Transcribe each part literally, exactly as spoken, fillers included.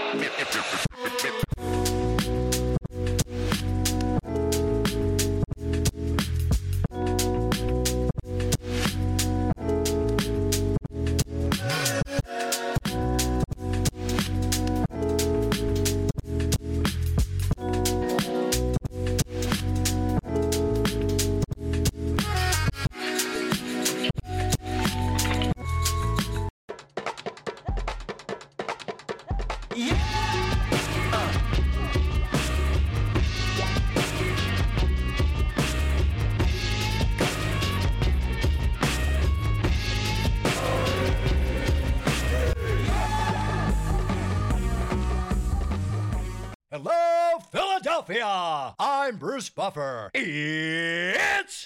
Hello, Philadelphia! I'm Bruce Buffer. It's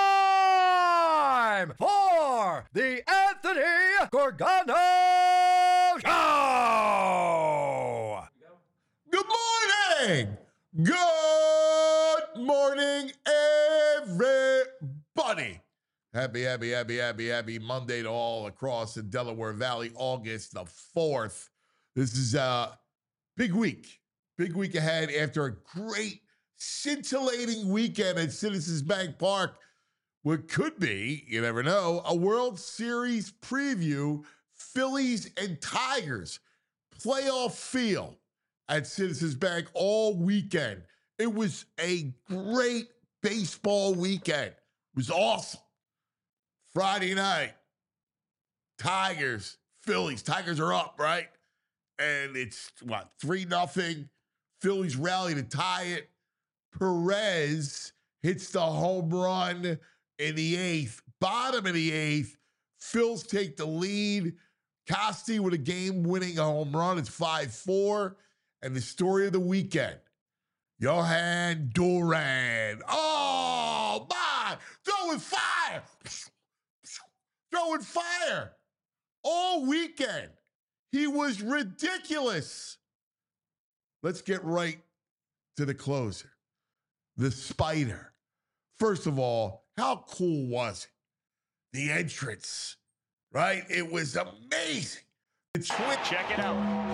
time for the Anthony Gorgano Show! Good morning! Good morning, everybody! Happy, happy, happy, happy, happy Monday to all across the Delaware Valley, August the fourth. This is a big week. Big week ahead after a great, scintillating weekend at Citizens Bank Park. What could be, you never know, a World Series preview, Phillies and Tigers playoff feel at Citizens Bank all weekend. It was a great baseball weekend. It was awesome. Friday night, Tigers, Phillies. Tigers are up, right? And it's, what, three nothing. Phillies rally to tie it. Perez hits the home run in the eighth. Bottom of the eighth. Phils take the lead. Costi with a game-winning home run. It's five four. And the story of the weekend, Johan Duran. Oh, my! Throwing fire! Throwing fire! All weekend. He was ridiculous. Let's get right to the closer. The Spider. First of all, how cool was it? The entrance, right? It was amazing. The twin- Check it out.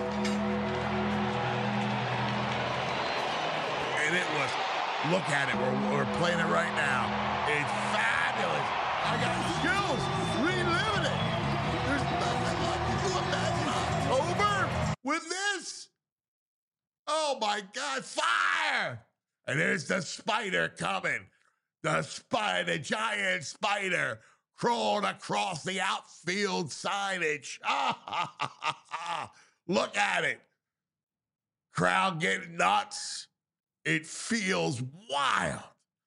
And it was, look at it. We're, we're playing it right now. It's fabulous. I got chills reliving it. There's nothing like it. You imagine October with this? Oh my God, fire! And there's the Spider coming. The spider, the giant spider crawled across the outfield signage. Ah, ha, ha, ha, ha. Look at it. Crowd getting nuts. It feels wild.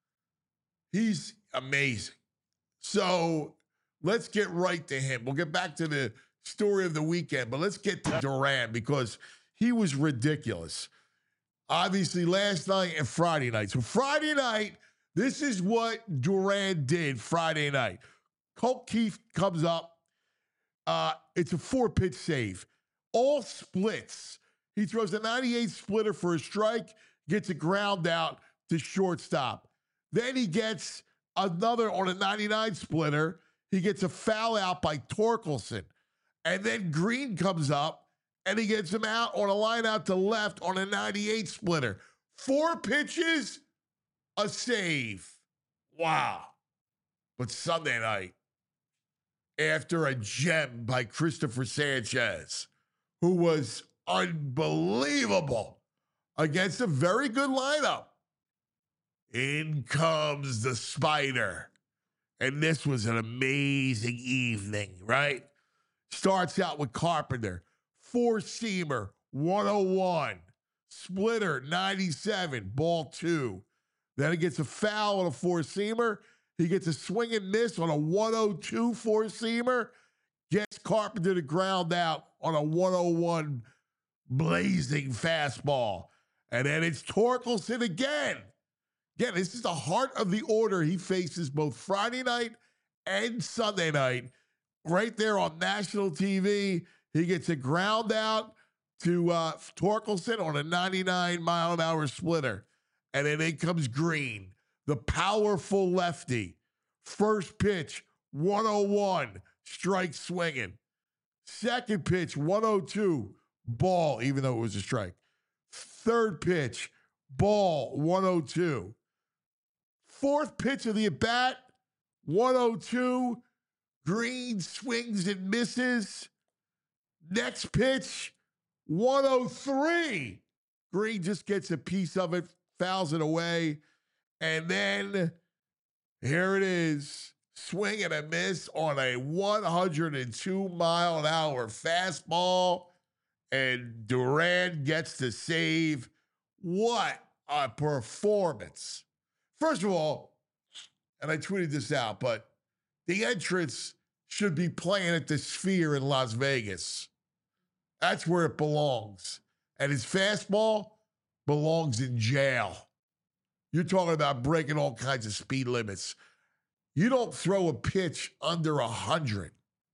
He's amazing. So let's get right to him. We'll get back to the story of the weekend, but let's get to Duran because he was ridiculous. Obviously, last night and Friday night. So Friday night, this is what Duran did Friday night. Colt Keith comes up. Uh, it's a four-pitch save. All splits. He throws a ninety-eight splitter for a strike, gets a ground out to shortstop. Then he gets another on a ninety-nine splitter. He gets a foul out by Torkelson. And then Green comes up, and he gets him out on a line out to left on a ninety-eight splitter. Four pitches, a save. Wow. But Sunday night, after a gem by Christopher Sanchez, who was unbelievable against a very good lineup, in comes the Spider. And this was an amazing evening, right? Starts out with Carpenter. Four-seamer, one oh one. Splitter, ninety-seven, ball two. Then he gets a foul on a four-seamer. He gets a swing and miss on a one oh two four-seamer. Gets Carpenter to ground out on a one oh one blazing fastball. And then it's Torkelson again. Again, this is the heart of the order he faces both Friday night and Sunday night. Right there on national T V. He gets a ground out to uh, Torkelson on a ninety-nine mile an hour splitter. And then in comes Green, the powerful lefty. First pitch, one oh one, strike swinging. Second pitch, one oh two, ball, even though it was a strike. Third pitch, ball, one oh two. Fourth pitch of the at-bat, one oh two. Green swings and misses. Next pitch, one oh three. Green just gets a piece of it, fouls it away. And then here it is. Swing and a miss on a one oh two mile an hour fastball. And Duran gets the save. What a performance. First of all, and I tweeted this out, but the entrance should be playing at the Sphere in Las Vegas. That's where it belongs. And his fastball belongs in jail. You're talking about breaking all kinds of speed limits. You don't throw a pitch under one hundred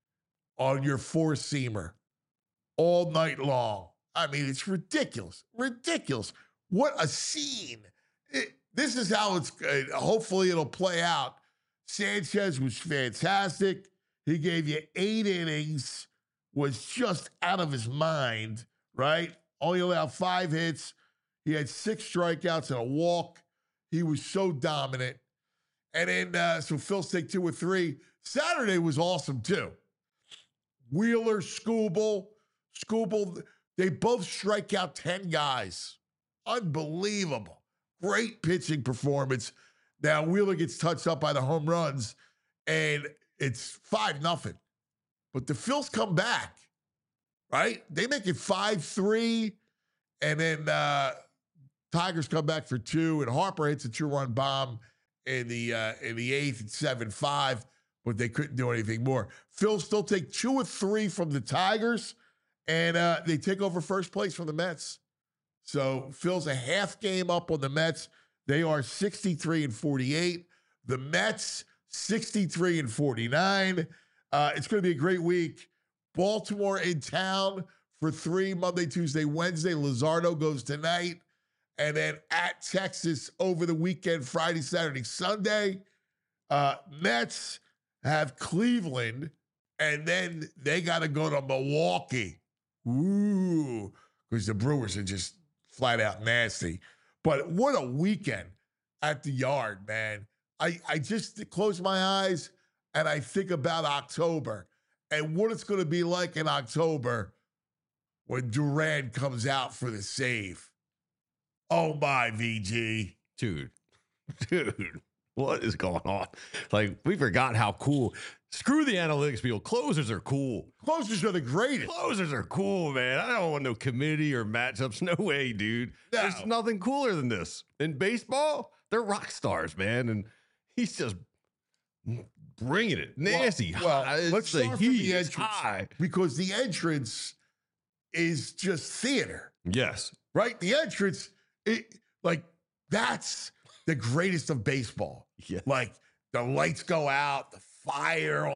on your four-seamer all night long. I mean, it's ridiculous. Ridiculous. What a scene. It, this is how it's, uh, hopefully it'll play out. Sanchez was fantastic. He gave you eight innings, was just out of his mind, right? Only allowed five hits. He had six strikeouts and a walk. He was so dominant. And then, uh, so Phil's take two or three. Saturday was awesome, too. Wheeler, Skubal, Skubal, they both strike out ten guys. Unbelievable. Great pitching performance. Now, Wheeler gets touched up by the home runs, and it's five nothing. But the Phils come back, right? They make it five three, and then uh, Tigers come back for two, and Harper hits a two-run bomb in the uh, in the eighth at seven five, but they couldn't do anything more. Phils still take two or three from the Tigers, and uh, they take over first place from the Mets. So Phil's a half game up on the Mets. They are sixty-three and forty-eight. The Mets, sixty-three and forty-nine. Uh, it's going to be a great week. Baltimore in town for three, Monday, Tuesday, Wednesday. Luzardo goes tonight. And then at Texas over the weekend, Friday, Saturday, Sunday. Uh, Mets have Cleveland, and then they got to go to Milwaukee. Ooh, because the Brewers are just flat out nasty. But what a weekend at the Yard, man. I, I just close my eyes and I think about October and what it's going to be like in October when Duran comes out for the save. Oh, my, V G. Dude, dude, what is going on? Like, we forgot how cool. Screw the analytics people. Closers are cool. Closers are the greatest. Closers are cool, man. I don't want no committee or matchups. No way, dude. No. There's nothing cooler than this. In baseball, they're rock stars, man. And he's just bringing it. Nasty. Well, high. well let's the start heat from the is entrance. high. Because the entrance is just theater. Yes. Right? The entrance, it, like, that's the greatest of baseball. Yeah. Like, the lights go out, the fire,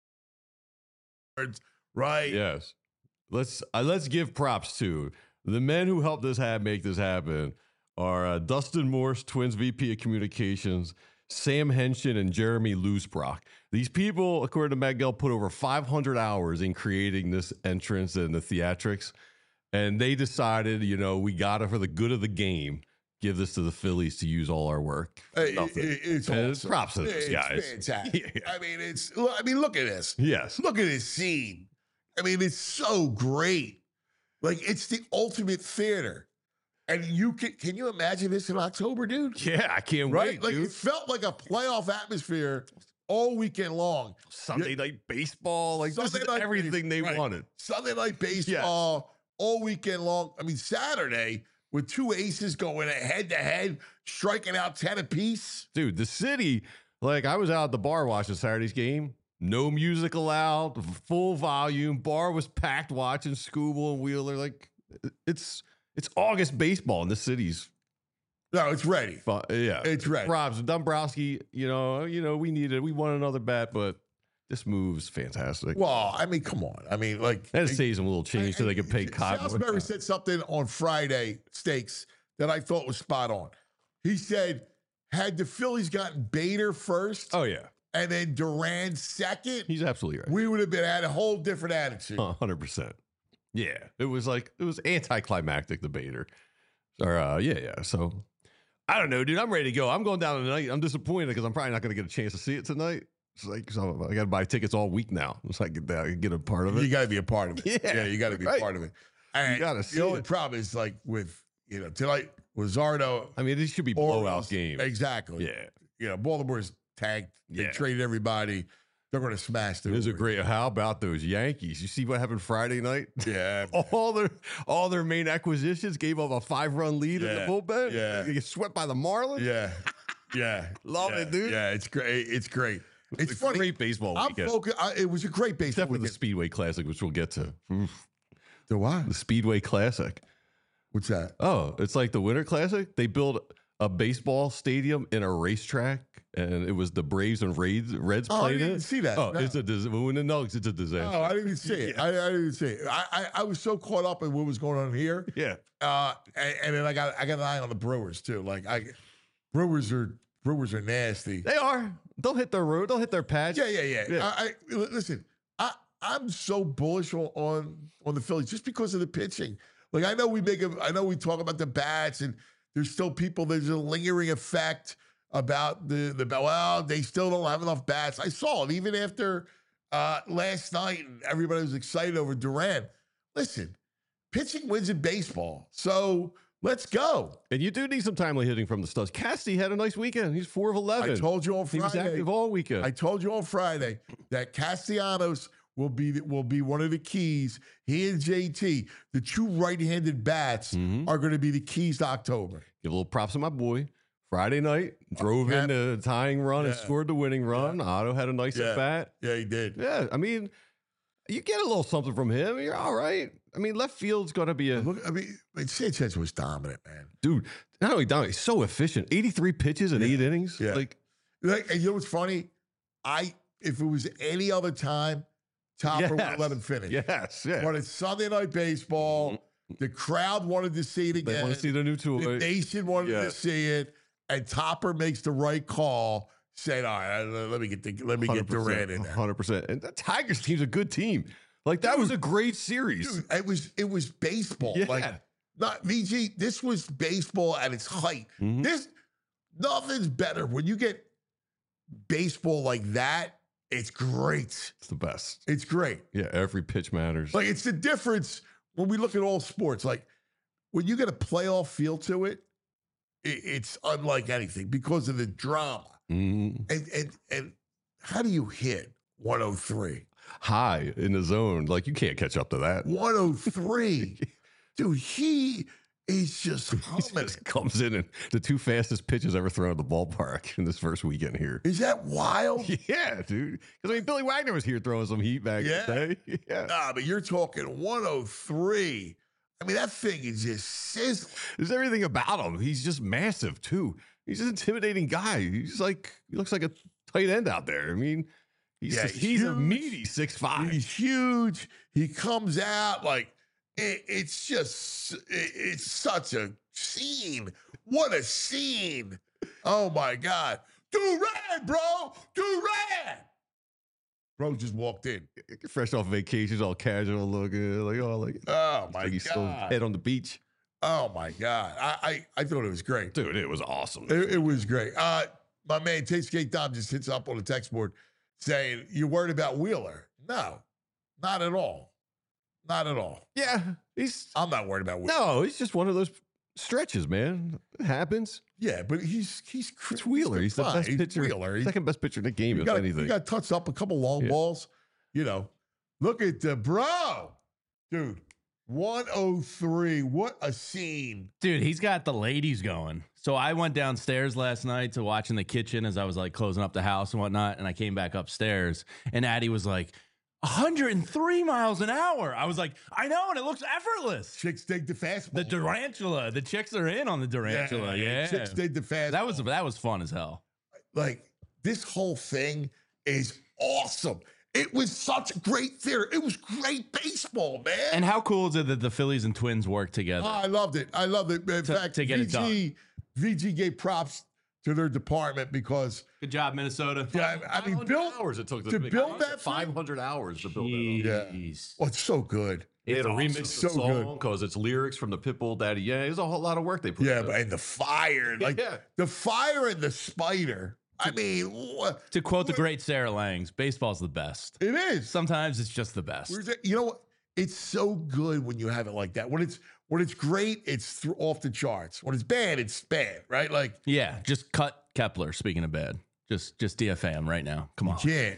right? Yes. Let's uh, let's give props to the men who helped this have make this happen are uh, Dustin Morse, Twins V P of Communications, Sam Henshin, and Jeremy Loosbrock. These people, according to Matt Gell, put over five hundred hours in creating this entrance and the theatrics. And they decided, you know, we got it for the good of the game. Give this to the Phillies to use all our work. It, it, it's and awesome. Props to those it's guys. Fantastic. Yeah. I mean, it's. I mean, look at this. Yes. Look at this scene. I mean, it's so great. Like, it's the ultimate theater. And you can can you imagine this in October, dude? Yeah, I can't Right? wait, Like, dude. it felt like a playoff atmosphere all weekend long. Sunday night baseball, like Sunday this is night everything they right. wanted. Sunday night baseball all weekend long. I mean, Saturday with two aces going head to head, striking out ten apiece. Dude, the city, like I was out at the bar watching Saturday's game. No music allowed, full volume. Bar was packed watching Skubal and Wheeler. Like it's it's August baseball in the city's. No, it's ready. Fun. Yeah, It's ready. Robs, Dombrowski, you know, you know, we needed, we won another bat, but this move's fantastic. Well, I mean, come on. I mean, like, And it saves them a little change so they can pay Cotton. Salisbury said something on Friday, Steaks, that I thought was spot on. He said, had the Phillies gotten Bader first Oh yeah, and then Duran second, he's absolutely right. we would have been at a whole different attitude. one hundred percent. Yeah, it was like it was anticlimactic, the Bader. Or uh, yeah, yeah. So I don't know, dude. I'm ready to go. I'm going down tonight. I'm disappointed because I'm probably not going to get a chance to see it tonight. It's like so I got to buy tickets all week now. It's like I can get a part of it. You got to be a part of it. Yeah, yeah you got to be right. a part of it. And You gotta see the only it. problem is like with you know tonight with Zardo. I mean, these should be Orioles, blowout games. Exactly. Yeah, You know, Baltimore's tanked. They Yeah. traded everybody. They're going to smash the. it was a great. How about those Yankees? You see what happened Friday night? Yeah. All their all their main acquisitions gave up a five run lead in Yeah, the bullpen. yeah. They get swept by the Marlins. Yeah. Yeah. Love yeah, it, dude. Yeah, it's great. It's great. It's, a funny. great baseball I'm weekend. focused. I, it was a great baseball Except for the weekend. Speedway Classic, which we'll get to. Oof. The what? The Speedway Classic. What's that? Oh, it's like the Winter Classic. They built a baseball stadium in a racetrack, and it was the Braves and Reds, Reds Oh, I played didn't it. see that. Oh, No. it's a dis- when the Nugs, it's a disaster. Oh, I didn't even see it. I, I didn't even see it. I, I, I was so caught up in what was going on here. Yeah, Uh, and, and then I got I got an eye on the Brewers too. Like I, Brewers are Brewers are nasty. they are. They'll hit their road. They'll hit their patch. Yeah, yeah, yeah. Yeah. I, I listen. I I'm so bullish on, on on the Phillies just because of the pitching. Like I know we make a, I know we talk about the bats, and there's still people. There's a lingering effect about the the well, they still don't have enough bats. I saw it even after uh, last night, and everybody was excited over Duran. Listen, pitching wins in baseball, so let's go. And you do need some timely hitting from the studs. Cassidy had a nice weekend. He's four of eleven. I told you on he was Friday. active all weekend. I told you on Friday that Castellanos will be the, will be one of the keys. He and J T, the two right-handed bats, Mhm. are going to be the keys to October. Give a little props to my boy. Friday night, drove yeah. in the tying run and Yeah. scored the winning run. Otto had a nice Yeah. at bat. Yeah, he did. Yeah, I mean, you get a little something from him. You're all right. I mean, left field's going to be a Look, I mean, I mean, Sanchez was dominant, man. dude. Not only down, he's so efficient. eighty-three pitches in Yeah. eight innings. Yeah. Like, Like, and you know what's funny? I if it was any other time, Topper would yes. let him finish. Yes, yeah. But it's Sunday Night Baseball. The crowd wanted to see it They again. want to see the new The toy. nation wanted Yeah. to see it, and Topper makes the right call. Said, "All right, let me get the, let me get Durant in there." Hundred percent. And the Tigers team's a good team. Like that was a great series. Dude, it was it was baseball. Yeah. Like not V G. This was baseball at its height. Mhm. This nothing's better when you get baseball like that. It's great. It's the best. It's great. Yeah, every pitch matters. Like it's the difference when we look at all sports. Like when you get a playoff feel to it, it it's unlike anything because of the drama. Mhm. And and and how do you hit one oh three? High in the zone. Like you can't catch up to that. one oh three. Dude, he is just He humming. just comes in and the two fastest pitches ever thrown at the ballpark in this first weekend here. Is that wild? Yeah, dude. Because I mean, Billy Wagner was here throwing some heat back Yeah. in the day. Yeah. Nah, but you're talking one oh three. I mean, that thing is just sizzling. There's everything about him. He's just massive too. He's an intimidating guy. He's like he looks like a tight end out there. I mean, he's Yeah, just, he's he's a huge. meaty six five. He's huge. He comes out like it, it's just it, it's such a scene. What a scene! Oh my God, Durant, bro, Durant. Bro just walked in. Fresh off vacation, he's all casual looking, like oh, like, Oh my like he's still God. head on the beach. Oh my God. I I, I thought it was great. Dude, it was awesome. It, it was great. Uh, my man, Tastegate Dom just hits up on the text board saying, "You worried about Wheeler?" No, not at all. Not at all. Yeah, he's I'm not worried about Wheeler. no, he's just one of those stretches, man. It happens. Yeah, but he's he's It's Wheeler. He's the fine. best He's pitcher, Wheeler. He, second best pitcher in the game, he if got, anything. he got touched up a couple long Yeah. balls. You know, look at the bro, dude. one oh three. What a scene. Dude, he's got the ladies going. So I went downstairs last night to watch in the kitchen as I was like closing up the house and whatnot. And I came back upstairs and Addie was like, one hundred three miles an hour. I was like, I know, and it looks effortless. Chicks dig the fastball. The Durantula. The chicks are in on the Durantula. Yeah. Chicks dig the fastball. That was that was fun as hell. Like this whole thing is awesome. It was such a great theater. It was great baseball, man. And how cool is it that the Phillies and Twins work together? Oh, I loved it. I loved it. In To- fact, to get it V G, V G gave props to their department because Good job, Minnesota. yeah, I mean, build hours it took to build that five hundred hours to build that. Yeah. Jeez. Oh, it's so good. They had to awesome. remix the So song because it's lyrics from the Pitbull Daddy. Yeah, there's a whole lot of work they put. Yeah, into but it. and the fire, like Yeah. the fire and the spider. I mean, what, To quote the great Sarah Langs, baseball's the best. it is. Sometimes it's just the best. Where's it- You know what? It's so good when you have it like that. When it's when it's great, it's th- off the charts. When it's bad, it's bad, right? Like Yeah, just cut Kepler. Speaking of bad, just just D F A him right now. Come on, yeah,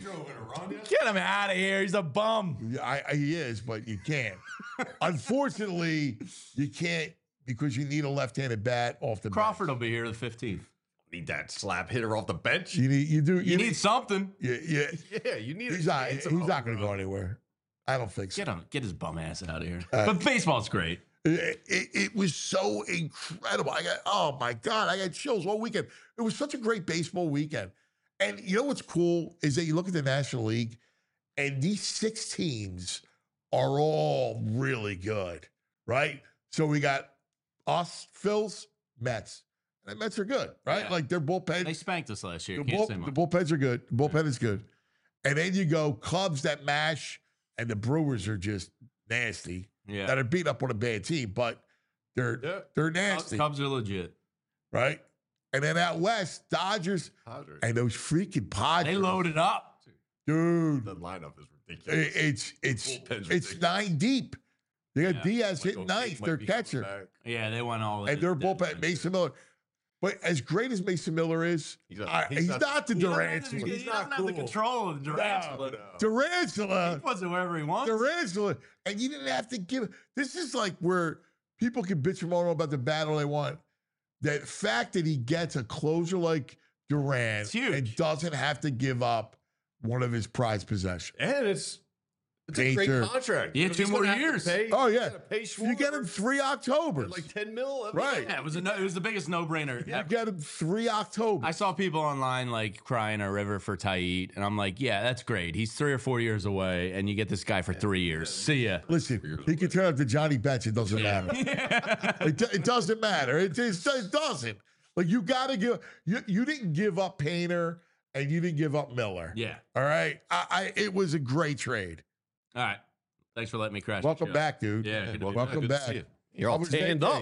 get him out of here. He's a bum. I, I, he is, but you can't. Unfortunately, you can't because you need a left-handed bat off the Crawford will be here the fifteenth. Need that slap hitter off the bench. bench. You need you do you, You need something. yeah, yeah. Yeah, you need. He's not he's not going to go anywhere. I don't think so. Get him. Get his bum ass out of here. Uh, but baseball's great. It, it, it was so incredible. I got, oh my God, I got chills all weekend. It was such a great baseball weekend. And you know what's cool is that you look at the National League and these six teams are all really good, right? So we got us, Phils, Mets. And the Mets are good, right? Yeah. Like their bullpen. They spanked us last year. The, Can't bull, say the much. bullpens are good. The bullpen is good. And then you go Cubs that mash, and the Brewers are just nasty. Yeah. That are beat up on a bad team, but they're Yeah. they're Cubs, nasty, Cubs are legit. right? And then out west, Dodgers and those freaking Padres. They loaded up. dude. The lineup is i- ridiculous. It's it's Bullpen's it's ridiculous. nine deep. They got Yeah. Diaz Michael hitting King ninth, might their be coming catcher, back. Yeah, they went all in. and their That bullpen. went Mason good. Miller. But as great as Mason Miller is, He's not- I- he's he's, not- not, the He doesn't Durant. have the- He's He not doesn't have the cool. control of the Durant. But, uh, Durantula. He puts it wherever he wants. Durantula. And you didn't have to give. This is like where people can bitch and moan about the battle they want. That fact that he gets a closer like Durant It's huge. and doesn't have to give up one of his prized possessions. and it's it's a Danger. great contract. Yeah, Because two he's more gonna have to years. pay- Oh, he's yeah. gonna pay You get him Schwarber three Octobers. like ten mil. every Right. year. Yeah, it was a no, it was the biggest no brainer. You get him three Octobers. I saw people online like crying a river for Tait, and I'm like, yeah, that's great. He's three or four years away, and you get this guy for three years. See ya. Listen, he can turn out to Johnny Bench. It doesn't matter. it, do- it doesn't matter. It, it, it doesn't. Like you got to give. You you didn't give up Painter and you didn't give up Miller. Yeah. All right. I, I it was a great trade. All right. Thanks for letting me crash. the Welcome show. back, dude. Yeah, good to be Welcome, Welcome good to back. see you. You're How all was tanned vacay? up.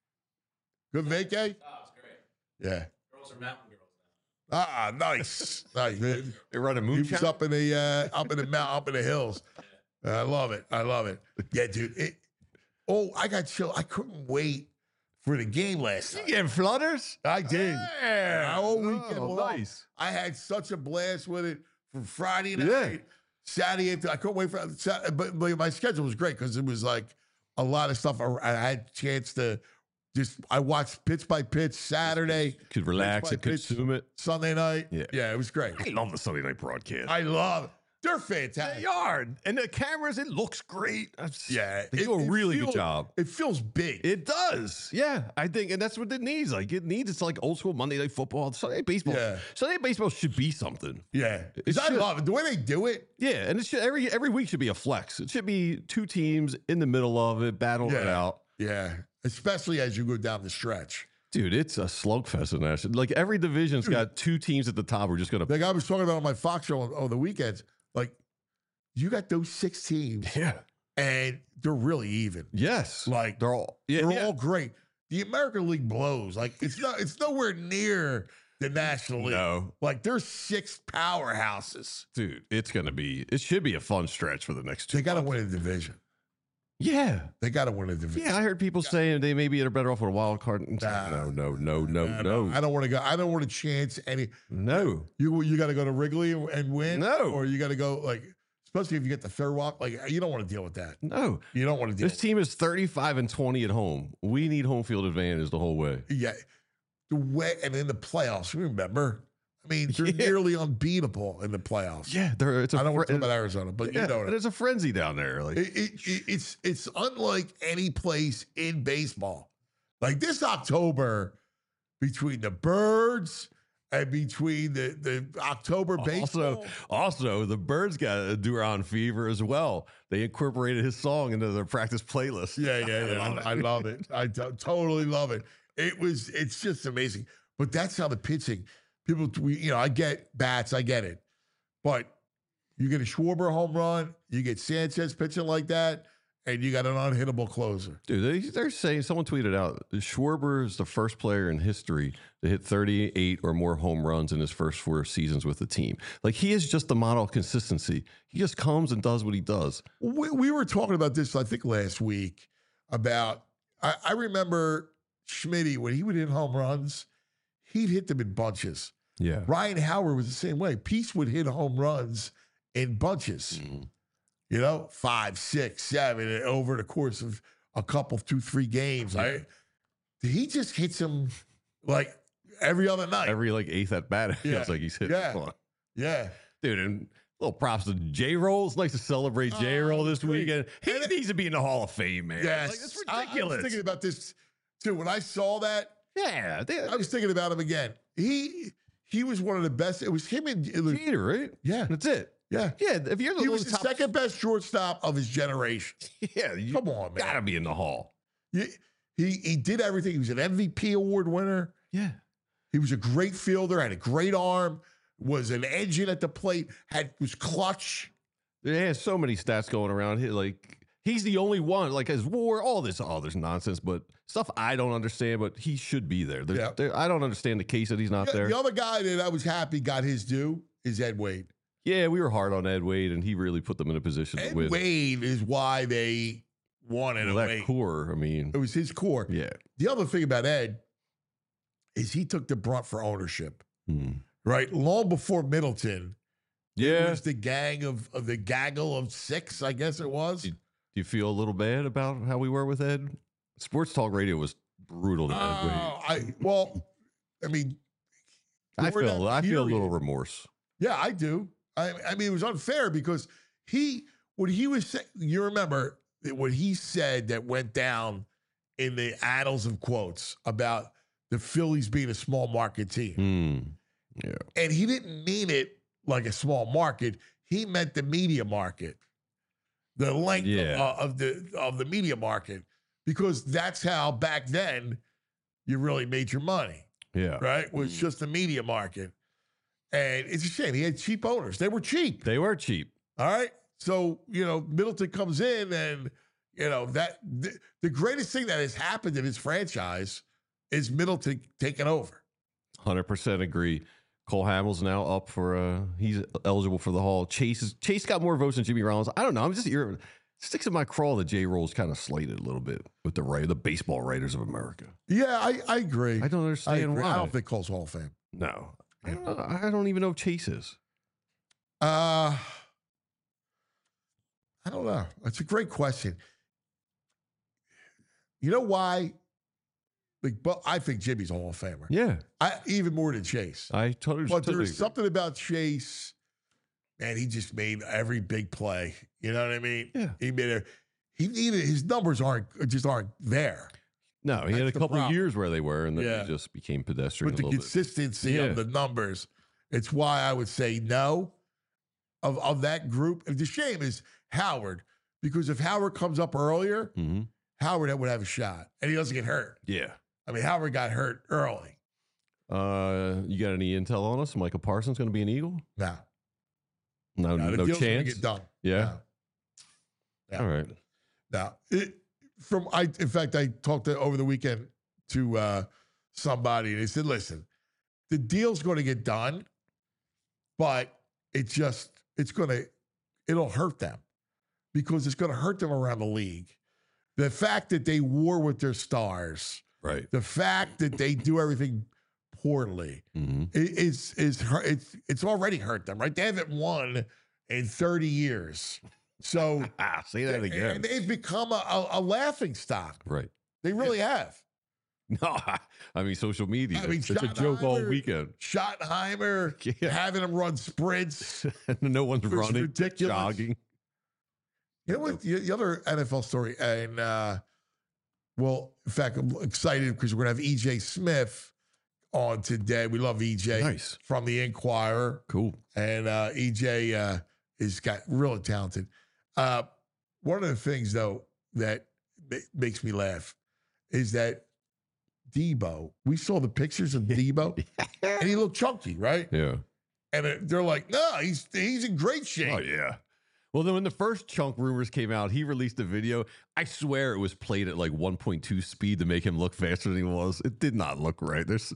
Good vacay? Oh, it's great. Yeah. Girls are mountain girls Ah, nice. nice. Man. They running He moonshine. was up in the uh, up in the mount, up in the hills. I love it. I love it. Yeah, dude. It, oh, I got chill. I couldn't wait for the game last night. getting flutters? I did. Yeah. All weekend Oh, long. nice. I had such a blast with it from Friday night, Yeah. Saturday. I couldn't wait for Saturday, but, but my schedule was great because it was like a lot of stuff. I, I had a chance to just. I watched pitch by pitch Saturday, Could relax by and pitch. consume it. Sunday night. Yeah. yeah, it was great. I love the Sunday night broadcast. I love it. They're They fantastic. are. And the cameras, it looks great. That's- Yeah, They it- do a it really feels- good job. It feels big. It does. Yeah. I think, and that's what it needs. Like, it needs, it's like old school Monday Night Football. Sunday Night Baseball. Yeah. Sunday Night Baseball should be something. yeah, because I should. love it. The way they do it. Yeah. And it should, every every week should be a flex. It should be two teams in the middle of it, battling it Yeah. out. Yeah, especially as you go down the stretch. Dude, it's a slugfest in that. Like, every division's got two teams at the top who are just going to. Like I was talking about on my Fox show on, on the weekends. Like you got those six teams, Yeah. and they're really even. Yes. Like They're all. Yeah. they're yeah. all great. The American League blows. Like it's not. It's nowhere near the National League. No. Like there's six powerhouses. Dude, it's going to be, it should be a fun stretch for the next two. They got to months. win a division. Yeah. They got to win a division. Yeah, I heard people saying they maybe are better off with a wild card. Nah. no, no, no, no, I no, don't- I don't want to go. I don't want to chance any. no. You you got to go to Wrigley and win. No. or you got to go like, especially if you get the third walk. Like you don't want to deal with that. No. You don't want to deal. This team is thirty-five and twenty at home. We need home field advantage the whole way. Yeah, the way and in the playoffs. Remember, I mean, they're Yeah. nearly unbeatable in the playoffs. Yeah, there. It's a I don't want to fre- talk about Arizona, but yeah, you know, and it, it's a frenzy down there. Like, it, it, it's it's unlike any place in baseball. Like this October, between the Birds and between the the October baseball. also, also, the Birds got a Duran fever as well. They incorporated his song into their practice playlist. Yeah, yeah, yeah. I love it. I love it. I to- totally love it. It was, it's just amazing. But that's how the pitching, people, we, you know, I get bats, I get it. But you get a Schwarber home run, you get Sanchez pitching like that, and you got an unhittable closer. Dude, they, they're saying, someone tweeted out, Schwarber is the first player in history to hit thirty-eight or more home runs in his first four seasons with the team. Like, he is just the model of consistency. He just comes and does what he does. We, we were talking about this, I think, last week about, I, I remember Schmitty, when he would hit home runs, he'd hit them in bunches. Yeah. Ryan Howard was the same way. Peace would hit home runs in bunches. Mm-hmm. You know, five, six, seven, and over the course of a couple, two, three games. I, he just hits them like every other night. Every, like, eighth at bat, it Yeah. feels like he's hitting Yeah. one. Yeah. Dude, and little props to J-Roll. It's nice to celebrate J-Roll Oh, this great. weekend. He And it- needs to be in the Hall of Fame, man. Yes. Like, that's I- ridiculous. I, was thinking about this, too. When I saw that, yeah. They, I was thinking about him again. He he was one of the best. It was him and it was, Jeter, right? yeah, That's it. yeah. Yeah, if you're the He was the top, second best shortstop of his generation. yeah, you Come on, man. gotta be in the Hall. He, he he did everything. He was an M V P award winner. Yeah. He was a great fielder, had a great arm, was an engine at the plate, had was clutch. He has so many stats going around. He, like, he's the only one, like, as war, all this, all this nonsense, but stuff I don't understand, but he should be there. There's- Yeah. there- I don't understand the case that he's not The, there. the other guy that I was happy got his due is Ed Wade. Yeah, we were hard on Ed Wade, and he really put them in a position Ed to win. Wade is why they won in Well, a that way. core, I mean, It was his core. yeah. The other thing about Ed is he took the brunt for ownership, Hmm. right? Long before Middleton, it Yeah. was the gang of, of the gaggle of six, I guess it was. Do you feel a little bad about how we were with Ed? Sports Talk Radio was brutal to Ed Wade. Oh, I well, I mean, I during feel that I feel a period- little remorse. Yeah, I do. I, I mean, it was unfair because he, what he was saying, you remember that what he said that went down in the annals of quotes about the Phillies being a small market team. Hmm. Yeah. And he didn't mean it like a small market. He meant the media market, the length Yeah. of, of the of the media market, because that's how back then you really made your money, Yeah. right? Was just the media market. And it's a shame. He had cheap owners. They were cheap. They were cheap. All right. So, you know, Middleton comes in and, you know, that the, the greatest thing that has happened in his franchise is Middleton taking over. one hundred percent agree. Cole Hamels now up for uh he's eligible for the Hall. Chase is, Chase got more votes than Jimmy Rollins. I don't know. I'm just here. Sticks in my craw that J Roll's kind of slated a little bit with the right the baseball writers of America. Yeah, I, I agree. I don't I, understand agree. why. I don't think Cole's Hall of Fame. No. I don't, I don't even know if Chase is. Uh, I don't know. That's a great question. You know why? Like, but I think Jimmy's a Hall of Famer. Yeah. I even more than Chase. I totally But totally there's agree. something about Chase, man, he just made every big play. You know what I mean? Yeah. He made a he needed his numbers aren't just aren't there. No, he had a That's the couple problem. years where they were, and then Yeah. he just became pedestrian With a the little bit. consistency Yeah. of the numbers. It's why I would say no of, of that group. And the shame is Howard, because if Howard comes up earlier, Mm-hmm. Howard would have a shot and he doesn't get hurt. Yeah. I mean, Howard got hurt early. Uh, you got any intel on us? Michael Parsons going to be an Eagle? No, No, no, the no deal's gonna chance. get done. Yeah. No. Yeah. All right. Now, it, from I, in fact, I talked to, over the weekend to uh, somebody, and they said, "Listen, the deal's going to get done, but it just it's going to it'll hurt them because it's going to hurt them around the league. The fact that they war with their stars, Right. the fact that they do everything poorly, Mm-hmm. i- is is hurt- it's it's already hurt them. Right? They haven't won in thirty years." So Ah, say that and again. they've become a, a, a laughing stock. Right. They really have. No, I mean social media. I mean, it's a joke all Schottenheimer- weekend. Schottenheimer Yeah. having them run sprints. no one's was running, ridiculous. jogging. You know what? The, the other N F L story, and uh, well, in fact, I'm excited because we're going to have E J Smith on today. We love E J Nice. from the Inquirer, Cool. and uh, E J uh, is got really talented. Uh, one of the things, though, that ma- makes me laugh is that Debo. We saw the pictures of Debo, and he looked chunky, right? Yeah. And it- they're like, "No, he's he's in great shape." Oh yeah. Well, then when the first Chunk rumors came out, he released a video. I swear it was played at like one point two speed to make him look faster than he was. It did not look right. There's,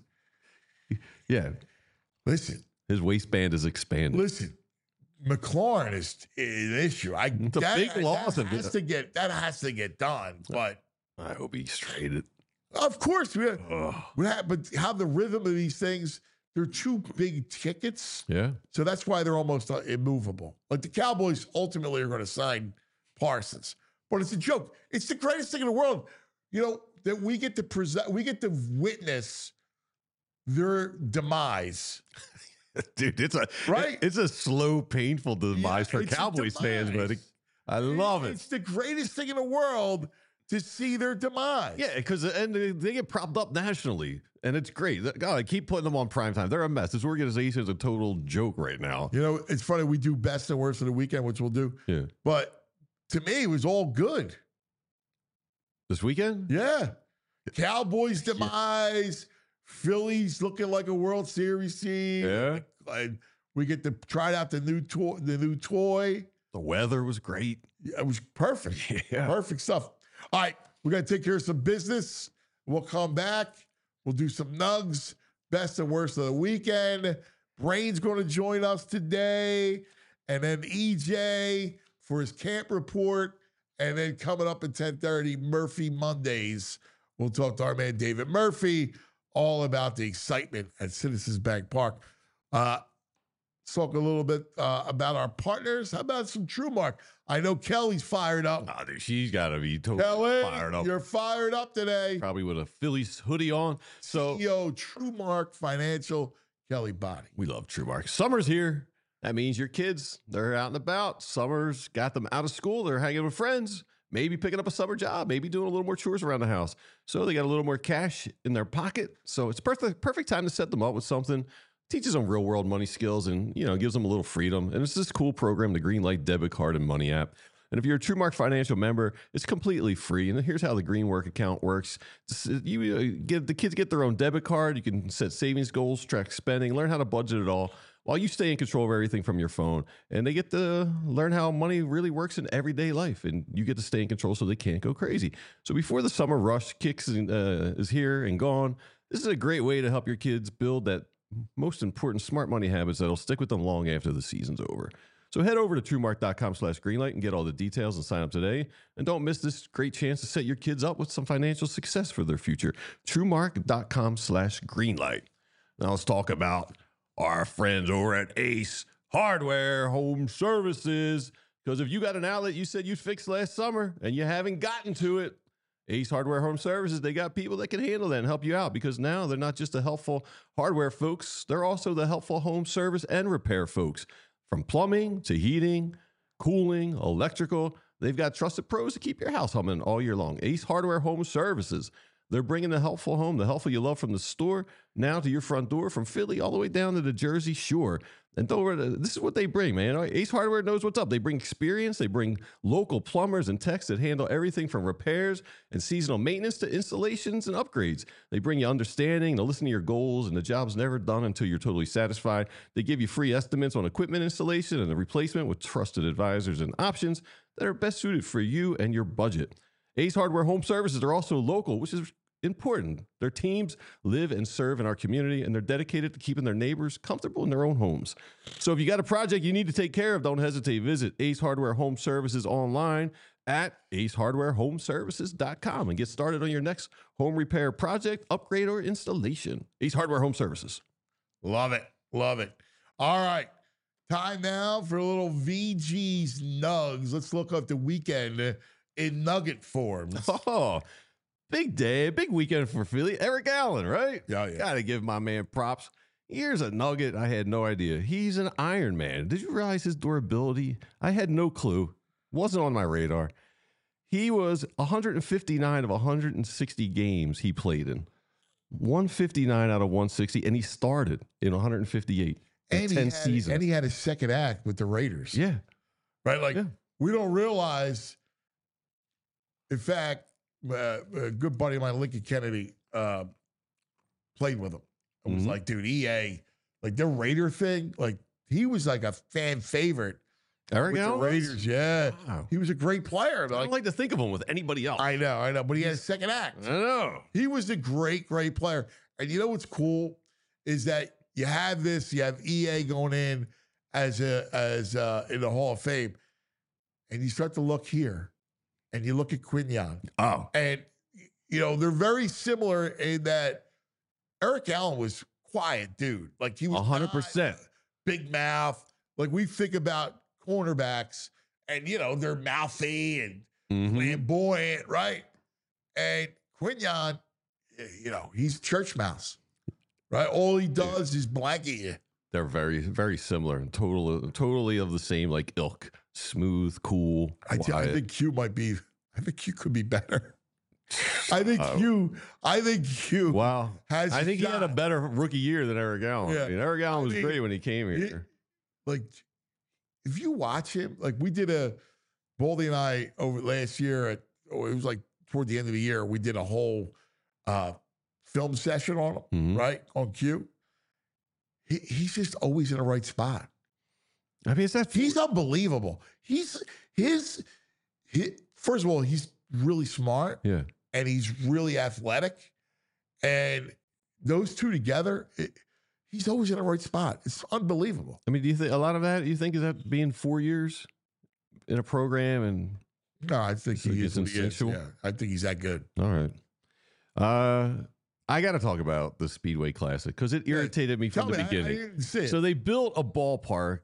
yeah. Listen, his waistband is expanded. Listen, McLaurin is, is an issue. I It's a that, big loss. That has to get that has to get done. But I hope he's traded. of course, we, we have, but how the rhythm of these things. They're two big tickets. Yeah. So that's why they're almost uh, immovable. Like the Cowboys ultimately are going to sign Parsons. But it's a joke. It's the greatest thing in the world, you know, that we get to present, we get to witness their demise. Dude, it's a right. It's a slow, painful demise Yeah, for Cowboys fans, but it, I love it. It's the greatest thing in the world to see their demise. Yeah, because and they they get propped up nationally, and it's great. God, I keep putting them on primetime. They're a mess. This organization is a total joke right now. You know, it's funny. We do best and worst of the weekend, which we'll do. Yeah. But to me, it was all good. This weekend? Yeah. Cowboys demise. Phillies looking like a World Series team. Yeah. And we get to try out the new toy. The new toy. The weather was great. Yeah, it was perfect. Yeah. Perfect stuff. All right, we're gonna take care of some business. We'll come back. We'll do some nugs. Best and worst of the weekend. Brain's going to join us today, and then E J for his camp report, and then coming up at ten thirty, Murphy Mondays. We'll talk to our man David Murphy all about the excitement at Citizens Bank Park. Uh, let's talk a little bit uh, about our partners. How about some TrueMark? I know Kelly's fired up. Oh, dude, she's got to be totally Kelly, fired up. you're fired up today. Probably with a Phillies hoodie on. So C E O TrueMark Financial, Kelly Body. we love TrueMark. Summer's here. That means your kids, they're out and about. Summer's got them out of school. They're hanging with friends, maybe picking up a summer job, maybe doing a little more chores around the house. So they got a little more cash in their pocket. So it's perfect, perfect time to set them up with something. Teaches them real world money skills and, you know, gives them a little freedom. And it's this cool program, the Greenlight Debit Card and Money app. And if you're a TrueMark Financial member, it's completely free. And here's how the Greenwork account works. You get the kids get their own debit card. You can set savings goals, track spending, learn how to budget it all while you stay in control of everything from your phone. And they get to learn how money really works in everyday life. And you get to stay in control so they can't go crazy. So before the summer rush kicks in, uh, is here and gone, this is a great way to help your kids build that most important smart money habits that'll stick with them long after the season's over. So head over to TrueMark.com slash Greenlight and get all the details and sign up today. And don't miss this great chance to set your kids up with some financial success for their future. TrueMark.com slash Greenlight. Now let's talk about our friends over at Ace Hardware Home Services. Because if you got an outlet you said you'd fix last summer and you haven't gotten to it, Ace Hardware Home Services, they got people that can handle that and help you out, because now they're not just the helpful hardware folks, they're also the helpful home service and repair folks. From plumbing to heating, cooling, electrical, they've got trusted pros to keep your house humming all year long. Ace Hardware Home Services. They're bringing the helpful home, the helpful you love from the store, now to your front door, from Philly all the way down to the Jersey Shore. And don't, this is what they bring, man. Ace Hardware knows what's up. They bring experience. They bring local plumbers and techs that handle everything from repairs and seasonal maintenance to installations and upgrades. They bring you understanding. They listen to your goals, and the job's never done until you're totally satisfied. They give you free estimates on equipment installation and the replacement with trusted advisors and options that are best suited for you and your budget. Ace Hardware Home Services are also local, which is important. Their teams live and serve in our community, and they're dedicated to keeping their neighbors comfortable in their own homes. So if you got a project you need to take care of, don't hesitate. Visit Ace Hardware Home Services online at ace hardware home services dot com and get started on your next home repair project, upgrade, or installation. Ace Hardware Home Services. Love it. Love it. All right. Time now for a little V G's Nugs. Let's look up the weekend in nugget forms. Oh, big day, big weekend for Philly. Eric Allen, right? Yeah, yeah. Gotta give my man props. Here's a nugget I had no idea. He's an Iron Man. Did you realize his durability? I had no clue. Wasn't on my radar. He was one fifty-nine of one hundred sixty games he played in. one fifty-nine out of one sixty, and he started in one hundred fifty-eight in And, ten he had, seasons. and he had a second act with the Raiders. Yeah. Right? Like, Yeah. we don't realize, in fact, uh, a good buddy of mine, Lincoln Kennedy, uh, played with him. It was Mhm. like, dude, E A, like their Raider thing, like he was like a fan favorite Eric with Allen the was? Raiders. Yeah, Wow. he was a great player. I Like, don't like to think of him with anybody else. I know, I know, but he had a second act. I know. He was a great, great player. And you know what's cool is that you have this, you have E A going in as a as uh in the Hall of Fame, and you start to look here, and you look at Quinyon, Oh, and you know they're very similar in that Eric Allen was quiet dude, like he was one hundred not percent. big mouth. Like we think about cornerbacks, and you know they're mouthy and Mhm. flamboyant, right? And Quinyon, you know, he's a church mouse, right? All he does is blanket you. They're very, very similar and totally, totally of the same like ilk. Smooth, cool, I, thi- I quiet. think Q might be. I think Q could be better. I think Oh. Q. I think Q. Wow. Has I think he had a shot. better rookie year than Eric Allen. Yeah. I mean, Eric Allen I was mean, great when he came he- here. Like, if you watch him, like we did a Baldy and I over last year. At, oh, it was like toward the end of the year. We did a whole uh, film session on him, Mhm. right on Q. He, he's just always in the right spot. I mean, is that He's unbelievable. He's his, his first of all, he's really smart yeah. and he's really athletic. And those two together, it, he's always in the right spot. It's unbelievable. I mean, do you think a lot of that? You think is that being four years in a program and No, I think So he it's is what he is. instinctual? Yeah, I think he's that good. all right. Uh, I got to talk about the Speedway Classic because it irritated me Tell from the me, I- beginning. I, didn't see it. So they built a ballpark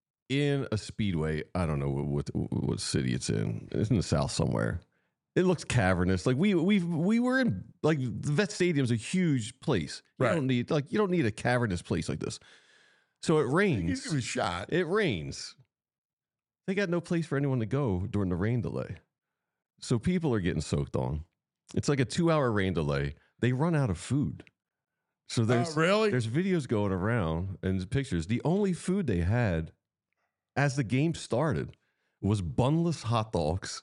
in a speedway. I don't know what, what what city it's in. It's in the south somewhere. It looks cavernous. Like we we we were in like the Vet Stadium's a huge place. You Right. don't need like you don't need a cavernous place like this. So it Give rains. him a shot. It rains. They got no place for anyone to go during the rain delay. So people are getting soaked on. It's like a two-hour rain delay. They run out of food. So there's oh, really? there's videos going around and pictures. The only food they had as the game started was bunless hot dogs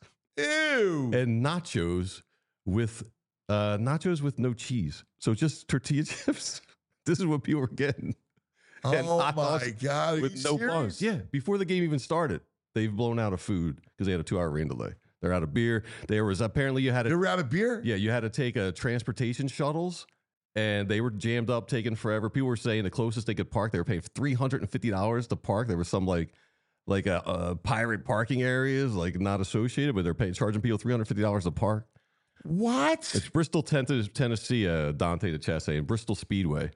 Ew. and nachos with uh, nachos with no cheese. So just tortilla chips. This is what people were getting and oh hot dogs my God. Are with you no serious? buns. Yeah, before the game even started, they've blown out of food because they had a two-hour rain delay. They're out of beer. There was apparently you had You to ever out of beer? yeah you had to take a transportation shuttles. And they were jammed up, taking forever. People were saying the closest they could park, they were paying three hundred and fifty dollars to park. There was some like, like a, a pirate parking areas, like not associated, but they're paying charging people three hundred fifty dollars to park. What? It's Bristol, Ten- Tennessee. Uh, Dante DeChesse and Bristol Speedway.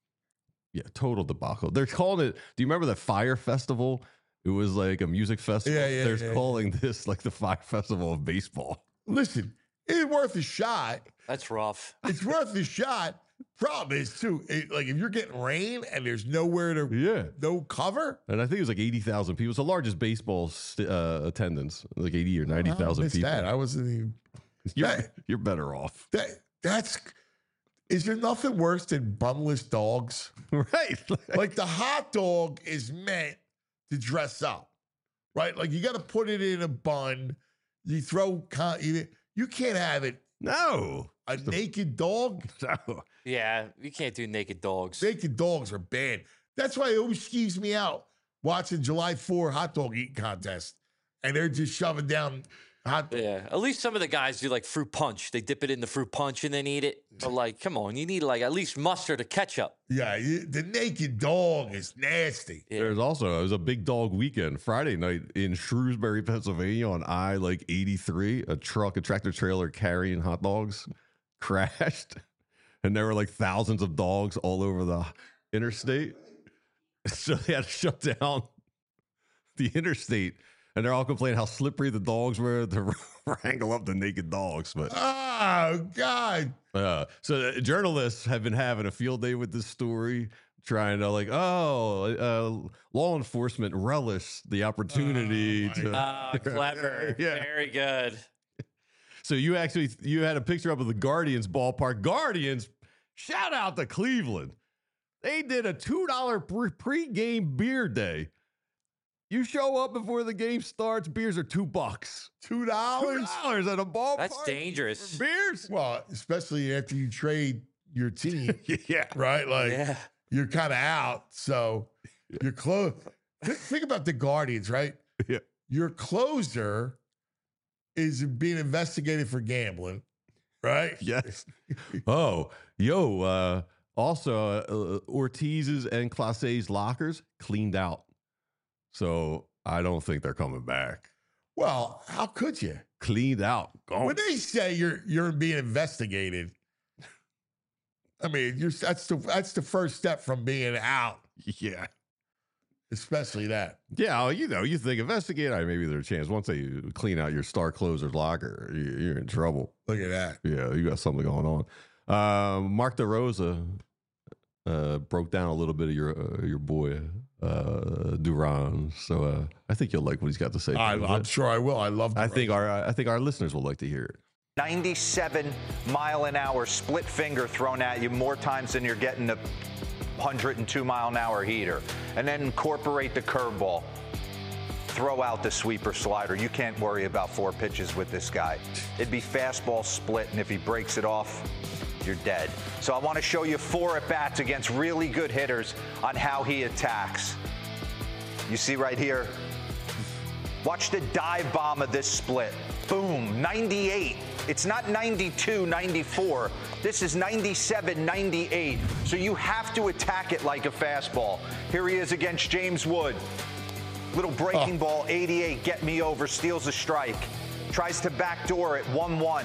Yeah, total debacle. They're calling it. Do you remember the Fire Festival? It was like a music festival. Yeah, yeah, They're yeah, calling this like the Fire Festival of baseball. Listen, it's worth a shot. That's rough. It's worth a shot. Problem is, too, it, like if you're getting rain and there's nowhere to, Yeah. no cover. And I think it was like eighty thousand people. It's the largest baseball st- uh, attendance, like eighty or ninety I thousand missed people. that. I wasn't even. You're, That- you're better off. That that's. Is there nothing worse than bunless dogs? Right. Like the hot dog is meant to dress up, right? Like you got to put it in a bun. You throw. Con- you, you can't have it. no. A naked dog. No. Yeah, you can't do naked dogs. Naked dogs are bad. That's why it always skeeves me out watching July fourth hot dog eating contest, and they're just shoving down hot. Yeah, at least some of the guys do like fruit punch. They dip it in the fruit punch and then eat it. But like, come on, you need like at least mustard or ketchup. Yeah, you- the naked dog is nasty. Yeah. There's also, it was a big dog weekend. Friday night in Shrewsbury, Pennsylvania on I like eighty-three, a truck, a tractor trailer carrying hot dogs crashed. And there were like thousands of dogs all over the interstate. So they had to shut down the interstate. And they're all complaining how slippery the dogs were to wrangle up the naked dogs. But Oh God! uh, so the journalists have been having a field day with this story, trying to like, oh, uh, law enforcement relish the opportunity Oh, my to. Ah, clever. Yeah. Very good. So you actually you had a picture up of the Guardians ballpark. Guardians, shout out to Cleveland. They did a two dollar pre- pregame beer day. You show up before the game starts, beers are two bucks. Two Two dollars? dollars at a ballpark. That's dangerous. for beers. Well, especially after you trade your team, Yeah. right? Like Yeah. you're kind of out, so you're close. Think about the Guardians, right? Yeah. Your closer is being investigated for gambling, right? Yes. Oh, yo. Uh, also, uh, Ortiz's and Clase's lockers cleaned out, so I don't think they're coming back. Well, how could you? Cleaned out. Gone. When they say you're you're being investigated, I mean, you're that's the that's the first step from being out, Yeah. especially that. Yeah, well, you know, you think investigate. All right, maybe there's a chance. Once they clean out your star closer's locker, you- you're in trouble. Look at that. Yeah, you got something going on. Um, Mark DeRosa uh, broke down a little bit of your uh, your boy uh, Duran. So uh, I think you'll like what he's got to say. I, I'm sure I will. I love. I think our I think our listeners will like to hear it. ninety-seven mile an hour split finger thrown at you more times than you're getting the one hundred two mile an hour heater. And then incorporate the curveball. Throw out the sweeper slider. You can't worry about four pitches with this guy. It'd be fastball split, and if he breaks it off, you're dead. So I want to show you four at-bats against really good hitters on how he attacks. You see right here, watch the dive bomb of this split. Boom, ninety-eight. It's not ninety-two, ninety-four. This is ninety-seven, ninety-eight. So you have to attack it like a fastball. Here he is against James Wood. Little breaking oh. ball, eighty-eight, get me over, steals a strike. Tries to backdoor it, one one.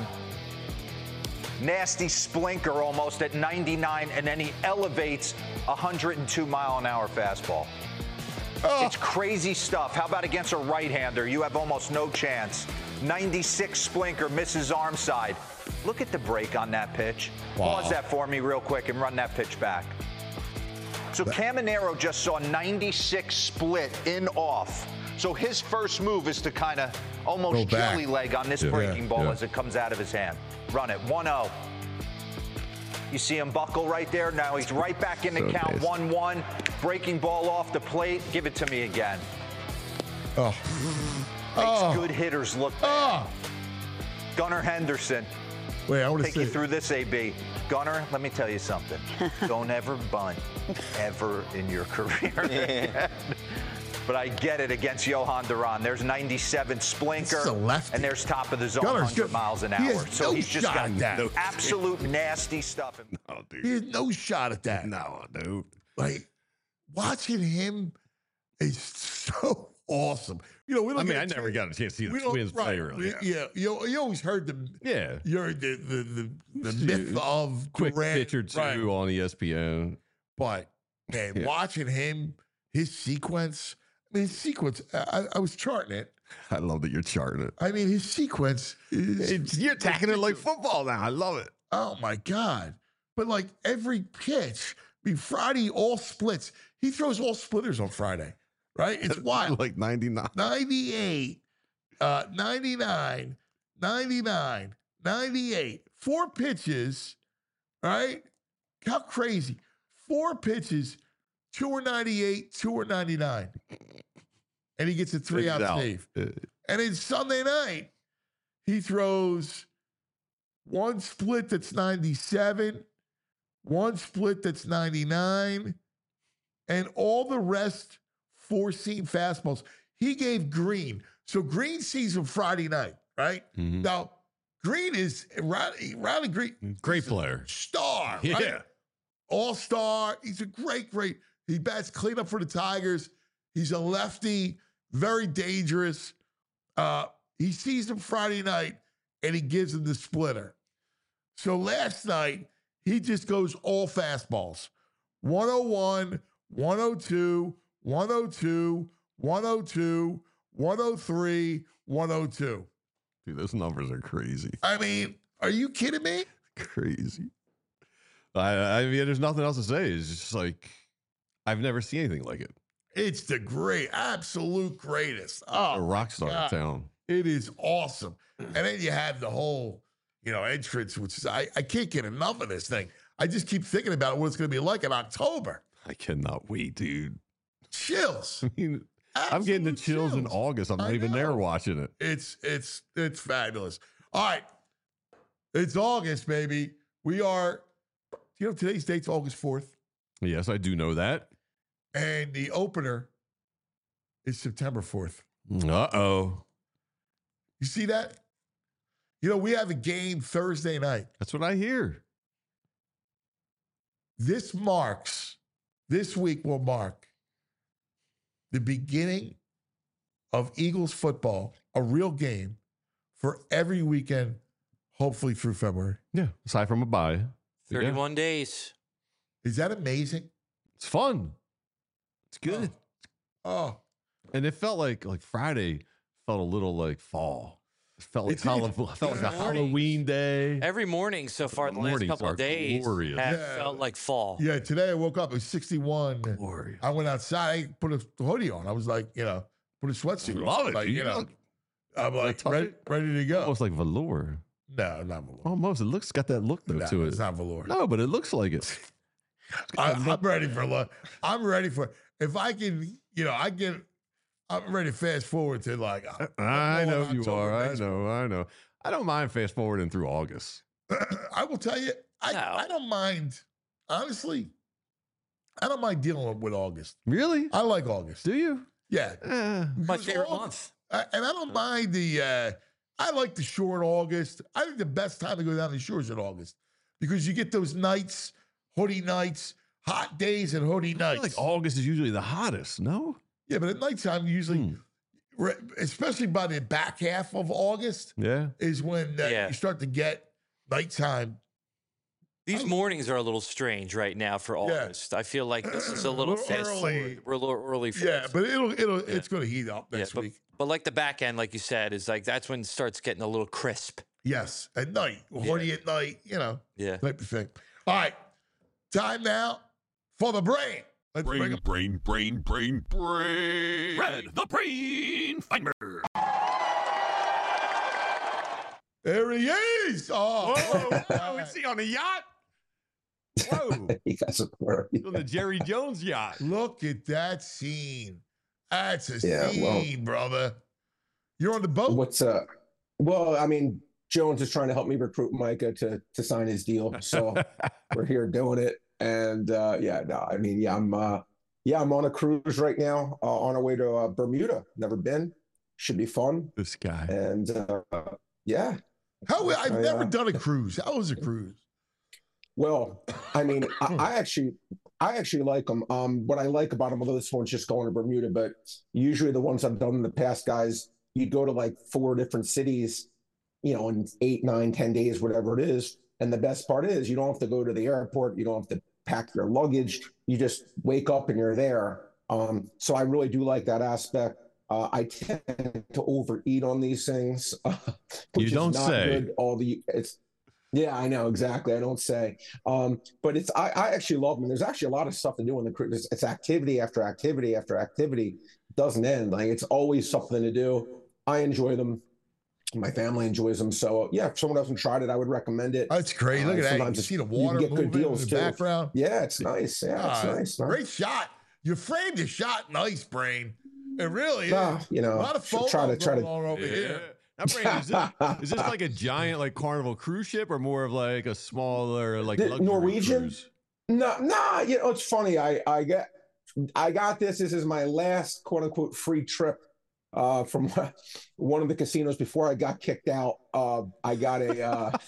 Nasty splinker almost at ninety-nine, and then he elevates a one hundred two mile an hour fastball. Oh. It's crazy stuff. How about against a right-hander? You have almost no chance. ninety-six splinker, misses arm side. Look at the break on that pitch. Wow. Pause that for me real quick and run that pitch back. So Caminero just saw ninety-six split in off. So his first move is to kind of almost jelly leg on this yeah, breaking yeah, ball yeah. as it comes out of his hand. Run it, one oh. You see him buckle right there. Now he's right back in the so count, one one. Breaking ball off the plate. Give it to me again. Oh. Makes oh. good hitters look bad. Oh. Gunnar Henderson. Wait, I want to take you through this, A B. Gunnar, let me tell you something. Don't ever bunt ever in your career. Yeah. But I get it against Johan Duran. There's ninety-seven splinker, and there's top of the zone, Gunner's one hundred miles an hour. He so no he's just got that. absolute nasty stuff. No, dude. He has no shot at that. No, dude. Like, watching him is so awesome. You know, we don't I mean, I never got a chance to see the Twins right, play earlier. Yeah, you, you always heard the yeah, you heard the the the, the myth of quick Durant, pitch or two right. on E S P N. But man, yeah. watching him, his sequence. I mean, his sequence. I, I was charting it. I love that you're charting it. I mean, his sequence is it's, you're attacking it like football now. I love it. Oh my god! But like every pitch, I mean, Friday all splits. He throws all splitters on Friday. Right? It's wild. Like ninety-nine. ninety-eight, uh, ninety-nine, ninety-nine, ninety-eight. Four pitches, right? How crazy. Four pitches, two are ninety-eight, two are ninety-nine. And he gets a three-out save. And then Sunday night, he throws one split that's ninety-seven, one split that's ninety-nine, and all the rest four-seam fastballs. He gave Green. So Green sees him Friday night, right? Mm-hmm. Now, Green is, Riley, Riley Green. Great player. Star, yeah. right? All-star. He's a great, great. He bats cleanup for the Tigers. He's a lefty, very dangerous. Uh, he sees him Friday night, and he gives him the splitter. So last night, he just goes all fastballs. one oh one, one oh two, one oh two, one oh two, one oh three, one oh two. Dude, those numbers are crazy. I mean, are you kidding me? Crazy. I, I mean, there's nothing else to say. It's just like, I've never seen anything like it. It's the great, absolute greatest. Oh, a rock star in town. It is awesome. And then you have the whole, you know, entrance, which is, I, I can't get enough of this thing. I just keep thinking about what it's going to be like in October. I cannot wait, dude. Chills. I mean, Absolute I'm getting the chills, chills in August. I'm not I even know. there watching it. It's it's it's fabulous. All right, it's August, baby. We are. You know today's date's August fourth. Yes, I do know that. And the opener is September fourth. Uh-oh. You see that? You know, we have a game Thursday night. That's what I hear. This marks, this week will mark the beginning of Eagles football, a real game for every weekend, hopefully through February. Yeah. Aside from a bye. thirty-one Yeah. days. Is that amazing? It's fun. It's good. Oh, And it felt like like Friday felt a little like fall. It felt like, It did. Hall- felt like a Mornings. Halloween day. Every morning so far, the last Mornings couple are of days glorious. have Yeah. felt like fall. yeah. Today I woke up, it was sixty-one. Glorious. I went outside, I put a hoodie on. I was like, you know, put a sweatsuit on. Love it. Like, You you know, look- I'm like, tuck ready, it? ready to go. Almost like velour. No, not velour. Almost. It looks got that look though No, to it. it's not velour. No, but it looks like it. I, I'm ready for lunch. I'm ready for if I can, you know, I can. I'm ready to fast forward to like. uh, I I'm know going you October are. I baseball. know. I know. I don't mind fast forwarding through August. I will tell you, I, No. I don't mind. Honestly, I don't mind dealing with August. Really? I like August. Do you? Yeah, Eh. My Because favorite August- month. I- and I don't mind the. Uh, I like the short August. I think the best time to go down the shore is in August because you get those nights, hoodie nights, hot days, and hoodie I feel nights. like August is usually the hottest. No. Yeah, but at nighttime, usually, Hmm. re- especially by the back half of August, Yeah. is when uh, Yeah. you start to get nighttime. These I- mornings are a little strange right now for August. I feel like this is a little little fast early. forward. We're a little early for Yeah, this. but it'll it'll it's going to heat up Yeah, next but, week. but like the back end, like you said, is like that's when it starts getting a little crisp. Yes, at night, hoodie at night, you know, Yeah. type of thing. All right, time now for the brain. Let's bring Brain, up. brain, brain, brain, brain. Red, the brain finder. There he is. Oh, Oh, is he on a yacht? Whoa. You guys are blurry. On the Jerry Jones yacht. look at that scene. That's a Yeah, well- scene, brother. You're on the boat. What's uh? Well, I mean, Jones is trying to help me recruit Micah to to sign his deal, so we're here doing it. And uh, yeah, no, I mean, yeah, I'm uh, yeah, I'm on a cruise right now, uh, on our way to uh, Bermuda. Never been. Should be fun. This guy. And uh, yeah, How I've I, never uh, done a cruise. How was a cruise? well, I mean, I, I actually, I actually like them. Um, what I like about them, although this one's just going to Bermuda, but usually the ones I've done in the past, guys, you go to like four different cities, you know, in eight, nine, ten days, whatever it is. And the best part is you don't have to go to the airport. You don't have to pack your luggage. You just wake up and you're there. Um, so I really do like that aspect. Uh, I tend to overeat on these things. Uh, which You don't is not say. Good. All the it's yeah, I know exactly. I don't say, um, but it's I, I actually love them. There's actually a lot of stuff to do in the cruise. It's, it's activity after activity after activity. It doesn't end. Like it's always something to do. I enjoy them. My family enjoys them. So yeah, if someone hasn't tried it, I would recommend it. That's great. Look Uh, at that. You sometimes can it's- see the you can water get good moving deals, in the too. background. Yeah, it's nice. Yeah, it's Ah, nice. man. Great shot. You framed the shot nice, Brain. It really Nah, is. you know, a lot of should photos try to try going to. on over Yeah. here. Now, Brandon, is, this, is this like a giant like Carnival cruise ship or more of like a smaller like The luxury Norwegian? cruise? No, nah, you know, it's funny. I I get I got this. This is my last quote unquote free trip uh, from one of the casinos before I got kicked out. Uh, I got a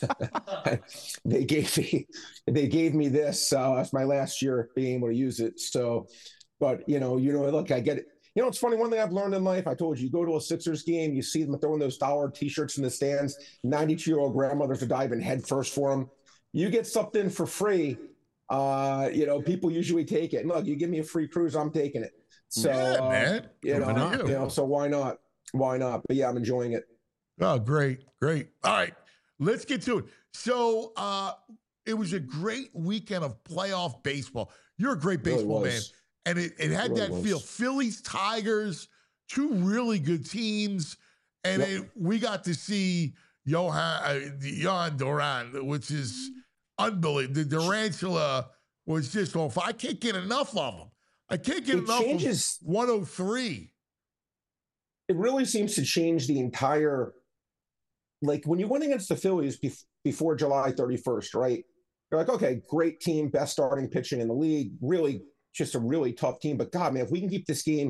uh, they gave me they gave me this. Uh, it's my last year being able to use it. So, but you know, you know, look, I get it. You know, it's funny. One thing I've learned in life, I told you, you go to a Sixers game, you see them throwing those dollar T-shirts in the stands. ninety-two-year-old grandmothers are diving headfirst for them. You get something for free, uh, you know, people usually take it. Look, you give me a free cruise, I'm taking it. So, Yeah, uh, man. you know, Good for you you. know, so why not? Why not? But yeah, I'm enjoying it. Oh, great, great. All right, let's get to it. So uh, it was a great weekend of playoff baseball. You're a great Really baseball man. was. And it, it had Really that was. feel. Phillies, Tigers, two really good teams. And Yep. it, we got to see Johan, uh, Johan Duran, which is unbelievable. The Durantula was just on fire. I can't get enough of him. I can't get It enough changes- of one oh three. It really seems to change the entire, like when you went against the Phillies bef- before July thirty-first, right? You're like, okay, great team, best starting pitching in the league, really just a really tough team. But God, man, if we can keep this game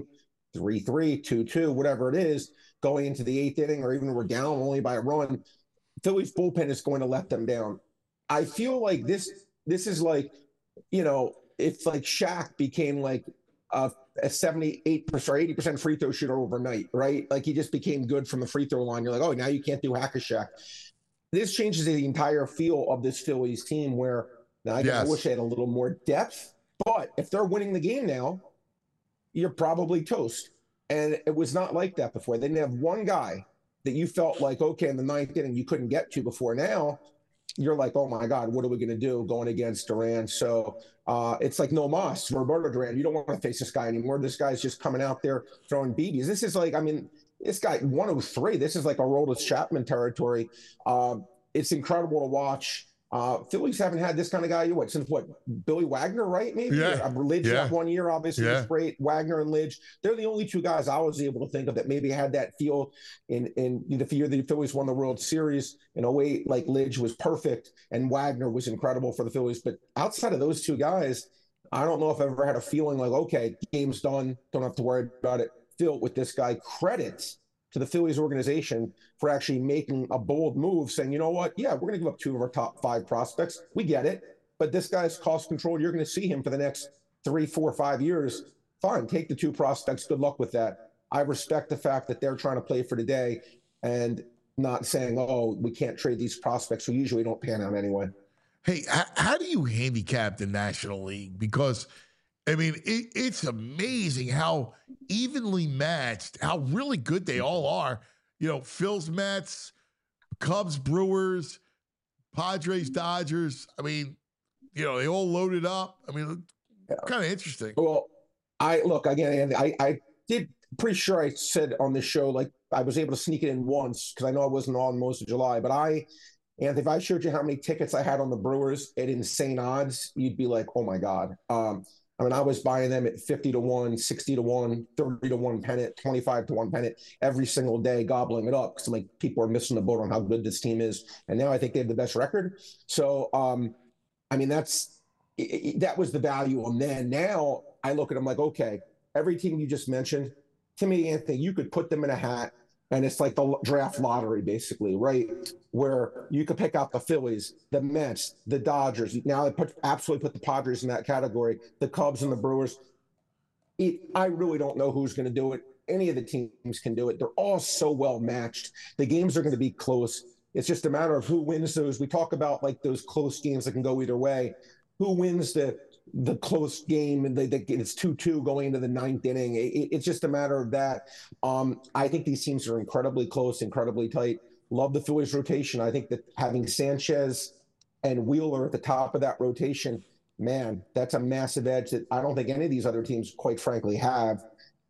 three three, two two, whatever it is, going into the eighth inning, or even we're down only by a run, Philly's bullpen is going to let them down. I feel like this this is like, you know, it's like Shaq became like a, a seventy-eight percent or eighty percent free throw shooter overnight, right? Like he just became good from the free throw line. You're like, oh, now you can't do Hack-a-Shaq. This changes the entire feel of this Phillies team where now I, yes. I wish they had a little more depth, but if they're winning the game now, you're probably toast. And it was not like that before. They didn't have one guy that you felt like, okay, in the ninth inning you couldn't get to before. Now you're like, oh my God, what are we going to do going against Duran? So uh, it's like no mas, Roberto Duran. You don't want to face this guy anymore. This guy's just coming out there throwing B Bs. This is like, I mean, this guy one oh three. This is like a Aroldis Chapman territory. Uh, it's incredible to watch. Uh, Phillies haven't had this kind of guy what since what Billy Wagner, right? Maybe yeah. uh, Lidge yeah. that one year, obviously yeah. was great. Wagner and Lidge, they're the only two guys I was able to think of that maybe had that feel in in the year the Phillies won the World Series in a way. Like Lidge was perfect and Wagner was incredible for the Phillies, but outside of those two guys, I don't know if I've ever had a feeling like, okay, game's done, don't have to worry about it. Phil with this guy, credits to the Phillies organization for actually making a bold move, saying, you know what, yeah, we're going to give up two of our top five prospects. We get it, but this guy's cost control. You're going to see him for the next three, four, five years. Fine, take the two prospects. Good luck with that. I respect the fact that they're trying to play for today and not saying, oh, we can't trade these prospects who usually don't pan out anyway. Hey, how do you handicap the National League? Because I mean, it, it's amazing how evenly matched, how really good they all are. You know, Phil's Mets, Cubs, Brewers, Padres, Dodgers. I mean, you know, they all loaded up. I mean, yeah. kind of interesting. Well, I look again. I I did pretty sure I said on this show like I was able to sneak it in once because I know I wasn't on most of July, but I. And if I showed you how many tickets I had on the Brewers at insane odds, you'd be like, oh my God. Um, I mean, I was buying them at fifty to one, sixty to one, thirty to one pennant, twenty-five to one pennant every single day, gobbling it up because like people are missing the boat on how good this team is. And now I think they have the best record. So, um, I mean, that's it, it, that was the value on then. Now I look at them like, okay, every team you just mentioned, to me, Anthony, you could put them in a hat. And it's like the draft lottery, basically, right? Where you could pick out the Phillies, the Mets, the Dodgers. Now I put absolutely put the Padres in that category, the Cubs and the Brewers. It, I really don't know who's going to do it. Any of the teams can do it. They're all so well matched. The games are going to be close. It's just a matter of who wins those. We talk about like those close games that can go either way. Who wins the the close game and they, they, it's two two going into the ninth inning. It, it's just a matter of that. Um, I think these teams are incredibly close, incredibly tight. Love the Phillies rotation. I think that having Sanchez and Wheeler at the top of that rotation, man, that's a massive edge that I don't think any of these other teams, quite frankly, have.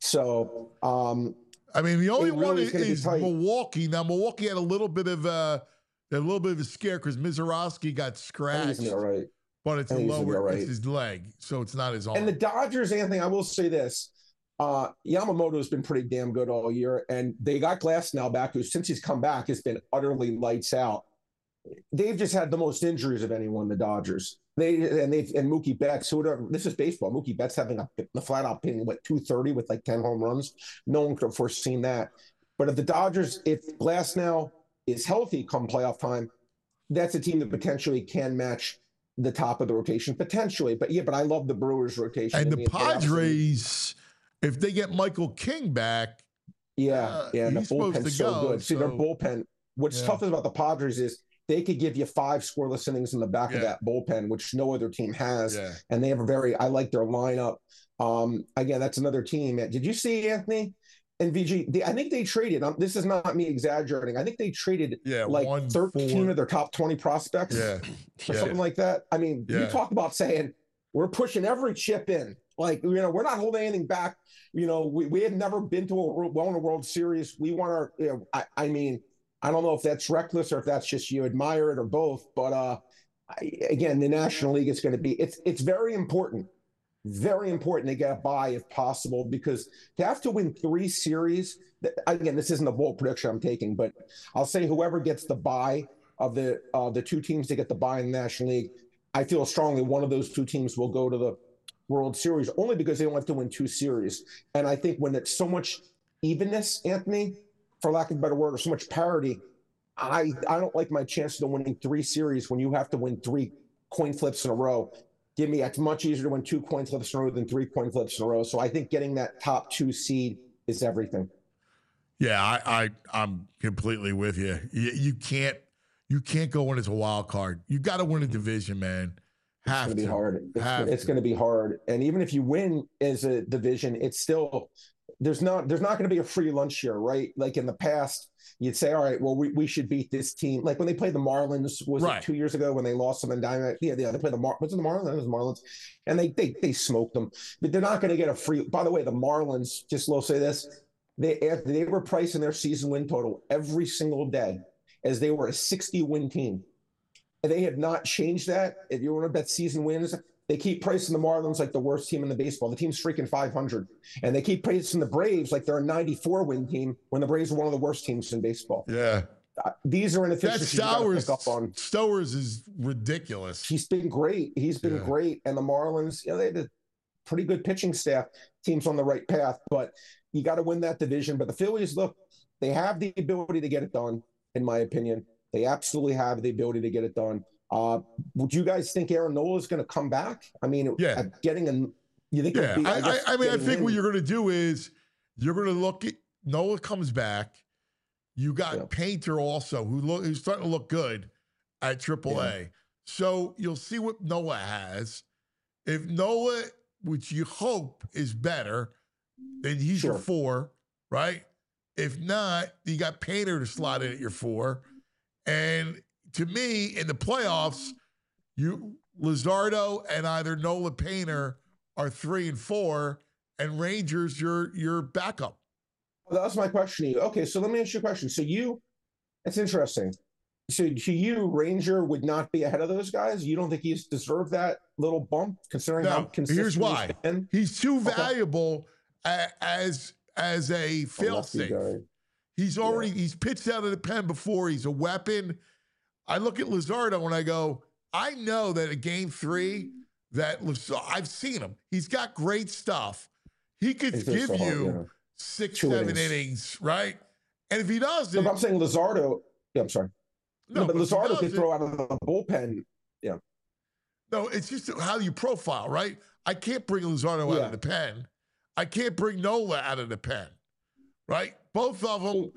So, um, I mean, the only really one is, is, is Milwaukee. Now, Milwaukee had a little bit of a, a little bit of a scare because Mizorowski got scratched. All right. But it's a lower, right. it's his leg, so it's not his arm. And the Dodgers, Anthony, I will say this. Uh, Yamamoto's been pretty damn good all year, and they got Glasnow back, who since he's come back has been utterly lights out. They've just had the most injuries of anyone, the Dodgers. They and they and Mookie Betts, who would this is baseball. Mookie Betts having a, a flat out hitting what two thirty with like ten home runs. No one could have foreseen that. But if the Dodgers, if Glasnow is healthy come playoff time, that's a team that potentially can match the top of the rotation potentially. But yeah, but I love the Brewers rotation. And the Padres, if they get Michael King back, yeah, uh, yeah, the he's supposed bullpen's to so go, good. See, so, their bullpen. What's yeah. tough about the Padres is they could give you five scoreless innings in the back yeah. of that bullpen, which no other team has. Yeah. And they have a very, I like their lineup. Um, again, that's another team. Did you see Anthony? And V G, they, I think they traded. Um, this is not me exaggerating. I think they traded yeah, like one, thirteen four. of their top twenty prospects, yeah, or yeah. something like that. I mean, yeah. you talk about saying we're pushing every chip in. Like you know, we're not holding anything back. You know, we we have never been to a won a World Series. We want our. You know, I, I mean, I don't know if that's reckless or if that's just you admire it or both. But uh, I, again, the National League is going to be. It's it's very important. Very important to get a bye if possible, because to have to win three series, again, this isn't a bold prediction I'm taking, but I'll say whoever gets the bye of the uh, the two teams that get the bye in the National League, I feel strongly one of those two teams will go to the World Series, only because they don't have to win two series. And I think when it's so much evenness, Anthony, for lack of a better word, or so much parity, I, I don't like my chances of winning three series when you have to win three coin flips in a row. Give me, it's much easier to win two coin flips in a row than three coin flips in a row. So I think getting that top two seed is everything. Yeah, I, I I'm completely with you. You, you can't you can't go in as a wild card. You got to win a division, man. Have It's going to be hard. It's, Have it's going to be hard. And even if you win as a division, it's still there's not there's not going to be a free lunch here, right? Like in the past, you'd say, all right, well, we, we should beat this team. Like when they played the Marlins, was Right. it two years ago when they lost them in Diamond? Yeah, yeah, they played the Mar. Was it the Marlins? It was the Marlins, and they they they smoked them. But they're not going to get a free. By the way, the Marlins. Just will say this: they they were pricing their season win total every single day as they were a sixty win team. And they have not changed that. If you want to bet season wins, they keep pricing the Marlins like the worst team in the baseball. The team's freaking five hundred. And they keep pricing the Braves like they're a ninety-four win team when the Braves are one of the worst teams in baseball. Yeah. Uh, these are That inefficiencies you gotta Stowers, pick up on. Stowers is ridiculous. He's been great. He's been Yeah. great. And the Marlins, you know, they had a pretty good pitching staff. Team's on the right path, but you got to win that division. But the Phillies, look, they have the ability to get it done, in my opinion. They absolutely have the ability to get it done. Uh, would you guys think Aaron Nola is going to come back? I mean, Yeah. uh, getting a, you think? Yeah, it'll be, I, I, guess I mean, I getting think in- what you're going to do is you're going to look at Noah comes back. You got Yeah. Painter also, who look who's starting to look good at triple A. Yeah. So you'll see what Noah has. If Noah, which you hope is better, then he's your Sure. four, right? If not, you got Painter to slot in at your four. And to me, in the playoffs, you Luzardo and either Nola Painter are three and four, and Rangers your your backup. Well, that was my question to you. Okay, so let me ask you a question. So you, that's interesting. So to you, Ranger would not be ahead of those guys? You don't think he's deserved that little bump, considering how Now, consistent here's why. he's been? He's too Okay. valuable a, as as a A fail lefty safe. guy. He's already he's pitched out of the pen before. He's a weapon. I look at Luzardo and I go, I know that at game three, that Luz- I've seen him. He's got great stuff. He could He's just give so hard, you yeah. six, Two seven innings. innings. right? And if he does No, it, but I'm saying Luzardo. Yeah, I'm sorry. No, but if he Luzardo does could it- throw out of the bullpen. Yeah. No, it's just how you profile, right? I can't bring Luzardo out Yeah. of the pen. I can't bring Nola out of the pen, right? Both of them.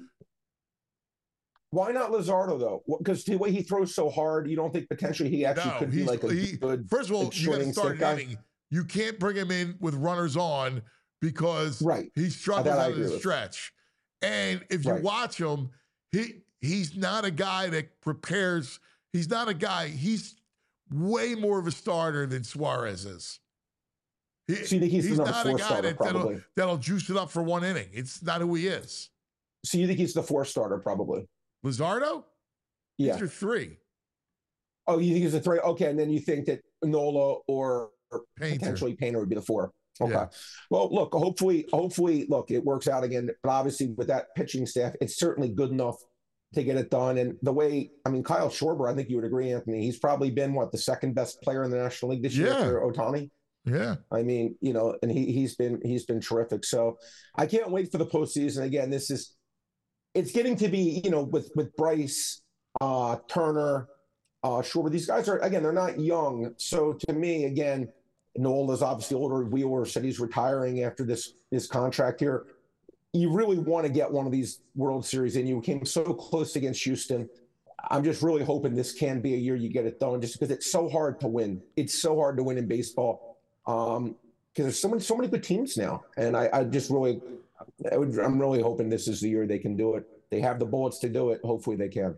Why not Luzardo though? Because the way he throws so hard, you don't think potentially he actually No, could be he's like a he, good. first of all, like, you got to shorting start stick guy? an inning. You can't bring him in with runners on because Right. he struggles That I out of agree the with. stretch. And if you Right. watch him, he he's not a guy that prepares. He's not a guy. He's way more of a starter than Suarez is. He, So you think he's the number not four a guy starter, that, that'll, probably? that'll juice it up for one inning. It's not who he is. So you think he's the four starter probably? Luzardo? Yeah. He's your three. Oh, you think he's a three? Okay, and then you think that Nola or Painter. potentially Painter would be the four. Okay. Yeah. Well, look, hopefully, hopefully, look, it works out again. But obviously, with that pitching staff, it's certainly good enough to get it done. And the way, I mean, Kyle Schwarber, I think you would agree, Anthony. He's probably been what the second best player in the National League this year Yeah. after Ohtani. Yeah. I mean, you know, and he he's been he's been terrific. So I can't wait for the postseason. Again, this is it's getting to be, you know, with with Bryce, uh, Turner, uh, Schwarber. These guys are again, they're not young. So to me, again, Nola's obviously older. Wheeler said he's retiring after this this contract here. You really want to get one of these World Series in. You came so close against Houston. I'm just really hoping this can be a year you get it done, just because it's so hard to win. It's so hard to win in baseball. Um, because there's so many, so many good teams now, and I, I just really, I would, I'm really hoping this is the year they can do it. They have the bullets to do it. Hopefully, they can.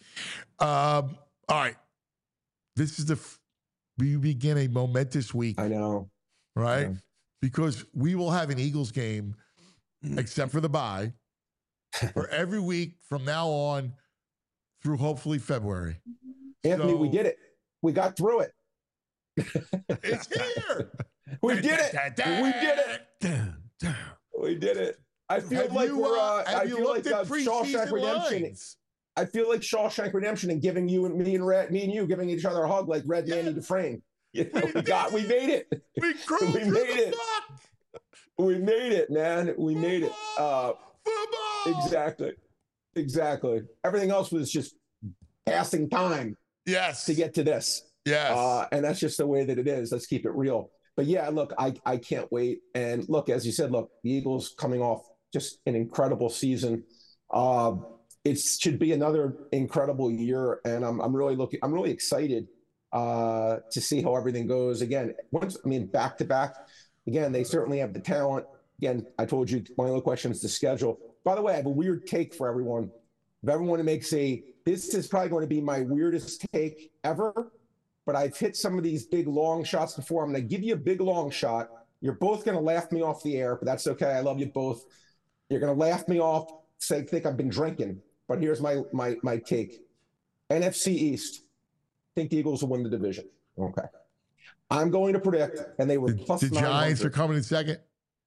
Um, all right. This is the f- we begin a momentous week, I know. right? Yeah. Because we will have an Eagles game, except for the bye, for every week from now on through hopefully February. Anthony, we So- did it. We got through it. It's here. We did it. We did it. Damn, damn. We did it. I feel Have like you, we're. uh, Uh, have I you feel looked like uh, at Shawshank preseason Redemption. lines? I feel like Shawshank Redemption and giving you and me and Red, me and you giving each other a hug like Red Yeah. Manny Dufresne. You know, we got, we made it. We cruised We through made the it. fuck. We made it, man. We made it. Uh, Football. exactly. Exactly. Everything else was just passing time Yes. to get to this. Yes. Uh, and that's just the way that it is. Let's keep it real. But yeah, look, I, I can't wait. And look, as you said, look, the Eagles coming off just an incredible season. Uh, it should be another incredible year. And I'm, I'm really looking, I'm really excited uh, to see how everything goes. Again, once, I mean, back to back, again, they certainly have the talent. Again, I told you my only question is the schedule. By the way, I have a weird take for everyone. If everyone makes a, this is probably going to be my weirdest take ever, but I've hit some of these big long shots before. I'm going to give you a big long shot. You're both going to laugh me off the air, but that's okay. I love you both. You're going to laugh me off, say, think I've been drinking. But here's my my my take. N F C East. I think the Eagles will win the division. Okay. I'm going to predict, and they were The, plus the Giants are coming in second.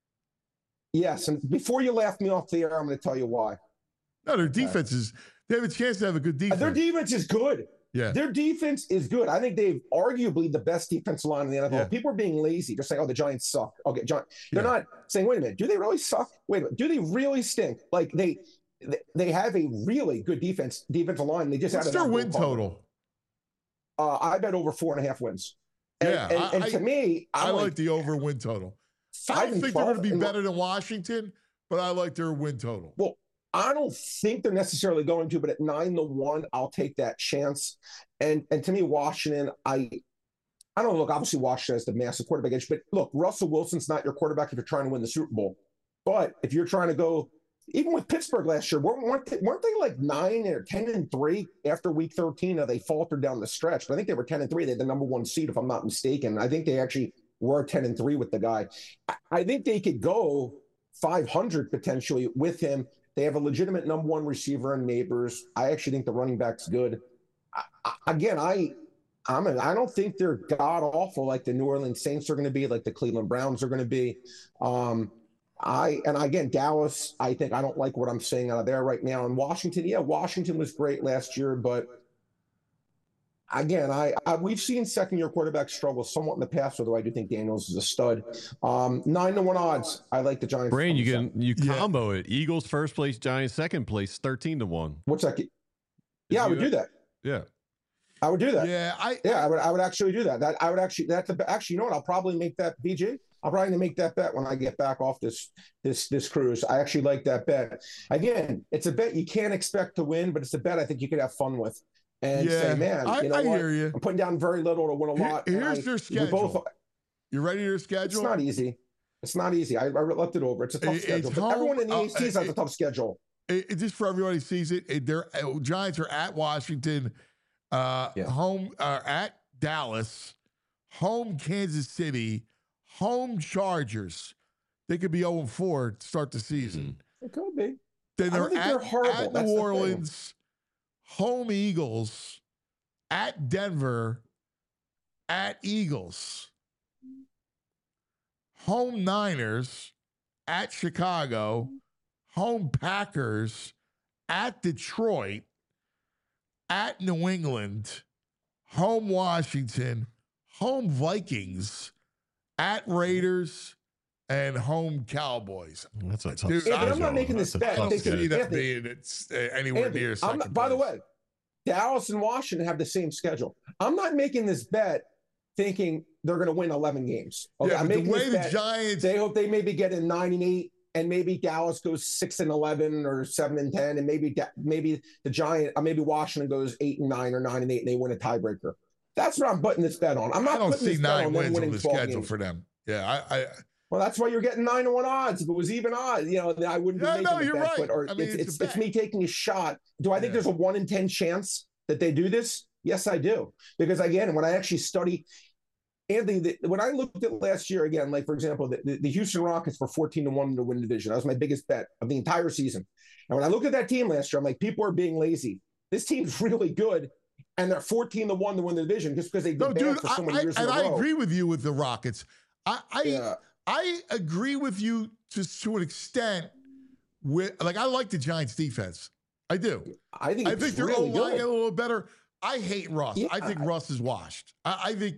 Yes, and before you laugh me off the air, I'm going to tell you why. No, their defense is, they have a chance to have a good defense. Their defense is good. Yeah. Their defense is good. I think they've arguably the best defensive line in the N F L. Yeah. People are being lazy. They're saying, oh, the Giants suck. Okay, Gi- they're Yeah. not saying, wait a minute, do they really suck? Wait a minute, do they really stink? Like they they have a really good defense, defensive line. They just What's added their on win Will Palmer. total? Uh, I bet over four and a half wins. And, Yeah, and, I- and to I- me, I I'm like, like the over win total. I five don't and think they're going to twelve be and- better than Washington, but I like their win total. Well, I don't think they're necessarily going to, but at nine to one, I'll take that chance. And and to me, Washington, I I don't know. Look, obviously Washington has the massive quarterback edge, but look, Russell Wilson's not your quarterback if you're trying to win the Super Bowl. But if you're trying to go, even with Pittsburgh last year, weren't, weren't, they, weren't they like nine or ten and three after week thirteen? Or they faltered down the stretch, but I think they were ten and three. They had the number one seed, if I'm not mistaken. I think they actually were ten and three with the guy. I, I think they could go five hundred potentially with him. They have a legitimate number one receiver in Neighbors. I actually think the running back's good. I, I, again, I I'm a, I don't think they're god awful like the New Orleans Saints are going to be, like the Cleveland Browns are going to be. Um, I and again Dallas, I think I don't like what I'm seeing out of there right now. And Washington, yeah, Washington was great last year, but again, I, I we've seen second year quarterbacks struggle somewhat in the past, although I do think Daniels is a stud. Um, nine to one odds. I like the Giants. Brain, you can you Yeah. combo it. Eagles first place, Giants second place, thirteen to one. What's that? Yeah, I would do that. Yeah. I would do that. Yeah, I Yeah, I would. I would actually do that. That I would actually. That's a, actually. You know what? I'll probably make that B J. I'll probably make that bet when I get back off this this this cruise. I actually like that bet. Again, it's a bet you can't expect to win, but it's a bet I think you could have fun with. And Yeah, say, man, I- you know I what? hear you. I'm putting down very little to win a Here- lot. and here's I- their we schedule. Both, you ready to your it's schedule? not easy. It's not easy. I, I left it over. It's a tough It- schedule. it's But home- everyone in the uh, A F C has it- a tough schedule. It, it- just for everybody sees it, it their uh, Giants are at Washington, uh, Yeah. home uh, at Dallas, home Kansas City, home Chargers. They could be zero and four to start the season. It could be. Then I they're don't think at, they're horrible. at That's New the thing. Orleans, home Eagles, at Denver, at Eagles, home Niners, at Chicago, home Packers, at Detroit, at New England, home Washington, home Vikings, at Raiders, and home Cowboys. That's a tough Dude, Yeah, but I'm not schedule. making That's this a bet. I tough don't They could- see schedule. that Anthony, being it's uh, anywhere Anthony, near I'm second not, by the place. way, Dallas and Washington have the same schedule. I'm not making this bet thinking they're going to win eleven games. Okay, yeah, I'm but the making way this the bet. Giants, They hope they maybe get in nine and eight, and maybe Dallas goes six and eleven or seven and ten, and maybe Da- maybe the Giant, or maybe Washington goes eight and nine or nine and eight, and they win a tiebreaker. That's what I'm putting this bet on. I'm not I don't putting see this bet nine on them wins on winning the twelve schedule games. for them. Yeah, I, I Well, that's why you're getting nine to one odds. If it was even odds, you know, then I wouldn't be Yeah, making no, the you're bet. right. But or I mean, it's it's a it's, it's bet. me taking a shot. Do I think Yeah. there's a one in ten chance that they do this? Yes, I do. Because again, when I actually study, Anthony, the, when I looked at last year again, like for example, the, the, the Houston Rockets were fourteen to one to win the division. That was my biggest bet of the entire season. And when I looked at that team last year, I'm like, people are being lazy. This team's really good, and they're fourteen to one to win the division just because they've been no, bad dude, for so I, many I, years and in a I row. agree with you with the Rockets. I, I, Yeah. I agree with you to to an extent. With like, I like the Giants' defense. I do. I think I it's think they're really O-line good. a little better. I hate Russ. Yeah. I think Russ is washed. I, I think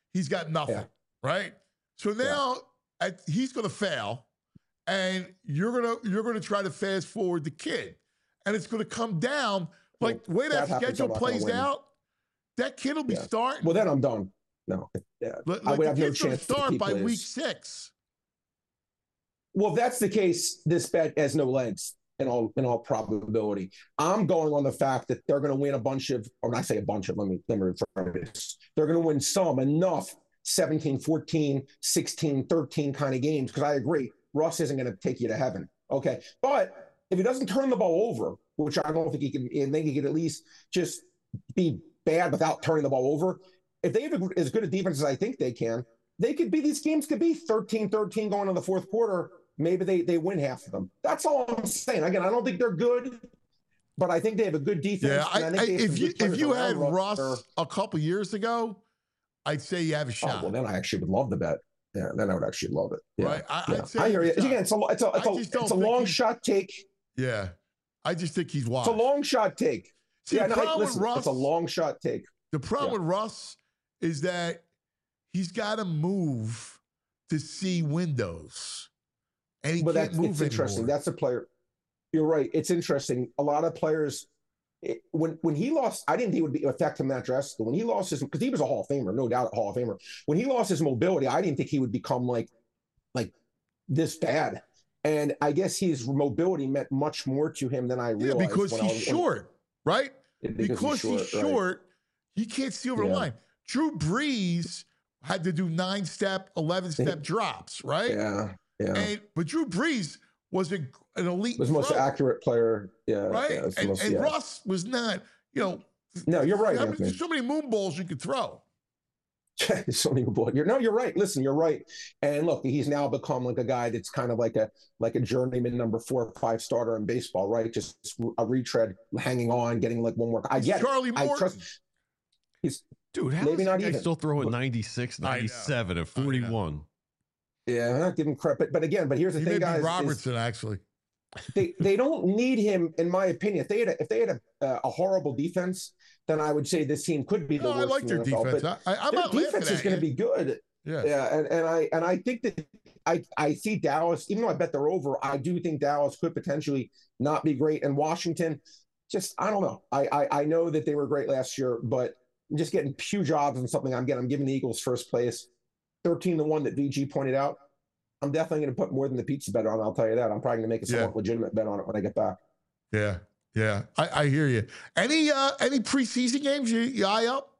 he's got nothing, Yeah. right? So now at, he's going to fail, and you're gonna you're gonna try to fast forward the kid, and it's going to come down like the way that, that happens, schedule I'm not gonna plays win. out. That kid will be Yeah. starting. Well, then I'm done. No, yeah, Like, I would the have no kid's gonna chance to start keep by Liz. week six. Well, if that's the case, this bet has no legs in all in all probability. I'm going on the fact that they're going to win a bunch of, or when I say a bunch of, let me let me rephrase this. They're going to win some enough seventeen, fourteen, sixteen, thirteen kind of games, because I agree, Russ isn't going to take you to heaven. Okay, but if he doesn't turn the ball over, which I don't think he can, I think he could at least just be bad without turning the ball over. If they have as good a defense as I think they can, they could be, these games could be thirteen thirteen going to the fourth quarter. Maybe they, they win half of them. That's all I'm saying. Again, I don't think they're good, but I think they have a good defense. Yeah, I, and I, I think they have if some you good if you players had around Russ Russ. a couple years ago, I'd say you have a Oh, shot. well, then I actually would love the bet. Yeah, then I would actually love it. Yeah, Right? I- yeah. I'd say I hear you you. have a shot. Again, it's a it's a it's I a, just don't it's a think long he- shot take. Yeah, I just think he's It's washed. a long shot take. See, yeah, the no, I- problem with listen, Russ, it's a long shot take. the problem yeah. with Russ is that he's got to move to see windows, and he But can't that's move it's interesting. anymore. That's a player. You're right. It's interesting. A lot of players, it, when when he lost, I didn't think it would be affect him that drastically. When he lost his, because he was a Hall of Famer, no doubt a Hall of Famer. When he lost his mobility, I didn't think he would become like like this bad. And I guess his mobility meant much more to him than I Yeah, realized. because when I he's was, short, right? Because, Because he's right. short, he can't see over the Yeah. line. Drew Brees had to do nine step, eleven step drops, right? Yeah, yeah. And but Drew Brees was a, an elite was the most thrower, accurate player. Yeah, right? yeah, it was the and most- and yeah. Russ was not. You know, No, you're right, how many- Anthony. there's so many moon balls you could throw. so many people. You're, no, you're right. Listen, you're right. And look, he's now become like a guy that's kind of like a like a journeyman number four or five starter in baseball, right? Just a retread, hanging on, getting like one more. I get Charlie it. I Morton. trust. He's Dude, how Maybe does not that guy even. still throw at ninety-six, I know. ninety-seven, and forty-one? yeah, I'm not giving credit, but, but again, but here's the He thing, may be guys. is Robertson, actually. they they don't need him, in my opinion. If they had a, if they had a, uh, a horrible defense, then I would say this team could be the No, worst. I like in their the N F L, defense. but I, I, I'm their not laughing defense is at going to you. be good. Yeah. Yeah, and, and I and I think that I I see Dallas, even though I bet they're over, I do think Dallas could potentially not be great. And Washington, just I don't know. I I, I know that they were great last year, but I'm just getting huge odds on something I'm getting. I'm giving the Eagles first place, thirteen to one that V G pointed out. I'm definitely going to put more than the pizza bet on. I'll tell you that. I'm probably going to make a somewhat Yeah. legitimate bet on it when I get back. Yeah, yeah. I, I hear you. Any uh any preseason games you, you eye up?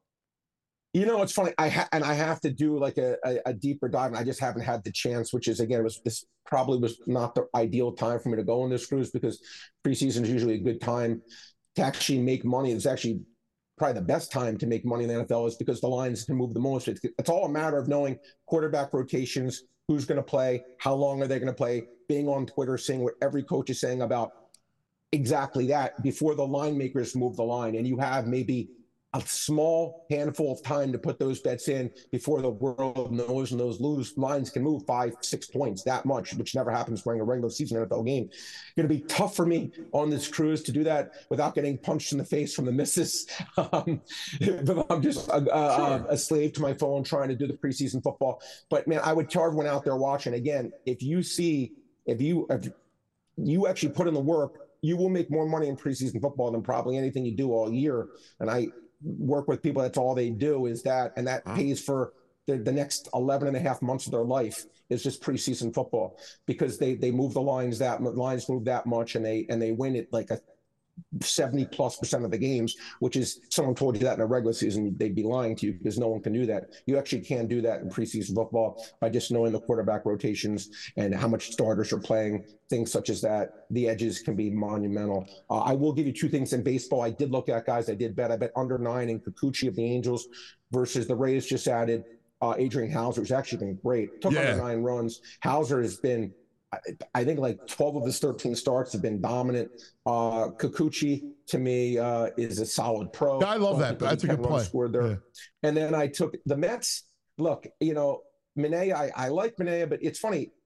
You know, it's funny. I ha- and I have to do like a, a, a deeper dive, and I just haven't had the chance. Which is again, it was this probably was not the ideal time for me to go on this cruise because preseason is usually a good time to actually make money. It's actually probably the best time to make money in the N F L is because the lines can move the most. It's, it's all a matter of knowing quarterback rotations, who's going to play, how long are they going to play, being on Twitter, seeing what every coach is saying about exactly that before the line makers move the line, and you have maybe a small handful of time to put those bets in before the world knows, and those lose lines can move five, six points, that much, which never happens during a regular season N F L game. It's going to be tough for me on this cruise to do that without getting punched in the face from the missus. Um, but I'm just a, a, a slave to my phone trying to do the preseason football. But man, I would tell everyone out there watching, again, if you see, if you, if you actually put in the work, you will make more money in preseason football than probably anything you do all year. And I work with people, that's all they do is that, and that pays for the, the next eleven and a half months of their life is just preseason football because they they move the lines that lines move that much, and they and they win it like a seventy plus percent of the games, which is, someone told you that in a regular season, they'd be lying to you because no one can do that. You actually can do that in preseason football by just knowing the quarterback rotations and how much starters are playing, things such as that. The edges can be monumental. Uh, I will give you two things in baseball. I did look at, guys, I did bet. I bet under nine in Kikuchi of the Angels versus the Rays just added uh, Adrian Hauser, who's actually been great. Took Yeah. under nine runs. Hauser has been, I, I think like twelve of his thirteen starts have been dominant. Uh, Kikuchi, to me, uh, is a solid pro. I love Don't that. think there'll That's be a ten good runs play. scored there. Yeah. And then I took the Mets. Look, you know, Minaya, I, I like Minaya, but it's funny.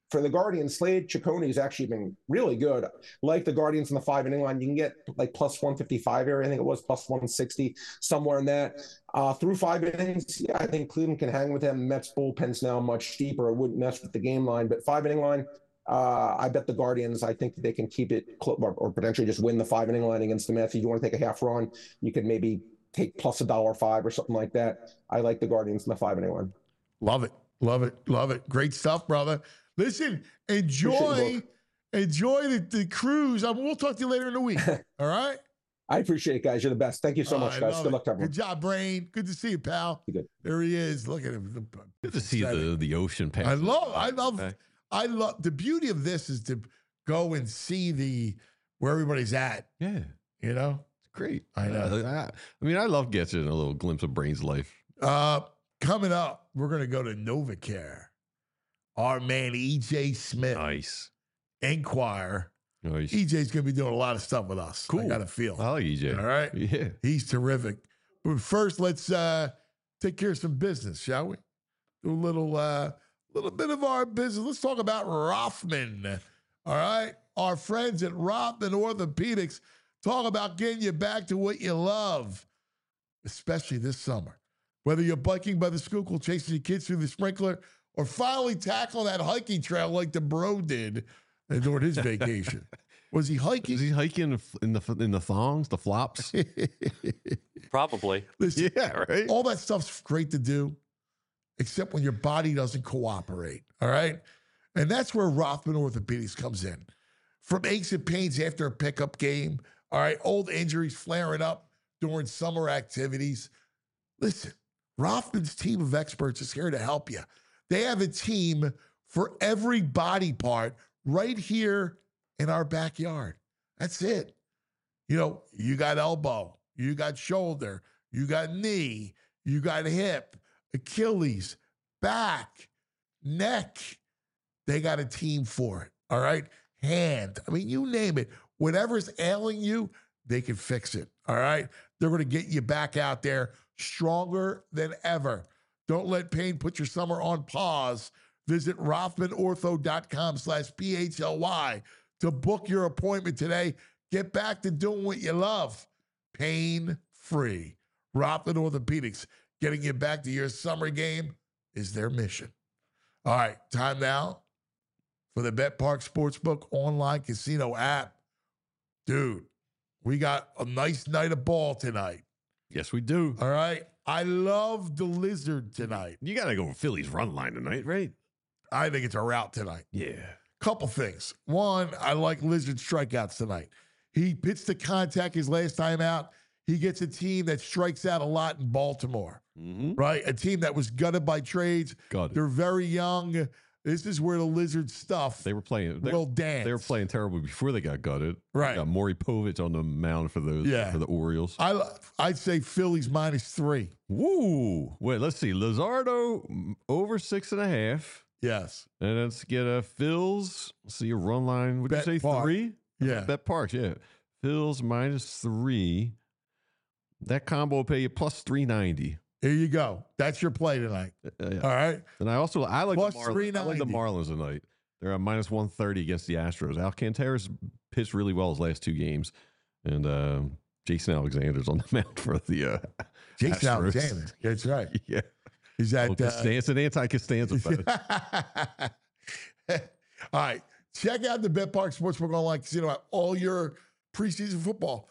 for the Guardians, Slade Ciccone has actually been really good. Like the Guardians in the five inning line, you can get like plus one fifty-five area. I think it was plus one sixty, somewhere in that. Uh, through five innings, yeah, I think Cleveland can hang with them. Mets bullpen's now much deeper. It wouldn't mess with the game line, but five inning line, uh, I bet the Guardians, I think that they can keep it cl- or, or potentially just win the five inning line against the Mets. If you want to take a half run, you could maybe take plus a dollar five or something like that. I like the Guardians in the five inning line. Love it. Love it. Love it. Great stuff, brother. Listen, enjoy, enjoy the, the cruise. I mean, we'll talk to you later in the week. All right? I appreciate it, guys. You're the best. Thank you so Oh, much, I guys. love Good it. luck to everyone. Good job, Brain. Good to see you, pal. You good. There he is. Look at him. Good to see the, the ocean pass. I love, I love, Okay. I love, the beauty of this is to go and see the, where everybody's at, Yeah, you know? it's great. I know. Uh, I, I mean, I love getting a little glimpse of Brain's life. Uh, coming up, we're going to go to NovaCare. Our man, E J Smith, Nice. Enquire. Nice. E J's going to be doing a lot of stuff with us. Cool. I got a feel. I like E J. All right. Yeah. He's terrific. But first, let's uh, take care of some business, shall we? Do a little, uh, little bit of our business. Let's talk about Rothman. All right. Our friends at Rothman Orthopedics talk about getting you back to what you love, especially this summer. Whether you're biking by the Schuylkill, chasing your kids through the sprinkler, or finally tackling that hiking trail like the bro did during his vacation. Was he hiking? Is he hiking in the in the thongs, the flops? Probably. Listen, Yeah, right. all that stuff's great to do, except when your body doesn't cooperate. All right. And that's where Rothman Orthopedics comes in. From aches and pains after a pickup game, all right, old injuries flaring up during summer activities. Listen, Rothman's team of experts is here to help you. They have a team for every body part right here in our backyard. That's it. You know, you got elbow, you got shoulder, you got knee, you got hip, Achilles, back, neck. They got a team for it. All right. Hand. I mean, you name it. Whatever's ailing you, they can fix it. All right. They're going to get you back out there stronger than ever. Don't let pain put your summer on pause. Visit rothmanortho.com slash P H L Y to book your appointment today. Get back to doing what you love. Pain-free. Rothman Orthopedics, getting you back to your summer game is their mission. All right, time now for the Bet Park Sportsbook online casino app. Dude, we got a nice night of ball tonight. Yes, we do. All right. I love the Lizard tonight. You got to go Phillies run line tonight, right? I think it's a rout tonight. Yeah. Couple things. One, I like Lizard strikeouts tonight. He pitched the contact his last time out. He gets a team that strikes out a lot in Baltimore, Mm-hmm. right? A team that was gutted by trades. Got it. They're very young. This is where the Lizard stuff They were playing. They, will dance. they were playing terrible before they got gutted. Right. Got Maury Povich on the mound for those. Yeah. For the Orioles. I, I'd say Phillies minus three. Woo! Wait, let's see. Lizardo mm, over six and a half. Yes. And let's get a Phil's. Let's see a run line. Would you Bet say Park. three? Yeah. Bet Parks, yeah. Phil's minus three. That combo will pay you plus three ninety. Here you go. That's your play tonight. Uh, yeah. All right. And I also I like Plus the Marlins. I like the three ninety. Marlins tonight. They're at minus one thirty against the Astros. Alcantara's pitched really well his last two games, and uh, Jason Alexander's on the mound for the uh, Jason Astros. Alexander. That's right. Yeah, Is that well, uh, Costanza- it's an anti-Costanza bet. All right. Check out the Bet Park Sportsbook Online Casino app. All your preseason football,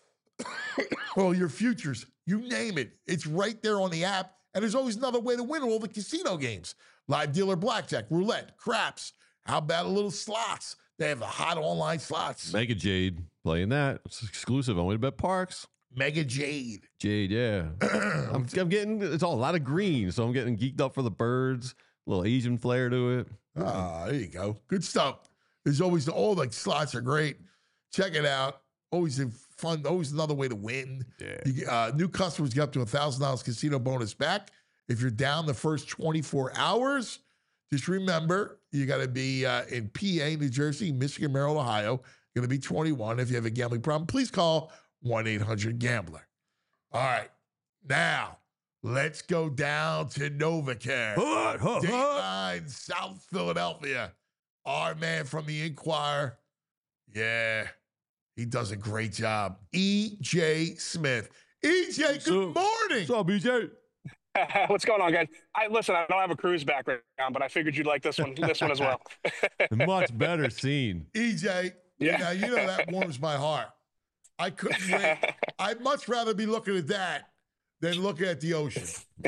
all your futures, you name it. It's right there on the app. And there's always another way to win all the casino games. Live dealer blackjack, roulette, craps. How about a little slots? They have the hot online slots. Mega Jade playing that. It's exclusive only to Bet Parks. Mega Jade. Jade, yeah. I'm, I'm getting it's all a lot of green, so I'm getting geeked up for the birds. A little Asian flair to it. Ah, there you go. Good stuff. There's always all the slots are great. Check it out. Always a fun. Always another way to win. Yeah. You, uh, new customers get up to a thousand dollars casino bonus back if you're down the first twenty-four hours. Just remember, you got to be uh, in P A, New Jersey, Michigan, Maryland, Ohio. You're going to be twenty-one. If you have a gambling problem, please call one eight hundred gambler. All right, now let's go down to NovaCare. Hut, hut, hut. Dateline, South Philadelphia. our man from the Inquirer. Yeah, he does a great job. E J Smith. E J, good So- morning. What's up, B J? What's going on, guys? I listen. I don't have a cruise background, but I figured you'd like this one. This one as well. Much better scene. E J, Yeah. now you know that warms my heart. I couldn't wait. I'd much rather be looking at that than looking at the ocean.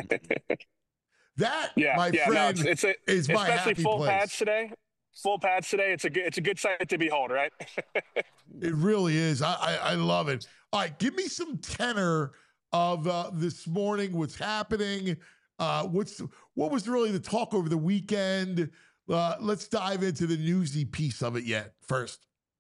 That, Yeah, my yeah. No, friend, it's, it's a, is my especially happy full place. pads today. Full pads today. It's a good. It's a good sight to behold, right? It really is. I, I, I love it. All right, give me some tenor of uh, this morning. What's happening? Uh, what's what was really the talk over the weekend? Uh, let's dive into the newsy piece of it yet first.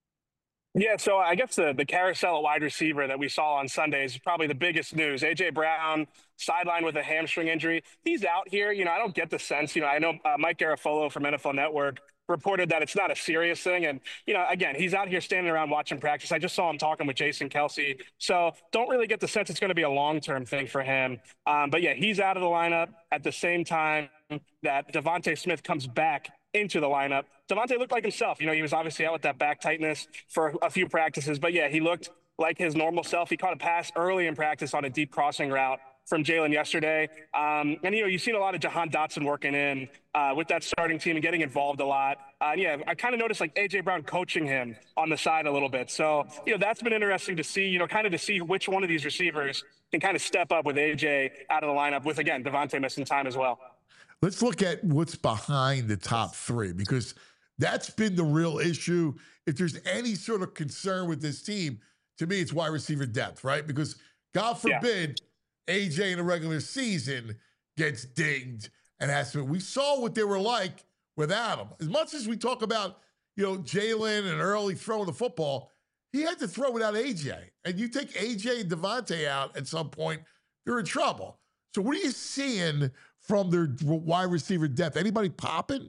Yeah, so I guess the, the carousel at wide receiver that we saw on Sunday is probably the biggest news. A J Brown, sidelined with a hamstring injury. He's out here. You know, I don't get the sense, you know, I know uh, Mike Garafolo from N F L Network reported that it's not a serious thing. And, you know, again, he's out here standing around watching practice. I just saw him talking with Jason Kelsey. So don't really get the sense it's going to be a long-term thing for him. Um, but, yeah, he's out of the lineup at the same time that Devontae Smith comes back into the lineup. Devontae looked like himself. You know, he was obviously out with that back tightness for a few practices. But, yeah, he looked like his normal self. He caught a pass early in practice on a deep crossing route from Jalen yesterday. Um, and, you know, you've seen a lot of Jahan Dotson working in uh, with that starting team and getting involved a lot. Uh, and, yeah, I kind of noticed, like, A J Brown coaching him on the side a little bit. So, you know, that's been interesting to see, you know, kind of to see which one of these receivers can kind of step up with A J out of the lineup with, again, Devontae missing time as well. Let's look at what's behind the top three, because that's been the real issue. If there's any sort of concern with this team, to me, it's wide receiver depth, right? Because God forbid yeah. A J in a regular season gets dinged and has to. We saw what they were like without him. As much as we talk about, you know, Jalen and early throwing the football, he had to throw without A J. And you take A J and Devontae out at some point, you're in trouble. So what are you seeing from their wide receiver depth? Anybody popping?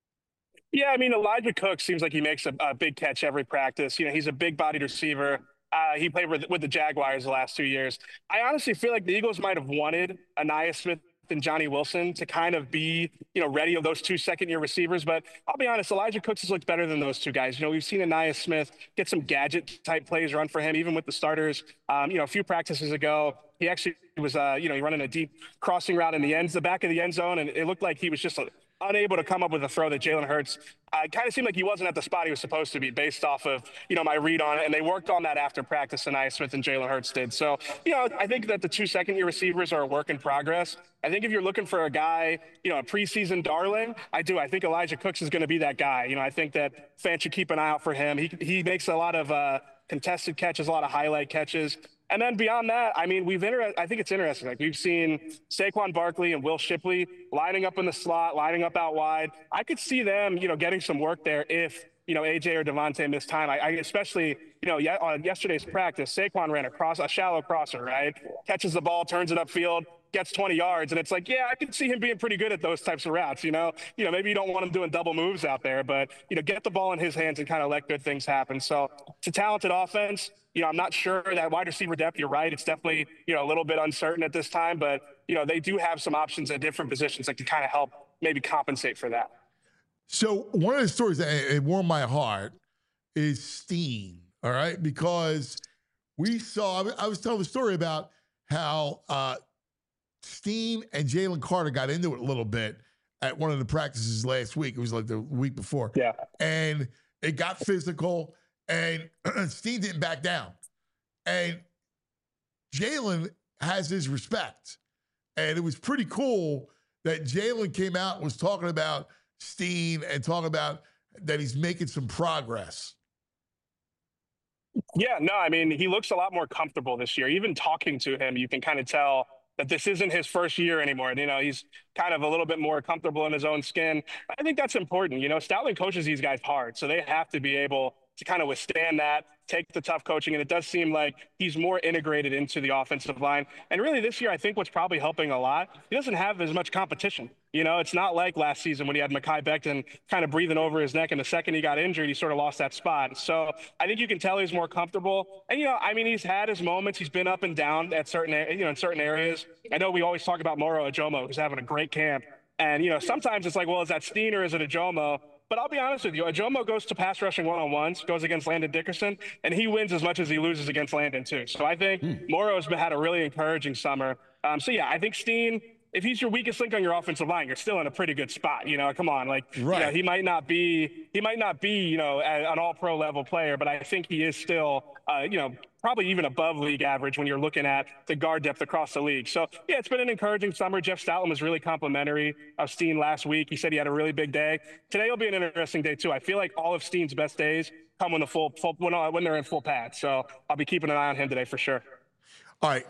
Yeah, I mean, Elijah Cook seems like he makes a, a big catch every practice. You know, he's a big-bodied receiver. Uh, he played with, with the Jaguars the last two years. I honestly feel like the Eagles might have wanted Anaya Smith and Johnny Wilson to kind of be, you know, ready of those two second-year receivers. But I'll be honest, Elijah Cooks has looked better than those two guys. You know, we've seen Anaya Smith get some gadget-type plays run for him, even with the starters. Um, you know, a few practices ago, he actually was, uh, you know, he running a deep crossing route in the ends, the back of the end zone, and it looked like he was just a, unable to come up with a throw that Jalen Hurts uh, kind of seemed like he wasn't at the spot he was supposed to be based off of, you know, my read on it. And they worked on that after practice, Anaya Smith and Jalen Hurts did. So, you know, I think that the two second-year receivers are a work in progress. I think if you're looking for a guy, you know, a preseason darling, I do. I think Elijah Cooks is going to be that guy. You know, I think that fans should keep an eye out for him. He, he makes a lot of uh, contested catches, a lot of highlight catches. And then beyond that, I mean, we've inter- I think it's interesting. Like we've seen Saquon Barkley and Will Shipley lining up in the slot, lining up out wide. I could see them, you know, getting some work there if, you know, A J or Devontae missed time. I, I especially, you know, yeah, on yesterday's practice, Saquon ran across a shallow crosser, right? Catches the ball, turns it upfield, gets twenty yards, and it's like, yeah, I could see him being pretty good at those types of routes. You know, you know, maybe you don't want him doing double moves out there, but you know, get the ball in his hands and kind of let good things happen. So it's a talented offense. You know, I'm not sure that wide receiver depth, you're right. It's definitely, you know, a little bit uncertain at this time, but, you know, they do have some options at different positions that can kind of help maybe compensate for that. So one of the stories that it warmed my heart is Steen, all right? Because we saw, I was telling the story about how uh, Steen and Jalen Carter got into it a little bit at one of the practices last week. It was like the week before. Yeah. And it got physical. And Steen didn't back down. And Jalen has his respect. And it was pretty cool that Jalen came out and was talking about Steen and talking about that he's making some progress. Yeah, no, I mean, he looks a lot more comfortable this year. Even talking to him, you can kind of tell that this isn't his first year anymore. You know, he's kind of a little bit more comfortable in his own skin. I think that's important. You know, Stoutland coaches these guys hard, so they have to be able to kind of withstand that, take the tough coaching. And it does seem like he's more integrated into the offensive line. And really this year, I think what's probably helping a lot, he doesn't have as much competition. You know, it's not like last season when he had Mekhi Becton kind of breathing over his neck, and the second he got injured, he sort of lost that spot. So I think you can tell he's more comfortable. And, you know, I mean, he's had his moments. He's been up and down at certain, you know, in certain areas. I know we always talk about Moro Ajomo, who's having a great camp. And, you know, sometimes it's like, well, is that Steen or is it Ajomo? But I'll be honest with you, Ajomo goes to pass rushing one-on-ones, goes against Landon Dickerson, and he wins as much as he loses against Landon too. So I think mm. Morrow's had a really encouraging summer. Um, so yeah, I think Steen, if he's your weakest link on your offensive line, you're still in a pretty good spot. You know, come on, like right. you know, he might not be, he might not be, you know, an all-pro level player, but I think he is still, uh, you know, probably even above league average when you're looking at the guard depth across the league. So yeah, it's been an encouraging summer. Jeff Stoutland was really complimentary of Steen last week. He said he had a really big day. Today will be an interesting day too. I feel like all of Steen's best days come when the full, full when, when they're in full pad. So I'll be keeping an eye on him today for sure. All right,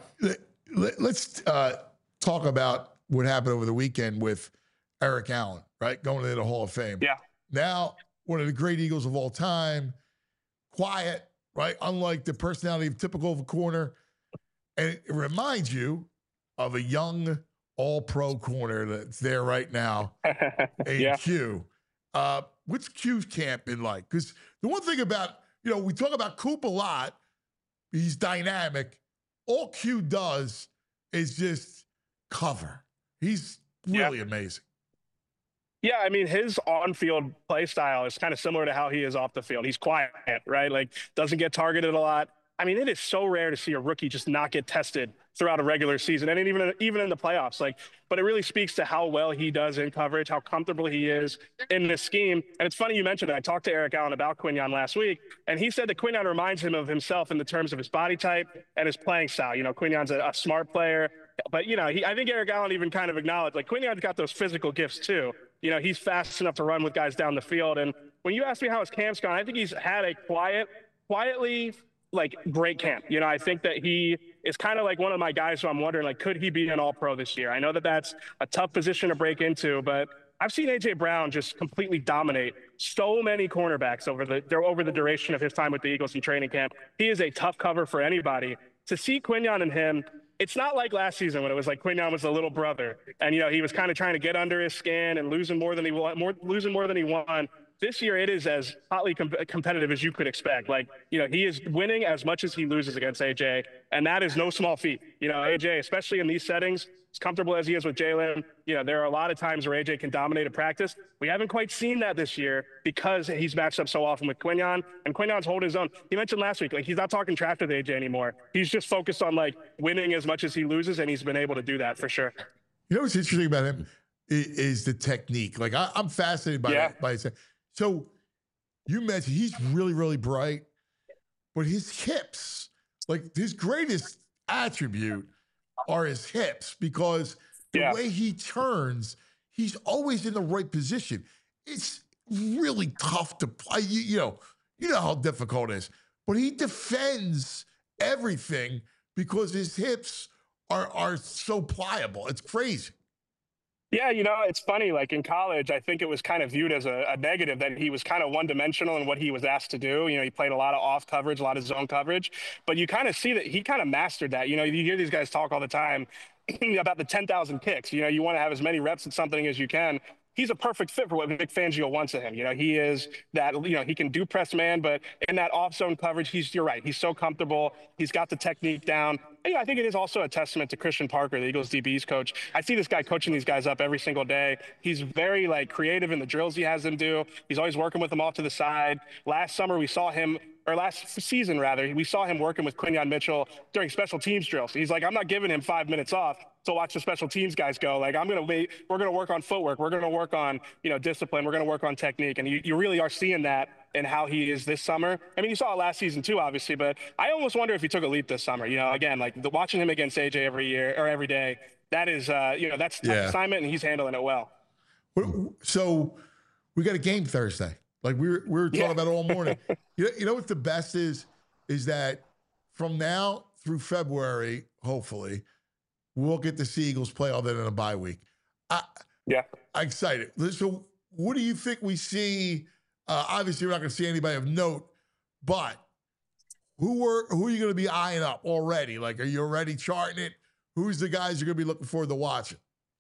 let's uh, talk about what happened over the weekend with Eric Allen, right? Going into the Hall of Fame. Yeah. Now, one of the great Eagles of all time, quiet, right? Unlike the personality of typical of a corner. And it reminds you of a young all-pro corner that's there right now, A yeah. Q. Uh, what's Q's camp been like? Because the one thing about, you know, we talk about Coop a lot. He's dynamic. All Q does is just cover. He's really yeah. amazing. Yeah, I mean, his on-field play style is kind of similar to how he is off the field. He's quiet, right? Like, doesn't get targeted a lot. I mean, it is so rare to see a rookie just not get tested throughout a regular season, and even even in the playoffs. Like, but it really speaks to how well he does in coverage, how comfortable he is in this scheme. And it's funny you mentioned it. I talked to Eric Allen about Quinyon last week, and he said that Quinyon reminds him of himself in the terms of his body type and his playing style. You know, Quinyon's a, a smart player, but you know, he, I think Eric Allen even kind of acknowledged like Quinyon's got those physical gifts too. You know, he's fast enough to run with guys down the field. And when you ask me how his camp's gone, I think he's had a quiet, quietly. like great camp. You know, I think that he is kind of like one of my guys who I'm wondering, like, could he be an all-pro this year? I know that that's a tough position to break into, but I've seen A J Brown just completely dominate so many cornerbacks over the over the duration of his time with the Eagles in training camp. He is a tough cover for anybody. To see Quinyon and him, it's not like last season when it was like Quinyon was the little brother and, you know, he was kind of trying to get under his skin and losing more than he won, more losing more than he won. This year, it is as hotly com- competitive as you could expect. Like, you know, he is winning as much as he loses against A J, and that is no small feat. You know, A J, especially in these settings, as comfortable as he is with Jalen, you know, there are a lot of times where A J can dominate a practice. We haven't quite seen that this year because he's matched up so often with Quinyon, and Quinyon's holding his own. He mentioned last week, like, he's not talking trash with A J anymore. He's just focused on, like, winning as much as he loses, and he's been able to do that for sure. You know what's interesting about him is, is the technique. Like, I, I'm fascinated by yeah. that. By his, so you mentioned he's really, really bright, but his hips, like his greatest attribute are his hips because the yeah. way he turns, he's always in the right position. It's really tough to play. You, you know, you know how difficult it is, but he defends everything because his hips are are so pliable. It's crazy. Yeah, you know, it's funny, like in college, I think it was kind of viewed as a, a negative that he was kind of one-dimensional in what he was asked to do. You know, he played a lot of off coverage, a lot of zone coverage, but you kind of see that he kind of mastered that. You know, you hear these guys talk all the time about the ten thousand kicks. You know, you want to have as many reps at something as you can. He's a perfect fit for what Vic Fangio wants of him. You know, he is that, you know, he can do press man, but in that off zone coverage, he's, you're right. He's so comfortable. He's got the technique down. And, you know, I think it is also a testament to Christian Parker, the Eagles D B's coach. I see this guy coaching these guys up every single day. He's very like creative in the drills he has them do. He's always working with them off to the side. Last summer, we saw him or last season rather, we saw him working with Quinyon Mitchell during special teams drills. He's like, I'm not giving him five minutes off to watch the special teams guys go. Like, I'm going to wait. We're going to work on footwork. We're going to work on, you know, discipline. We're going to work on technique. And you, you really are seeing that in how he is this summer. I mean, you saw it last season too, obviously, but I almost wonder if he took a leap this summer. You know, again, like the, watching him against A J every year or every day, that is, uh, you know, that's a tough yeah. assignment and he's handling it well. So we got a game Thursday. Like we were, we were talking yeah. about it all morning. you, know, you know what the best is? Is that from now through February, hopefully, we'll get to see Eagles play all that in a bye week. I, yeah. I'm excited. So what do you think we see? Uh, obviously, we're not going to see anybody of note, but who are, who are you going to be eyeing up already? Like, are you already charting it? Who's the guys you're going to be looking forward to watching?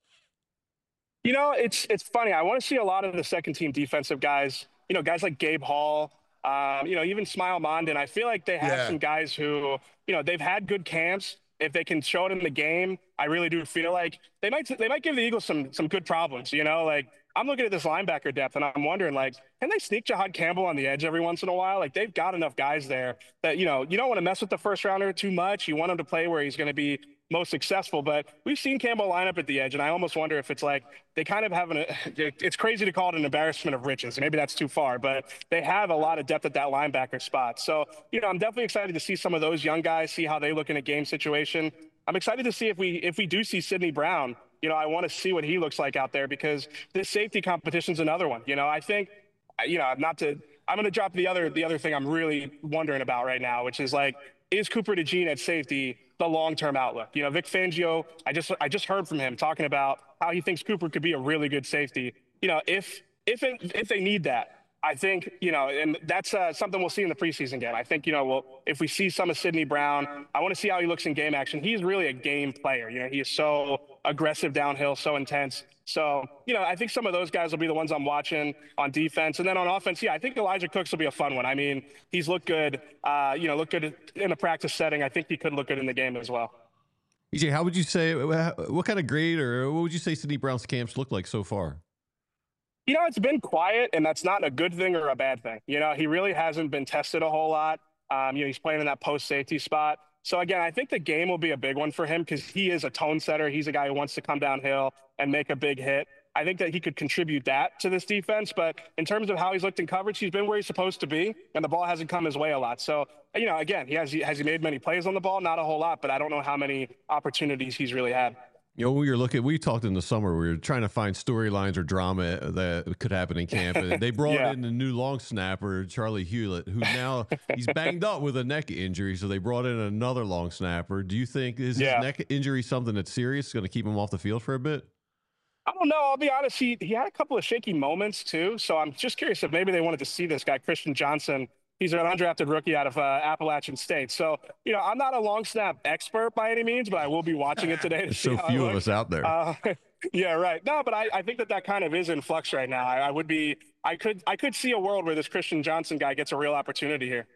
You know, it's it's funny. I want to see a lot of the second team defensive guys, you know, guys like Gabe Hall, um, you know, even Smile Mondin. I feel like they have yeah. some guys who, you know, they've had good camps. If they can show it in the game, I really do feel like they might they might give the Eagles some some good problems. You know, like I'm looking at this linebacker depth, and I'm wondering, like, can they sneak Jahad Campbell on the edge every once in a while? Like, they've got enough guys there that, you know, you don't want to mess with the first rounder too much. You want him to play where he's going to be most successful. But we've seen Campbell line up at the edge, and I almost wonder if it's like they kind of have an – it's crazy to call it an embarrassment of riches. Maybe that's too far, but they have a lot of depth at that linebacker spot. So, you know, I'm definitely excited to see some of those young guys, see how they look in a game situation. I'm excited to see if we if we do see Sidney Brown. You know, I want to see what he looks like out there because this safety competition is another one. You know, I think, you know, not to, I'm going to drop the other, the other thing I'm really wondering about right now, which is like, is Cooper DeJean at safety the long-term outlook? You know, Vic Fangio, I just, I just heard from him talking about how he thinks Cooper could be a really good safety. You know, if, if, it, if they need that, I think, you know, and that's uh, something we'll see in the preseason game. I think, you know, well, if we see some of Sidney Brown, I want to see how he looks in game action. He's really a game player. You know, he is so aggressive downhill, so intense. So, you know, I think some of those guys will be the ones I'm watching on defense. And then on offense, yeah, I think Elijah Cooks will be a fun one. I mean, he's looked good, uh, you know, looked good in a practice setting. I think he could look good in the game as well. E J, how would you say, what kind of grade or what would you say Sidney Brown's camps look like so far? You know, it's been quiet, and that's not a good thing or a bad thing. You know, he really hasn't been tested a whole lot. Um, you know, he's playing in that post safety spot. So again, I think the game will be a big one for him because he is a tone setter. He's a guy who wants to come downhill and make a big hit. I think that he could contribute that to this defense. But in terms of how he's looked in coverage, he's been where he's supposed to be, and the ball hasn't come his way a lot. So, you know, again, he has, has he made many plays on the ball? Not a whole lot, but I don't know how many opportunities he's really had. You know, we were looking, we talked in the summer, we were trying to find storylines or drama that could happen in camp. And they brought yeah. in the new long snapper, Charlie Hewlett, who now he's banged up with a neck injury. So they brought in another long snapper. Do you think is yeah. his neck injury something that's serious, going to keep him off the field for a bit? I don't know. I'll be honest. He, he had a couple of shaky moments too. So I'm just curious if maybe they wanted to see this guy, Christian Johnson. He's an undrafted rookie out of uh, Appalachian State. So, you know, I'm not a long snap expert by any means, but I will be watching it today to There's see so how few it of looks. us out there. Uh, yeah, right. No, but I, I think that that kind of is in flux right now. I, I would be, I could, I could see a world where this Christian Johnson guy gets a real opportunity here.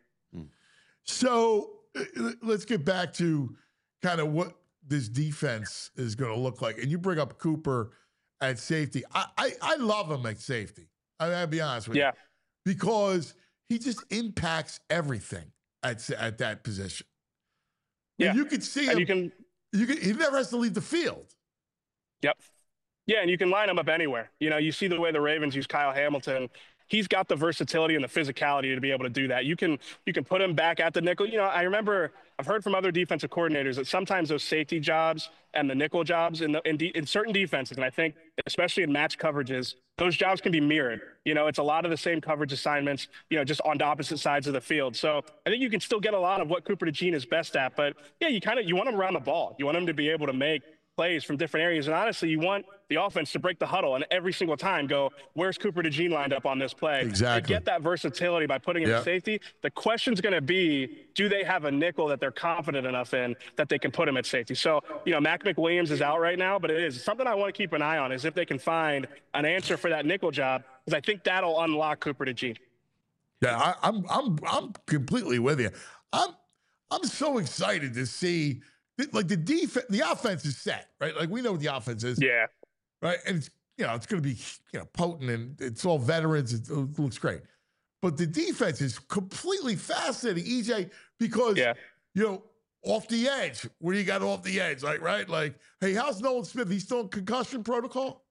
So let's get back to kind of what this defense is going to look like. And you bring up Cooper at safety. I, I, I love him at safety. I mean, I'll be honest with yeah. you. Because he just impacts everything at at that position. Yeah, and you can see him. And you can, you can. He never has to leave the field. Yep. Yeah, and you can line him up anywhere. You know, you see the way the Ravens use Kyle Hamilton. He's got the versatility and the physicality to be able to do that. You can you can put him back at the nickel. You know, I remember I've heard from other defensive coordinators that sometimes those safety jobs and the nickel jobs in the in, de, in certain defenses, and I think especially in match coverages, those jobs can be mirrored. You know, it's a lot of the same coverage assignments, you know, just on the opposite sides of the field. So I think you can still get a lot of what Cooper DeJean is best at. But yeah, you kind of you want him around the ball. You want him to be able to make plays from different areas. And honestly, you want the offense to break the huddle and every single time go, where's Cooper DeJean lined up on this play? Exactly. To get that versatility by putting him yep. in safety, the question's going to be, do they have a nickel that they're confident enough in that they can put him at safety? So, you know, Mac McWilliams is out right now, but it is something I want to keep an eye on is if they can find an answer for that nickel job, because I think that'll unlock Cooper DeJean. Yeah, I, I'm I'm I'm completely with you. I'm I'm so excited to see like the defense, the offense is set, right? Like we know what the offense is. Yeah. Right. And it's, you know, it's going to be, you know, potent and it's all veterans. It, it looks great. But the defense is completely fascinating, E J, because, yeah. you know, off the edge, where you got off the edge, like, right? Like, hey, how's Nolan Smith? He's still in concussion protocol?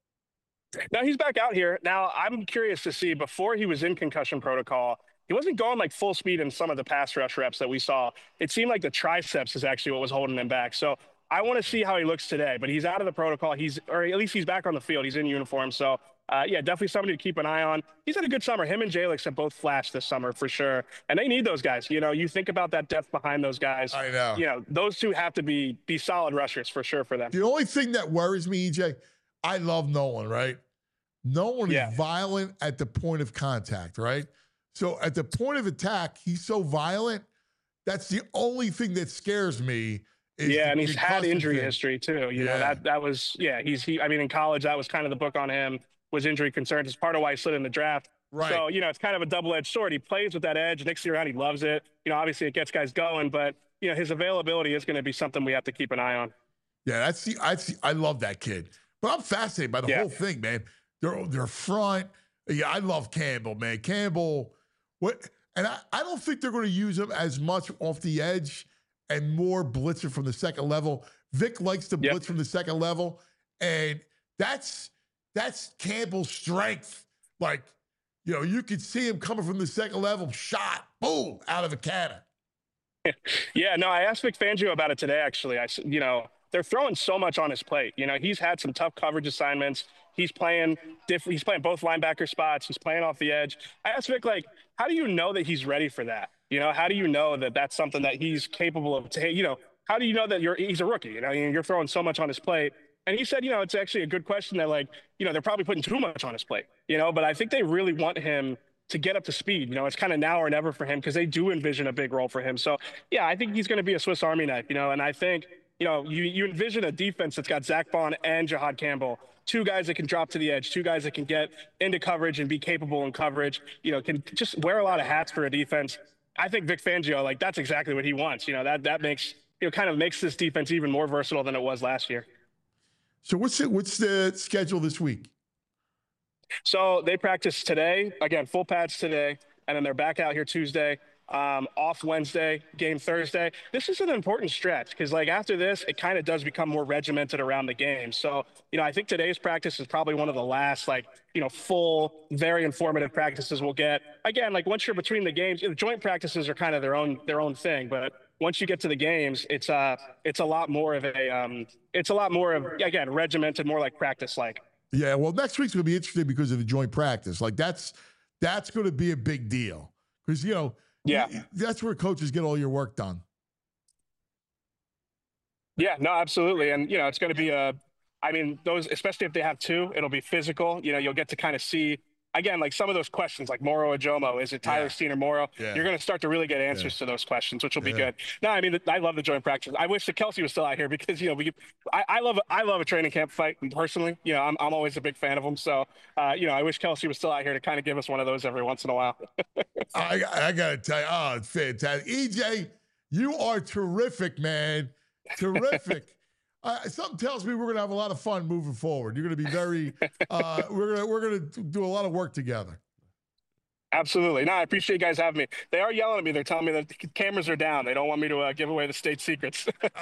Now he's back out here. Now I'm curious to see, before he was in concussion protocol, he wasn't going like full speed in some of the pass rush reps that we saw. It seemed like the triceps is actually what was holding him back. So I want to see how he looks today, but he's out of the protocol. He's, or at least he's back on the field. He's in uniform. So uh, yeah, definitely somebody to keep an eye on. He's had a good summer. Him and Jalix have both flashed this summer for sure. And they need those guys. You know, you think about that depth behind those guys. I know. You know, those two have to be, be solid rushers for sure for them. The only thing that worries me, E J, I love Nolan, right? Nolan yeah. is violent at the point of contact, right? So at the point of attack, he's so violent. That's the only thing that scares me. Is yeah, and he's had injury thing. history too. You yeah. know, that that was yeah. He's he. I mean, in college, that was kind of the book on him. Was injury concerns. It's part of why he slid in the draft. Right. So you know, it's kind of a double-edged sword. He plays with that edge. Next year around, he loves it. You know, obviously it gets guys going, but you know, his availability is going to be something we have to keep an eye on. Yeah, that's the I see. I love that kid, but I'm fascinated by the yeah. whole thing, man. Their their front. Yeah, I love Campbell, man. Campbell, what? And I, I don't think they're going to use him as much off the edge and more blitzer from the second level. Vic likes to Yep. blitz from the second level, and that's that's Campbell's strength. Like, you know, you could see him coming from the second level, shot, boom, out of a cannon. Yeah, no, I asked Vic Fangio about it today, actually. I, s- you know, they're throwing so much on his plate. You know, he's had some tough coverage assignments. He's playing diff- He's playing both linebacker spots. He's playing off the edge. I asked Vic, like, how do you know that he's ready for that? You know, how do you know that that's something that he's capable of? Ta- you know, how do you know that you're he's a rookie? You know, you're throwing so much on his plate. And he said, you know, it's actually a good question that, like, you know, they're probably putting too much on his plate. You know, but I think they really want him to get up to speed. You know, it's kind of now or never for him because they do envision a big role for him. So, yeah, I think he's going to be a Swiss Army knife, you know, and I think, you know, you, you envision a defense that's got Zach Bond and Jahad Campbell, two guys that can drop to the edge, two guys that can get into coverage and be capable in coverage, you know, can just wear a lot of hats for a defense. I think Vic Fangio, like, that's exactly what he wants. You know, that, that makes, you know, kind of makes this defense even more versatile than it was last year. So what's it, what's the schedule this week? So they practice today, again, full pads today, and then they're back out here Tuesday, um, off Wednesday, game Thursday. This is an important stretch because, like, after this, it kind of does become more regimented around the game. So, you know, I think today's practice is probably one of the last, like, you know, full, very informative practices we'll get. Again, like, once you're between the games, the joint practices are kind of their own their own thing, but once you get to the games, it's uh it's a lot more of a um it's a lot more of, again, regimented, more like practice like. Yeah, well, next week's going to be interesting because of the joint practice. Like, that's that's going to be a big deal because, you know, Yeah. that's where coaches get all your work done. Yeah, no, absolutely. And, you know, it's going to be a, I mean, those, especially if they have two, it'll be physical. You know, you'll get to kind of see, again, like some of those questions, like Moro Ajomo, is it Tyler Yeah. Steen or Moro? Yeah. You're going to start to really get answers to those questions, which will be Yeah. good. No, I mean, I love the joint practice. I wish that Kelsey was still out here because, you know, we, I, I love, I love a training camp fight personally. You know, I'm, I'm always a big fan of them. So, uh, you know, I wish Kelsey was still out here to kind of give us one of those every once in a while. I, I got to tell you, oh, it's fantastic. E J, you are terrific, man. Terrific. Uh, something tells me we're going to have a lot of fun moving forward. You're going to be very, uh, we're going to, we're going to do a lot of work together. Absolutely. No, I appreciate you guys having me. They are yelling at me. They're telling me that the cameras are down. They don't want me to uh, give away the state secrets.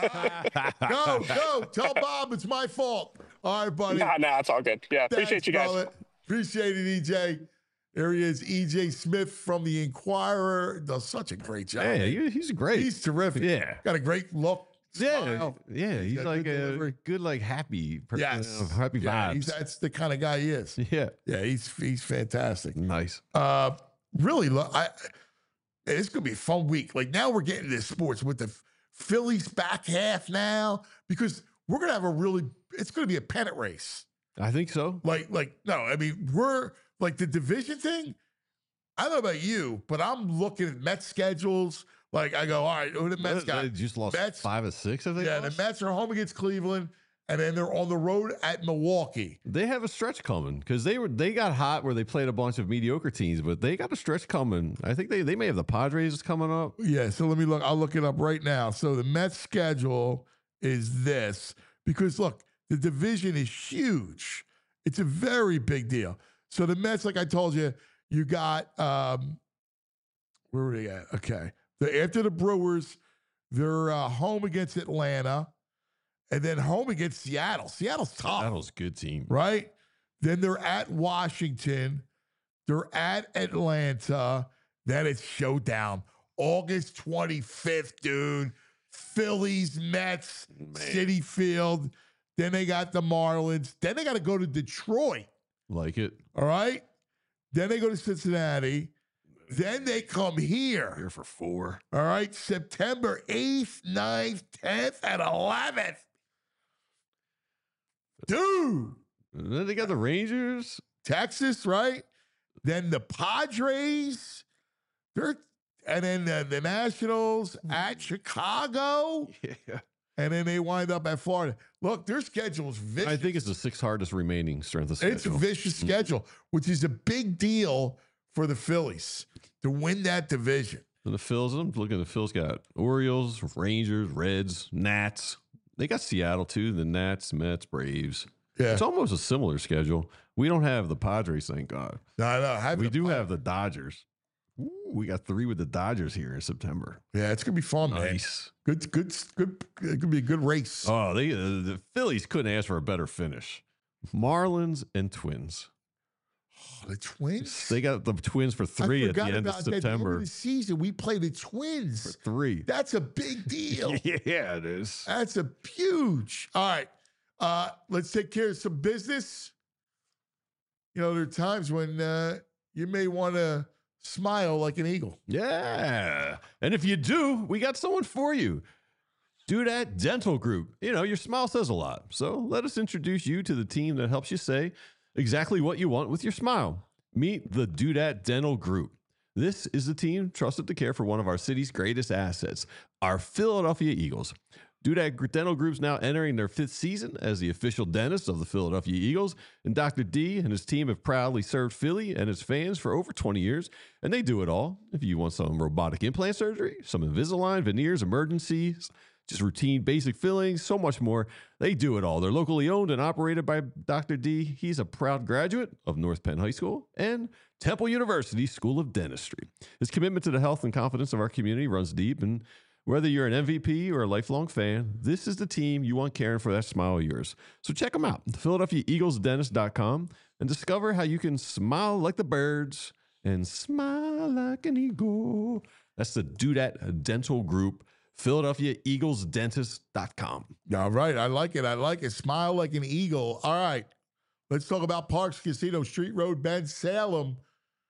Go, go. Tell Bob it's my fault. All right, buddy. Nah, nah, it's all good. Yeah, Thanks, appreciate you guys. brother. Appreciate it, E J. There he is, E J Smith from the Inquirer. Does such a great job. Yeah, he- he's great. He's terrific. Yeah. Got a great look. Yeah, smile. yeah, he's got like good a delivery. good, like happy, per- Yes. uh, happy Yeah, vibes. he's, that's the kind of guy he is. yeah, Yeah, he's he's fantastic. nice. Uh, really, lo- I it's gonna be a fun week. Like, now we're getting into sports with the Phillies back half now because we're gonna have a really. It's gonna be a pennant race. I think so. Like, like no, I mean, we're like the division thing. I don't know about you, but I'm looking at Mets schedules. Like, I go, all right, who the Mets They got? just lost Mets- five or six. Have they? Yeah, the lost? Mets are home against Cleveland, and then they're on the road at Milwaukee. They have a stretch coming because they were they got hot where they played a bunch of mediocre teams, but they got a stretch coming. I think they they may have the Padres coming up. Yeah, so let me look. I'll look it up right now. So the Mets schedule is this because look, the division is huge. It's a very big deal. So the Mets, like I told you, you got um, where were they at? Okay, the after the Brewers, they're uh, home against Atlanta, and then home against Seattle. Seattle's tough. Seattle's a good team. Right? Then they're at Washington. They're at Atlanta. Then it's showdown. August twenty-fifth, dude. Phillies, Mets, Citi Field. Then they got the Marlins. Then they got to go to Detroit. Like it. All right? Then they go to Cincinnati. Then they come here. Here for four. All right? September eighth, ninth, tenth, and eleventh. Dude. And then they got the Rangers. Texas, right? Then the Padres, they're, and then the, the Nationals at Chicago, Yeah. and then they wind up at Florida. Look, their schedule's vicious. I think it's the sixth hardest remaining strength of It's a schedule. vicious schedule, which is a big deal for the Phillies to win that division. And the Phils, I'm looking at the Phils got Orioles, Rangers, Reds, Nats. They got Seattle too, the Nats, Mets, Braves. Yeah. It's almost a similar schedule. We don't have the Padres, thank God. No, no. Have We the- do have the Dodgers. Ooh, we got three with the Dodgers here in September. Yeah, it's gonna be fun, man. Nice. Good, good, good. It could be a good race. Oh, they uh, the Phillies couldn't ask for a better finish. Marlins and Twins. Oh, the Twins. They got the Twins for I three at the forgot end of about that. At the end September. of the season, we play the For Twins. three. That's a big deal. Yeah, it is. That's a huge. All right. Uh, let's take care of some business. You know, there are times when uh, you may want to smile like an eagle. Yeah. And if you do, we got someone for you. Dudette Dental Group. You know, your smile says a lot. So let us introduce you to the team that helps you say exactly what you want with your smile. Meet the Dudette Dental Group. This is the team trusted to care for one of our city's greatest assets, our Philadelphia Eagles. Dudette Dental Group's now entering their fifth season as the official dentist of the Philadelphia Eagles, and Doctor D and his team have proudly served Philly and its fans for over twenty years, and they do it all. If you want some robotic implant surgery, some Invisalign, veneers, emergencies, just routine basic fillings, so much more, they do it all. They're locally owned and operated by Doctor D. He's a proud graduate of North Penn High School and Temple University School of Dentistry. His commitment to the health and confidence of our community runs deep, and whether you're an M V P or a lifelong fan, this is the team you want caring for that smile of yours. So check them out, Philadelphia Eagles Dentist dot com, and discover how you can smile like the birds and smile like an eagle. That's the Dudette Dental Group, Philadelphia Eagles Dentist dot com. All right. I like it. I like it. Smile like an eagle. All right. Let's talk about Parks Casino, Street Road, Bend, Salem.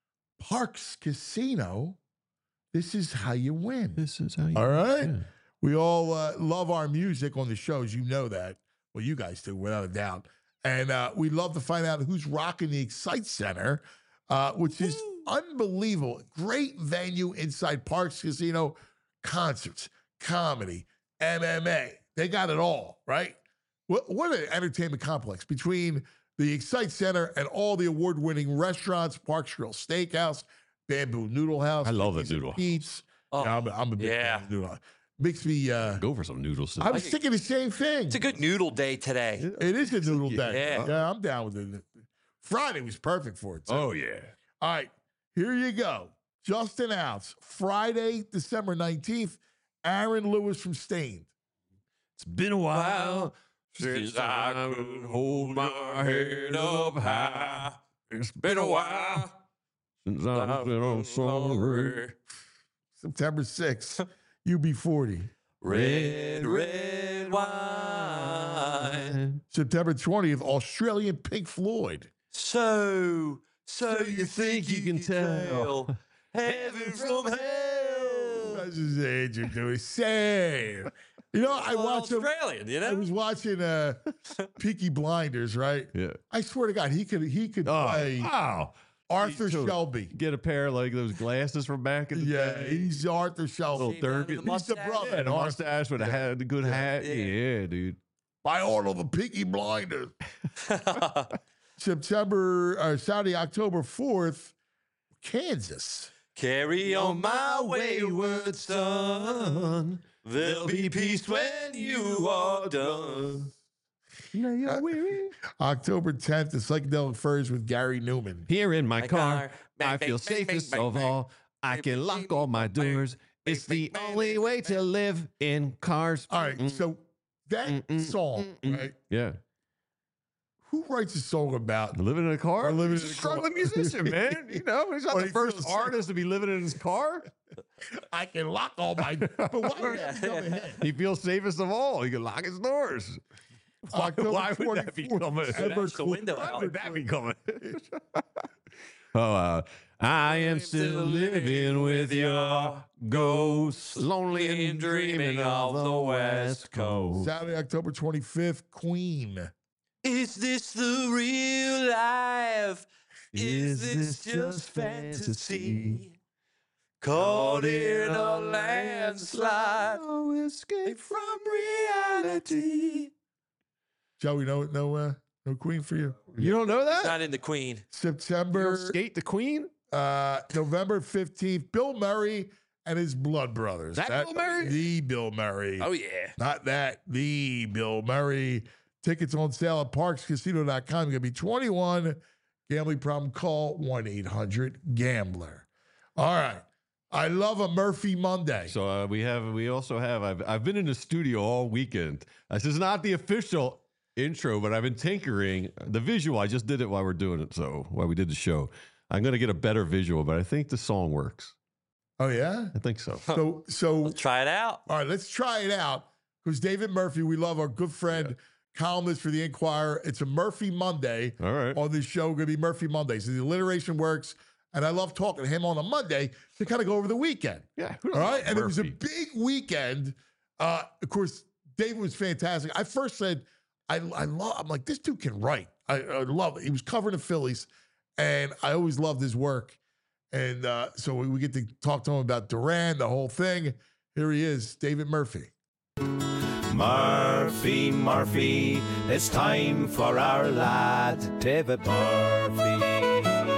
Parks Casino. This is how you win. This is how you All right. win. We all uh, love our music on the shows. You know that. Well, you guys do, without a doubt. And uh, we love to find out who's rocking the Excite Center, uh, which is unbelievable. Great venue inside Parks Casino. Concerts, comedy, M M A. They got it all, right? What, what an entertainment complex between the Excite Center and all the award-winning restaurants, Parks Grill Steakhouse, Bamboo Noodle House. I love the Mickey's and noodle. Pete's. Oh, Yeah, I'm, a- I'm a big yeah. fan of noodle house. Makes me, uh, Go for some noodles. I was thinking the same thing. It's a good noodle day today. It is a noodle day. Yeah. Yeah, I'm down with it. Friday was perfect for it. too. Oh, yeah. All right, here you go. Just announced Friday, December nineteenth, Aaron Lewis from Stained. It's been a while Since I could hold my head up high. It's been a while. since I've been on sorry. September sixth, U B forty. Red, red wine. September twentieth, Australian Pink Floyd. So, so you think you can tell tell heaven from hell? That's just Andrew doing same. You know, I Well, watched him. Australian, you I know? was watching uh, Peaky Blinders, right? Yeah. I swear to God, he could he could Oh, play wow. Arthur He's totally- Shelby. Get a pair of like those glasses from back in the Yeah, day. he's Arthur Shelby. Little Shaved down to Durgan. the He's the mustache. brother. Yeah, the mustache with a hat, a good hat. Yeah. Yeah, dude. By order of the Peaky Blinders. September, or Saturday, October fourth, Kansas. Carry on my wayward son. There'll be peace when you are done. October tenth, the Psychedelic Furs with Gary Newman. Here in my, My car, car. Bang, I bang, feel bang, safest bang, of bang, all. I can lock all my doors. It's the only way to live in cars. All right, Mm, so that Mm, mm, song, mm, mm. right? yeah. Who writes a song about? Living in a car? Or living He's in a a car. struggling musician, man. You know, he's not Or the he first feels- artist to be living in his car. I can lock all my. But why would Yeah, that become a yeah. hit? He feels safest of all. He can lock his doors. Why, October why would that twenty-fourth, become a Ever Smash the window Why out. would that become a Oh, uh, I am still living with your ghost, lonely and dreaming of the West Coast. Saturday, October twenty-fifth, Queen. Is this the real life? Is this just fantasy? Caught in a landslide. No escape From reality. Joey, no, no, uh, no Queen for you. You don't know that? Not in the Queen. You don't September, skate the Queen? uh, November fifteenth, Bill Murray and his Blood Brothers. That Bill Murray? The Bill Murray. Oh, yeah. Not that, the Bill Murray. Tickets on sale at parks casino dot com. You're going to be twenty-one Gambling problem, call one eight hundred gambler. All right. I love a Murphy Monday. So uh, we have, we also have, I've, I've been in the studio all weekend. This is not the official intro, but I've been tinkering the visual. I just did it while we're doing it. So while we did the show, I'm going to get a better visual, but I think the song works. Oh, yeah? I think so. So, so Let's try it out. all right, let's try it out. Because David Murphy, we love our good friend, columnist for the Inquirer. It's a Murphy Monday All right. on this show. Going to be Murphy Monday. So the alliteration works. And I love talking to him on a Monday to kind of go over the weekend. Yeah. Who All right. knows? And it was a Murphy. big weekend. Uh, of course, David was fantastic. I first said, I, I love, I'm like, this dude can write. I, I love it. He was covering the Phillies, and I always loved his work. And uh, so we, we get to talk to him about Duran, the whole thing. Here he is, David Murphy. Murphy, Murphy, it's time for our lad, David Murphy.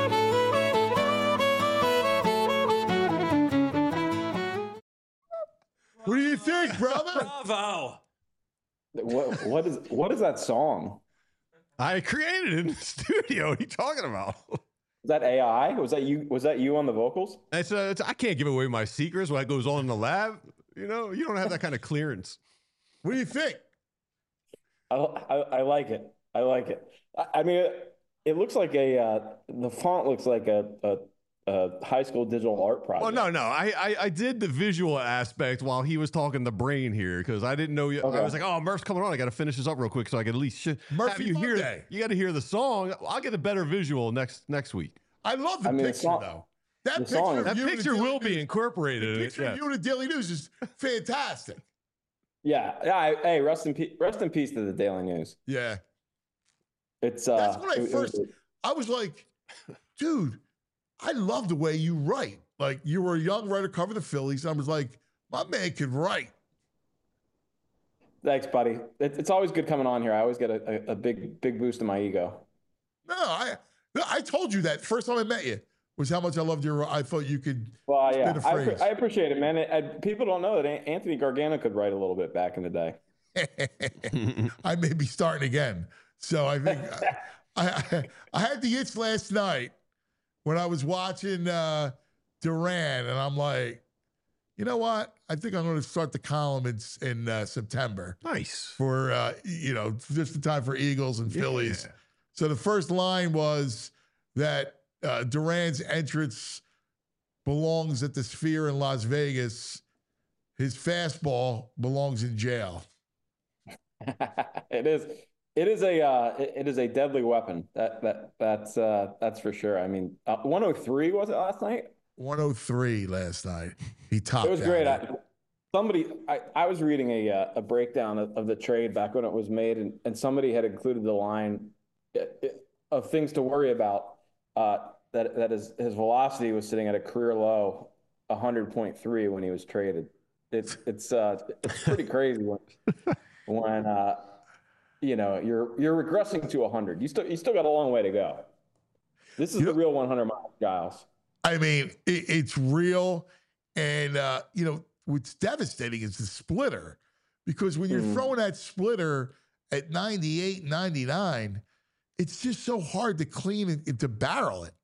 What do you think, brother? Bravo. What what is what is that song? I created it in the studio. What are you talking about? Is that A I? Was that you? Was that you on the vocals? It's, uh, it's, I can't give away my secrets. What goes on in the lab, you know, you don't have that kind of clearance. What do you think? I I, I like it. I like it. I, I mean, it, it looks like a uh, the font looks like a, a a high school digital art project. Well, no, no. I, I I did the visual aspect while he was talking the brain here because I didn't know. You, Okay. I was like, oh, Murph's coming on. I got to finish this up real quick so I can at least sh- Murphy have you hear. Monday. You got to hear the song. I'll get a better visual next next week. I love the I mean, the picture, song- though. That the picture, song- of That you in the picture Daily will be News- incorporated. The in it, picture yeah. of you in the Daily News is fantastic. Yeah, yeah. I, hey, rest in peace. Rest in peace to the Daily News. Yeah. It's uh. That's when I it- it first, was- I was like, dude, I love the way you write. Like, you were a young writer covering the Phillies. And I was like, my man can write. Thanks, buddy. It, it's always good coming on here. I always get a, a, a big big boost in my ego. No, I no, I told you that first time I met you was how much I loved your, I thought you could Well, spit yeah, a I, phrase. appre- I appreciate it, man. It, I, people don't know that An- Anthony Gargano could write a little bit back in the day. I may be starting again. So I think I, I I had the itch last night when I was watching uh, Duran, and I'm like, you know what? I think I'm going to start the column in, in uh, September Nice. for uh, you know just the time for Eagles and Phillies. Yeah. So the first line was that uh, Duran's entrance belongs at the Sphere in Las Vegas. His fastball belongs in jail. it is it is a uh, it, it is a deadly weapon. That that that's uh, that's for sure. I mean, uh, one oh three was it last night? one oh three last night. He topped It was out great. it. I, somebody I, I was reading a uh, a breakdown of, of the trade back when it was made, and, and somebody had included the line uh, of things to worry about. Uh, that that his his velocity was sitting at a career low, one hundred point three when he was traded. It's it's uh it's pretty crazy when when uh you know you're you're regressing to one hundred. You still you still got a long way to go. This is You the know- real one hundred miles, Giles. I mean, it, it's real. And, uh, you know, what's devastating is the splitter. Because when you're Mm. throwing that splitter at ninety-eight, ninety-nine, it's just so hard to clean and, and to barrel it.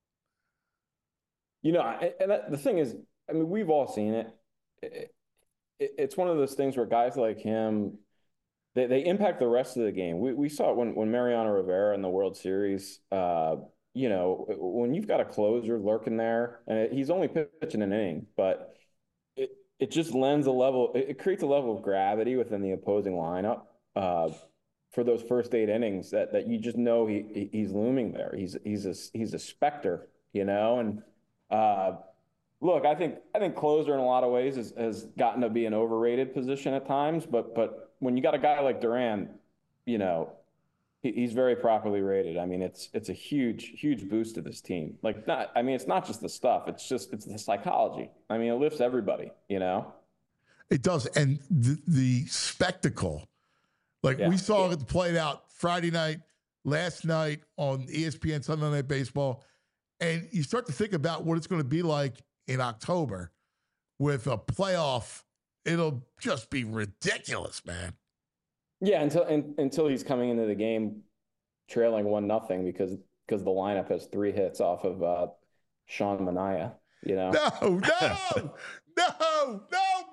You know, I- and that, the thing is, I mean, we've all seen it. It- it. It's one of those things where guys like him, they, they impact the rest of the game. We we saw it when when Mariano Rivera in the World Series. Uh, you know, when you've got a closer lurking there, and he's only pitching an inning, but it it just lends a level. It, it creates a level of gravity within the opposing lineup uh, for those first eight innings that that you just know he he- he's looming there. He's he's a he's a specter, you know, and. Uh, Look, I think I think closer in a lot of ways has, has gotten to be an overrated position at times, but but when you got a guy like Duran, you know, he, he's very properly rated. I mean, it's it's a huge huge boost to this team. Like not, I mean, it's not just the stuff; it's just it's the psychology. I mean, it lifts everybody. You know. It does. And the, the spectacle, like Yeah. we saw it played out Friday night, last night on E S P N Sunday Night Baseball. And you start to think about what it's going to be like in October with a playoff. It'll just be ridiculous, man. Yeah, until in, until he's coming into the game trailing one nothing, because because the lineup has three hits off of uh, Sean Manaea. You know, No, no, no, no,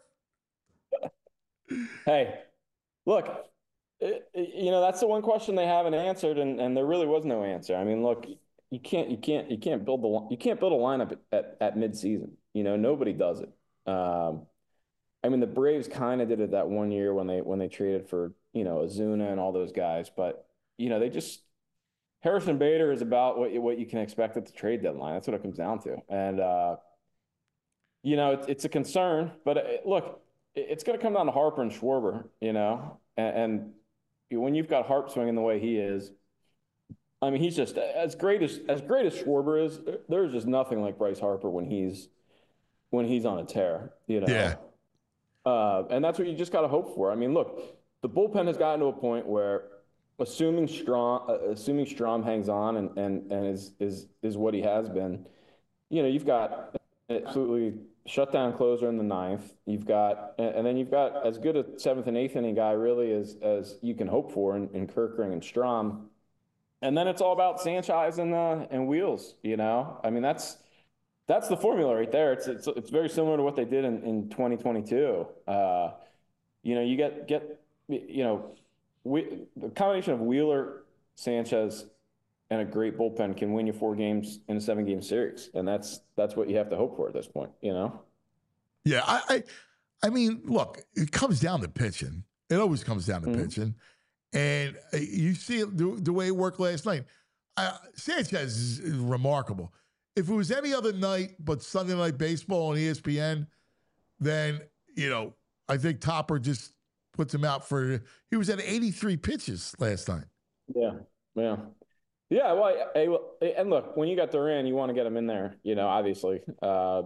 Bert. Hey, look, it, it- you know that's the one question they haven't answered, and, and there really was no answer. I mean, look, you can't you can't you can't build the you can't build a lineup at at, at midseason. You know, nobody does it. Um, I mean, the Braves kind of did it that one year when they when they traded for you know Ozuna and all those guys, but you know they just Harrison Bader is about what you, what you can expect at the trade deadline. That's what it comes down to, and uh, you know it's it's a concern. But it, look, it, it's going to come down to Harper and Schwarber, you know, and, and when you've got Harp swinging the way he is, I mean, he's just as great as as great as Schwarber is. There's just nothing like Bryce Harper when he's when he's on a tear, you know. Yeah. Uh, and that's what you just got to hope for. I mean, look, the bullpen has gotten to a point where, assuming Strom, uh, assuming Strom hangs on and and and is is is what he has been, you know, you've got an absolutely shutdown closer in the ninth. You've got, and then you've got as good a seventh and eighth inning guy really as as you can hope for in, in Kerkering and Strom. And then it's all about Sanchez and uh, and Wheels. You know, I mean that's. That's the formula right there. It's it's it's very similar to what they did in, in twenty twenty-two. Uh, you know, you get get you know, we, the combination of Wheeler, Sanchez, and a great bullpen can win you four games in a seven game series, and that's that's what you have to hope for at this point. You know. Yeah, I, I, I mean, look, it comes down to pitching. It always comes down to mm-hmm. pitching, and uh, you see it, the, the way it worked last night. Uh, Sanchez is, is remarkable. If it was any other night but Sunday Night Baseball on E S P N, then, you know, I think Topper just puts him out for – he was at eighty-three pitches last night. Yeah, yeah. Yeah, well, I, I, and look, when you got Duran, you want to get him in there, you know, obviously. Uh,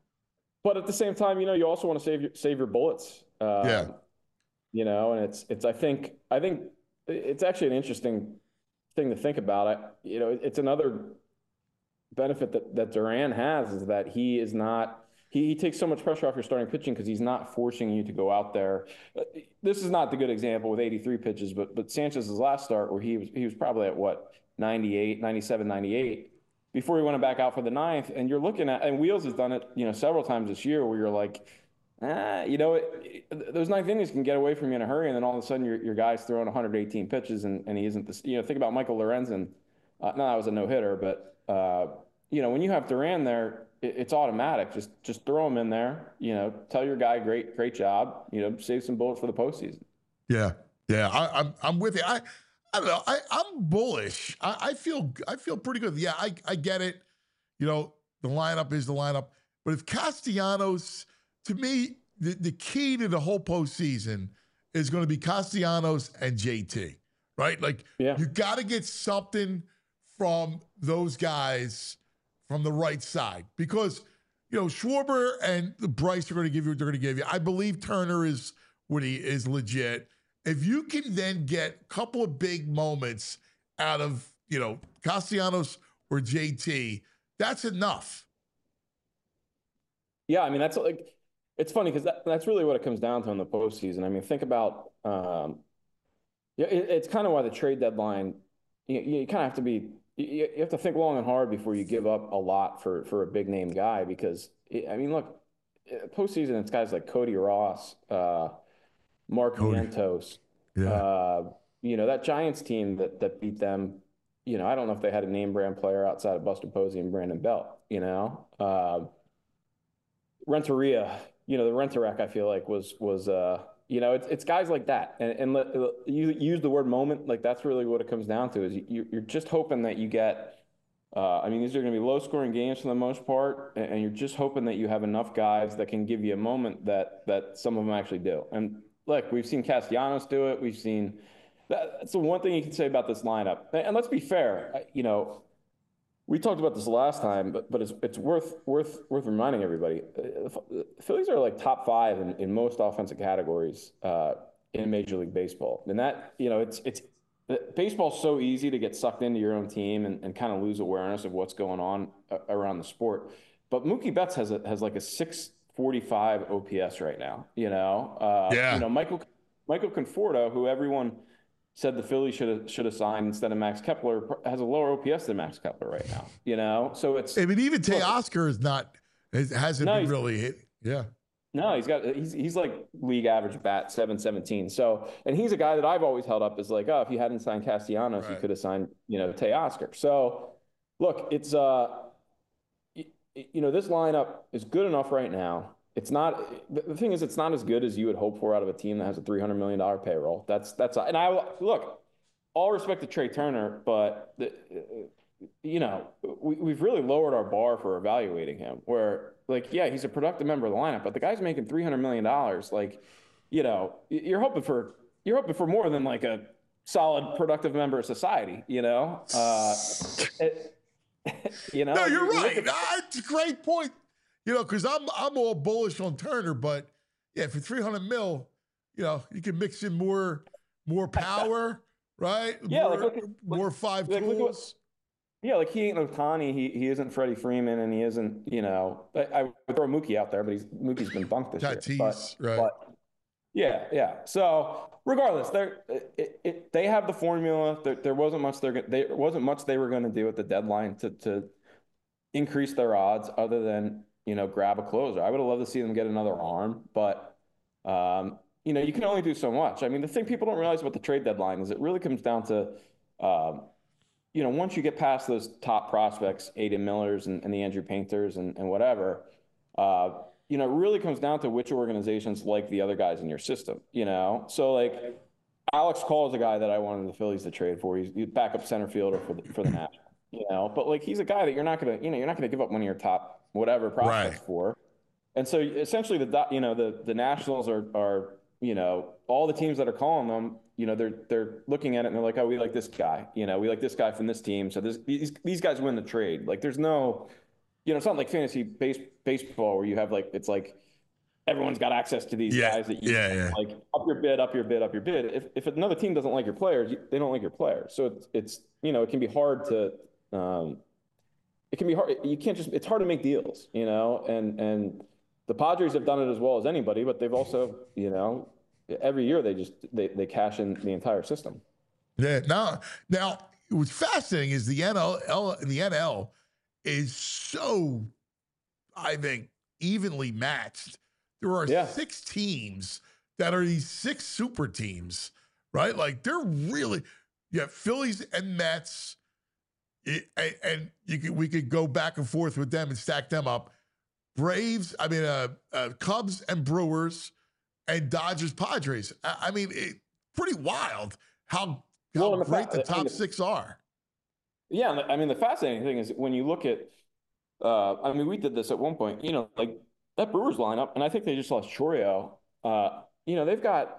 but at the same time, you know, you also want to save your, save your bullets. Uh, yeah. You know, and it's, it's I think, I think it's actually an interesting thing to think about. I, you know, it's another – benefit that, that Duran has is that he is not he, he takes so much pressure off your starting pitching because he's not forcing you to go out there. This is not the good example with eighty-three pitches, but but Sanchez's last start where he was he was probably at what ninety-eight, ninety-seven, ninety-eight before he went back out for the ninth, and you're looking at and Wheels has done it you know several times this year where you're like ah, you know it, it, those ninth innings can get away from you in a hurry, and then all of a sudden your your guy's throwing one hundred eighteen pitches and, and he isn't this you know think about Michael Lorenzen. Uh, no, that was a no hitter, but. Uh, you know, when you have Duran there, it, it's automatic. Just just throw him in there. You know, tell your guy, great great job. You know, save some bullets for the postseason. Yeah, yeah, I, I'm I'm with you. I I don't know. I I'm bullish. I, I feel I feel pretty good. Yeah, I I get it. You know, the lineup is the lineup. But if Castellanos, to me, the, the key to the whole postseason is going to be Castellanos and J T. Right? Like yeah. you got to get something from those guys from the right side because, you know, Schwarber and Bryce are going to give you what they're going to give you. I believe Turner is what he is legit. If you can then get a couple of big moments out of, you know, Castellanos or J T, that's enough. Yeah, I mean, that's like, it's funny because that, that's really what it comes down to in the postseason. I mean, think about, um, yeah, it, it's kind of why the trade deadline, you, you kind of have to be, you have to think long and hard before you give up a lot for, for a big name guy because, I mean, look, postseason, it's guys like Cody Ross, uh, Mark Vientos, yeah. uh, you know, that Giants team that that beat them, you know, I don't know if they had a name brand player outside of Buster Posey and Brandon Belt, you know. Uh, Renteria, you know, the Renterek, I feel like was, was uh, you know, it's, it's guys like that. And, and let, you use the word moment, like that's really what it comes down to is you, you're just hoping that you get, uh, I mean, these are going to be low scoring games for the most part. And, and you're just hoping that you have enough guys that can give you a moment that, that some of them actually do. And look, we've seen Castellanos do it. We've seen, that, that's the one thing you can say about this lineup. And let's be fair, you know, we talked about this last time, but but it's it's worth worth worth reminding everybody. The Phillies are like top five in, in most offensive categories uh, in Major League Baseball, and that you know it's it's baseball's so easy to get sucked into your own team and, and kind of lose awareness of what's going on around the sport. But Mookie Betts has a, has like a six forty-five O P S right now. You know, uh, yeah. You know Michael Michael Conforto, who everyone said the Phillies should have should have signed instead of Max Kepler, has a lower O P S than Max Kepler right now. You know, so it's. I mean, even Teoscar is not hasn't no, been really hit. Yeah. No, he's got he's he's like league average bat seven seventeen. So, and he's a guy that I've always held up as like, oh, if you hadn't signed Castellanos, right. you could have signed, you know, Teoscar. So, look, it's uh, you, you know, this lineup is good enough right now. It's not. The thing is, it's not as good as you would hope for out of a team that has a three hundred million dollar payroll. That's that's and I look, all respect to Trey Turner, but the, you know, we we've really lowered our bar for evaluating him. Where like, yeah, he's a productive member of the lineup, but the guy's making three hundred million dollars. Like, you know, you're hoping for you're hoping for more than like a solid, productive member of society. You know, uh, it, you know. No, you're you right. That's a great point. You know, because I'm I'm all bullish on Turner, but yeah, for three hundred mil, you know, you can mix in more more power, right? Yeah, more, like look at, more five like, tools. Look what, yeah, like he ain't Ohtani, he he isn't Freddie Freeman, and he isn't, you know, I, I would throw Mookie out there, but he's Mookie's been bunked this Tatis, year. But, right? But, yeah, yeah. So regardless, they're it, it, they have the formula. There, there wasn't much they're there wasn't much they were going to do at the deadline to to increase their odds, other than, you know, grab a closer. I would have loved to see them get another arm, but, um, you know, you can only do so much. I mean, the thing people don't realize about the trade deadline is it really comes down to, um, you know, once you get past those top prospects, Aiden Millers and, and the Andrew Painters and, and whatever, uh, you know, it really comes down to which organizations like the other guys in your system, you know? So, like, Alex Call is a guy that I wanted the Phillies to trade for. He's, he's backup center fielder for the, for the Nationals, you know? But, like, he's a guy that you're not going to, you know, you're not going to give up one of your top whatever prospects right. for. And so essentially the, you know, the, the Nationals are, are, you know, all the teams that are calling them, you know, they're, they're looking at it and they're like, oh, we like this guy, you know, we like this guy from this team. So this, these, these guys win the trade. Like there's no, you know, it's not like fantasy base, baseball where you have like, it's like everyone's got access to these yeah. guys that you yeah, yeah. like up your bid, up your bid, up your bid. If, if another team doesn't like your players, they don't like your players. So it's, it's, you know, it can be hard to, um, it can be hard. You can't just, it's hard to make deals, you know, and, and the Padres have done it as well as anybody, but they've also, you know, every year they just, they, they cash in the entire system. Yeah. Now, now what's fascinating is the N L, the N L is so, I think, evenly matched. There are yeah. six teams that are these six super teams, right? Like they're really, you have Phillies and Mets. It, and you could, we could go back and forth with them and stack them up. Braves, I mean, uh, uh, Cubs and Brewers, and Dodgers, Padres. I, I mean, it, pretty wild how, how well, great the, the top I mean, six are. Yeah, I mean, the fascinating thing is when you look at, uh, I mean, we did this at one point, you know, like that Brewers lineup, and I think they just lost Chourio. Uh, you know, they've got,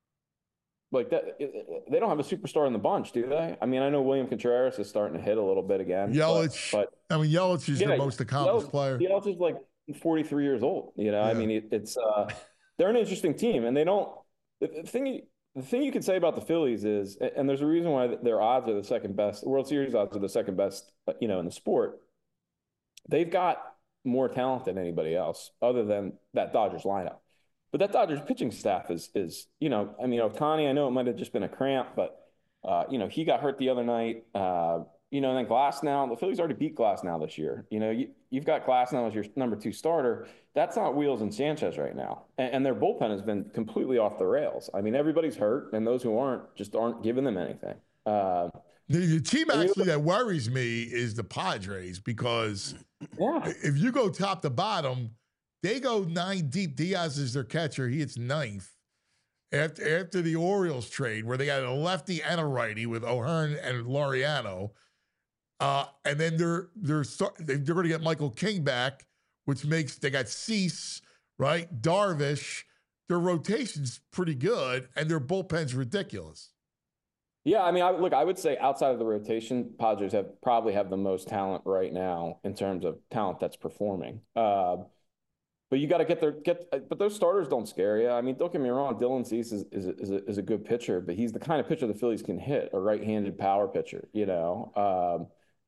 like that, they don't have a superstar in the bunch, do they? I mean, I know William Contreras is starting to hit a little bit again. Yelich, but, but I mean, Yelich is yeah, the most accomplished Yelich, player. Yelich is like forty-three years old. You know, yeah. I mean, it, it's uh, they're an interesting team, and they don't. The thing, the thing you can say about the Phillies is, and there's a reason why their odds are the second best. World Series odds are the second best, you know, in the sport. They've got more talent than anybody else, other than that Dodgers lineup. But that Dodgers pitching staff is, is you know, I mean, Ohtani, I know it might have just been a cramp, but, uh, you know, he got hurt the other night. Uh, you know, and then Glasnow, the Phillies already beat Glasnow this year. You know, you, you've got Glasnow as your number two starter. That's not Wheels and Sanchez right now. And, and their bullpen has been completely off the rails. I mean, everybody's hurt, and those who aren't just aren't giving them anything. Uh, the, the team actually that worries me is the Padres, because yeah. if you go top to bottom, they go nine deep. Diaz is their catcher. He hits ninth. After, after the Orioles trade, where they got a lefty and a righty with O'Hearn and Laureano, uh, and then they're they're start, they're going to get Michael King back, which makes they got Cease, right, Darvish. Their rotation's pretty good, and their bullpen's ridiculous. Yeah, I mean, I, look, I would say outside of the rotation, Padres have probably have the most talent right now in terms of talent that's performing. Uh, But you got to get their get. But those starters don't scare you. I mean, don't get me wrong. Dylan Cease is is is a, is a good pitcher, but he's the kind of pitcher the Phillies can hit, a right-handed power pitcher. You know, um,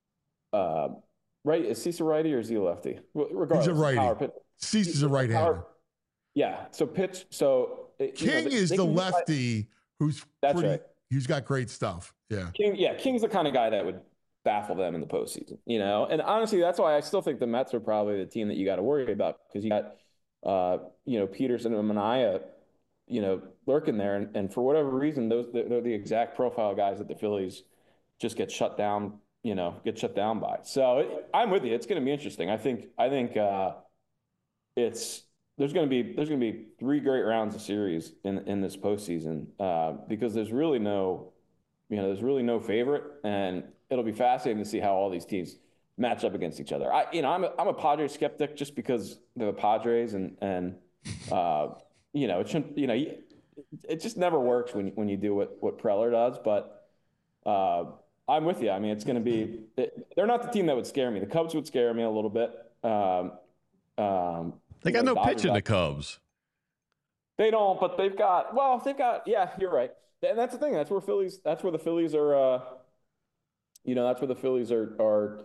uh, right? Is Cease a righty or is he a lefty? Regardless, he's a righty. Cease is a right-hander. Yeah. So pitch. So King you know, they, is they the lefty who's that's pretty, right. He's got great stuff. Yeah. King, yeah, King's the kind of guy that would baffle them in the postseason, you know? And honestly, that's why I still think the Mets are probably the team that you got to worry about, because you got, uh, you know, Peterson and Manaea, you know, lurking there. And, and for whatever reason, those they're, they're the exact profile guys that the Phillies just get shut down, you know, get shut down by. So it, I'm with you. It's going to be interesting. I think, I think uh, it's, there's going to be, there's going to be three great rounds of series in, in this postseason uh, because there's really no, you know, there's really no favorite, and it'll be fascinating to see how all these teams match up against each other. I, you know, I'm a, I'm a Padres skeptic just because they're the Padres, and and uh, you know, it shouldn't, you know, it just never works when when you do what what Preller does. But uh, I'm with you. I mean, it's going to be. It, they're not the team that would scare me. The Cubs would scare me a little bit. Um, um, they got know, no Dodgers, pitch in the Cubs. They don't, but they've got. Well, they've got. Yeah, you're right. And that's the thing. That's where Phillies. That's where the Phillies are. Uh, you know, that's where the Phillies are are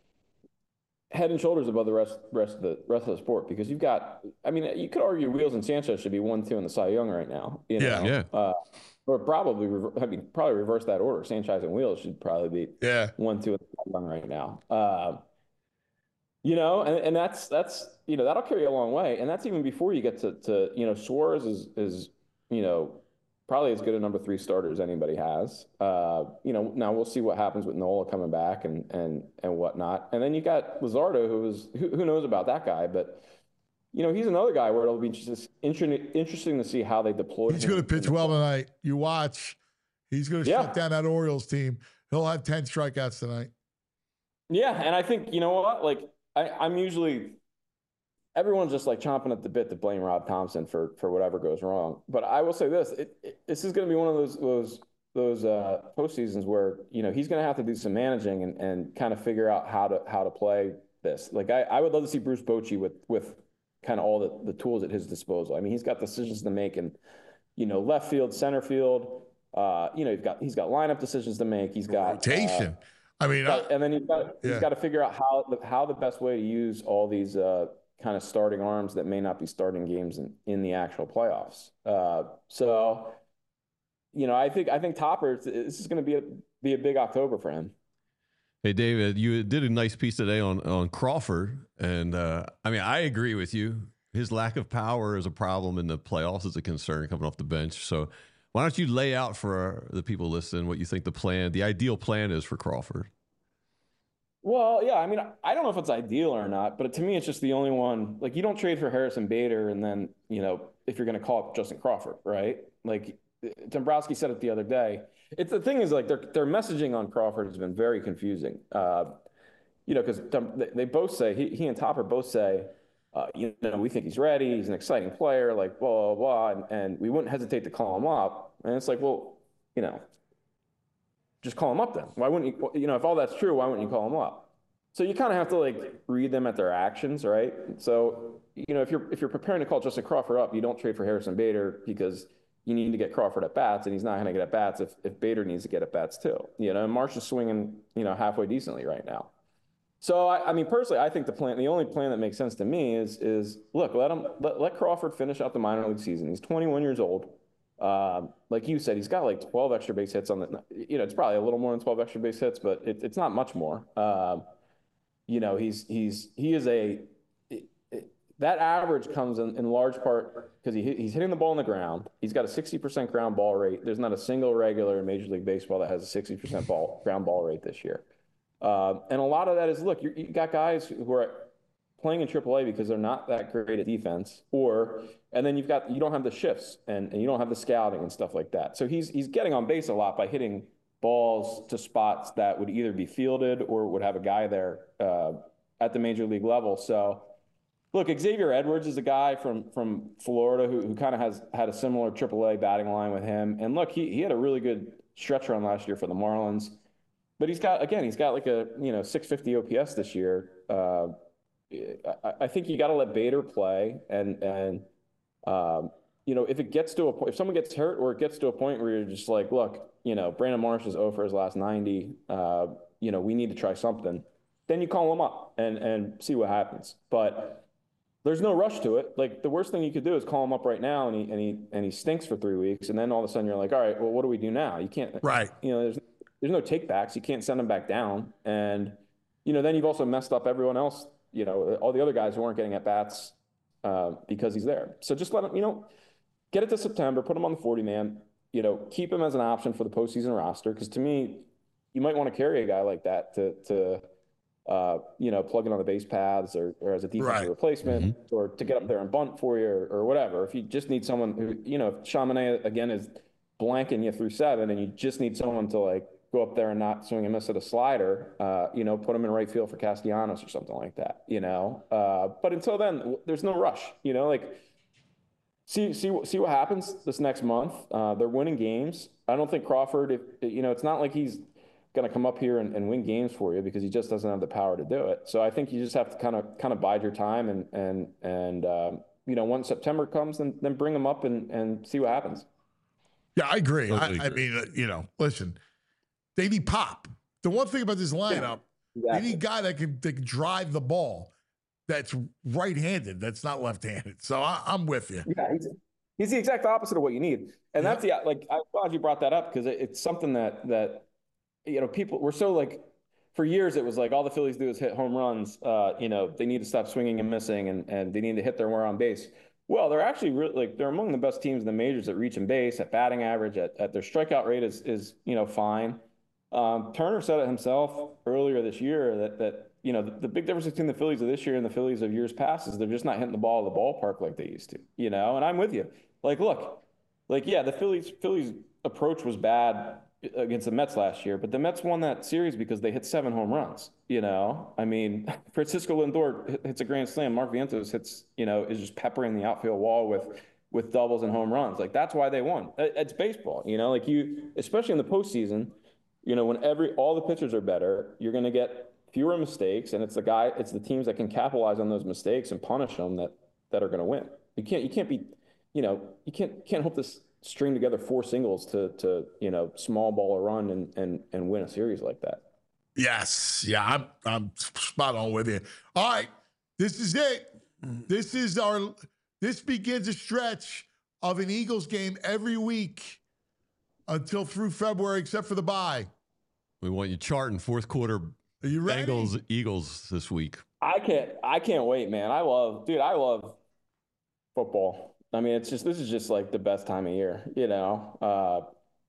head and shoulders above the rest rest of the rest of the sport, because you've got. I mean, you could argue Wheels and Sanchez should be one, two in the Cy Young right now. You know? Yeah, yeah. Uh, or probably, I mean, probably reverse that order. Sanchez and Wheels should probably be yeah one, two in the Cy Young right now. Uh, you know, and, and that's that's you know that'll carry a long way, and that's even before you get to to you know Suarez is is you know. probably as good a number three starter as anybody has. Uh, you know, now we'll see what happens with Nola coming back and and and whatnot. And then you got Luzardo, who is who, who knows about that guy, but you know, he's another guy where it'll be just interesting interesting to see how they deploy. He's going to pitch well tonight. You watch. He's going to yeah. shut down that Orioles team. He'll have ten strikeouts tonight. Yeah, and I think you know what, like I, I'm usually. Everyone's just like chomping at the bit to blame Rob Thompson for for whatever goes wrong. But I will say this: it, it, this is going to be one of those those those uh, postseasons where you know he's going to have to do some managing and, and kind of figure out how to how to play this. Like I, I would love to see Bruce Bochy with with kind of all the, the tools at his disposal. I mean, he's got decisions to make in you know left field, center field. Uh, you know, he's got he's got lineup decisions to make. He's got rotation. Uh, I mean, got, I, and then he's got yeah. he's got to figure out how how the best way to use all these. Uh, kind of starting arms that may not be starting games in, in the actual playoffs. Uh, so, you know, I think I think Topper, this is going to be a be a big October for him. Hey, David, you did a nice piece today on on Crawford, and uh, I mean, I agree with you. His lack of power is a problem in the playoffs. Is a concern coming off the bench. So, why don't you lay out for the people listening what you think the plan, the ideal plan is for Crawford? Well, yeah, I mean, I don't know if it's ideal or not, but to me, it's just the only one. Like, you don't trade for Harrison Bader, and then, you know, if you're going to call up Justin Crawford, right? Like, Dombrowski said it the other day. It's the thing is, like, their their messaging on Crawford has been very confusing. Uh, you know, because they both say he he and Topper both say, uh, you know, we think he's ready. He's an exciting player. Like, blah blah blah, and, and we wouldn't hesitate to call him up. And it's like, well, you know. Just call them up then. Why wouldn't you, you know, if all that's true, why wouldn't you call them up? So you kind of have to like read them at their actions, right? So, you know, if you're, if you're preparing to call Justin Crawford up, you don't trade for Harrison Bader because you need to get Crawford at bats, and he's not going to get at bats if, if Bader needs to get at bats too. You know, and Marsh is swinging, you know, halfway decently right now. So, I, I mean, personally, I think the plan, the only plan that makes sense to me is, is look, let him, let, let Crawford finish out the minor league season. He's twenty-one years old. Uh, like you said, he's got like twelve extra base hits on the, you know, it's probably a little more than twelve extra base hits, but it, it's not much more. Uh, you know, he's, he's, he is a, it, it, that average comes in, in large part because he, he's hitting the ball on the ground. He's got a sixty percent ground ball rate. There's not a single regular in Major League Baseball that has a sixty percent ball ground ball rate this year. Uh, and a lot of that is, look, you, you got guys who are playing in triple A because they're not that great at defense, or and then you've got you don't have the shifts and, and you don't have the scouting and stuff like that. So he's he's getting on base a lot by hitting balls to spots that would either be fielded or would have a guy there uh, at the major league level. So look, Xavier Edwards is a guy from from Florida who who kind of has had a similar triple A batting line with him. And look, he he had a really good stretch run last year for the Marlins, but he's got again he's got like a you know six fifty O P S this year. Uh, I, I think you got to let Bader play, and and um, you know if it gets to a point, if someone gets hurt, or it gets to a point where you're just like, look, you know, Brandon Marsh is oh for his last ninety. Uh, you know, we need to try something. Then you call him up and and see what happens. But there's no rush to it. Like the worst thing you could do is call him up right now and he and he and he stinks for three weeks, and then all of a sudden you're like, all right, well, what do we do now? You can't, right? You know, there's there's no take backs. You can't send him back down, and you know, then you've also messed up everyone else. You know, all the other guys who aren't getting at bats uh, because he's there. So just let him, you know, get it to September, put him on the forty man. You know, keep him as an option for the postseason roster, because to me, you might want to carry a guy like that to to. Uh, you know, plug in on the base paths or, or as a defensive right. replacement, mm-hmm. or to get up there and bunt for you, or, or whatever. If you just need someone who, you know, if Chaminade again is blanking you through seven, and you just need someone to like go up there and not swing and miss at a slider, uh, you know, put him in right field for Castellanos or something like that, you know. Uh, but until then, there's no rush, you know. Like, see, see, see what happens this next month. Uh, they're winning games. I don't think Crawford, if you know, it's not like he's going to come up here and, and win games for you, because he just doesn't have the power to do it. So I think you just have to kind of kind of bide your time, and and and um, you know, once September comes, then then bring him up and and see what happens. Yeah, I agree. Totally I, agree. I mean, uh, you know, listen, they need pop. The one thing about this lineup, yeah, exactly. they need a guy that can, that can drive the ball, that's right-handed, that's not left-handed. So I, I'm with you. Yeah, he's, he's the exact opposite of what you need, and yeah. that's the like. I'm glad you brought that up, because it, it's something that that. You know, people were so like, for years it was like all the Phillies do is hit home runs. Uh, you know, they need to stop swinging and missing, and and they need to hit their wear on base. Well, they're actually really, like, they're among the best teams in the majors at reach and base, at batting average, at, at their strikeout rate is is you know fine. Um, Turner said it himself earlier this year that that you know the, the big difference between the Phillies of this year and the Phillies of years past is they're just not hitting the ball at the ballpark like they used to. You know, and I'm with you. Like, look, like yeah, the Phillies Phillies approach was bad against the Mets last year, but the Mets won that series because they hit seven home runs. You know, I mean, Francisco Lindor hits a grand slam. Mark Vientos hits, you know, is just peppering the outfield wall with with doubles and home runs. Like, that's why they won. It's baseball, you know, like you, especially in the postseason, you know, when every all the pitchers are better, you're going to get fewer mistakes, and it's the guy, it's the teams that can capitalize on those mistakes and punish them that that are going to win. You can't, you can't be, you know, you can't can't hope this. String together four singles to to you know small ball a run and and and win a series like that. Yes, yeah, I'm I'm spot on with you. All right, this is it. This is our. This begins a stretch of an Eagles game every week until through February, except for the bye. We want you charting fourth quarter. Are you ready? Bengals Eagles this week. I can't. I can't wait, man. I love, dude. I love football. I mean, it's just, this is just like the best time of year, you know? Uh,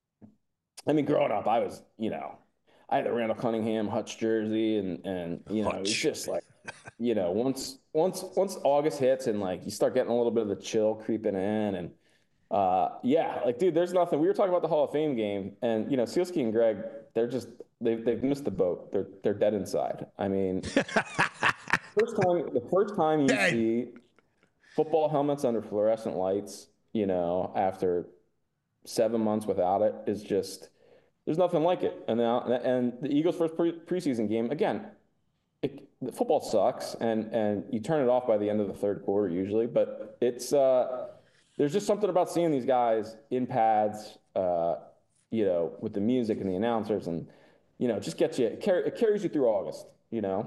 I mean, growing up, I was, you know, I had the Randall Cunningham Hutch jersey, and, and, you know, Hutch. It's just like, you know, once, once, once August hits and like you start getting a little bit of the chill creeping in, and uh, yeah, like, dude, there's nothing. We were talking about the Hall of Fame game, and, you know, Sealski and Greg, they're just, they've, they've missed the boat. They're, they're dead inside. I mean, first time, the first time you Dang. see football helmets under fluorescent lights, you know, after seven months without it is just, there's nothing like it. And now, and the Eagles' first pre- preseason game, again, it, the football sucks, and and you turn it off by the end of the third quarter usually. But it's uh, there's just something about seeing these guys in pads, uh, you know, with the music and the announcers, and you know, just gets you. It, car- it carries you through August, you know.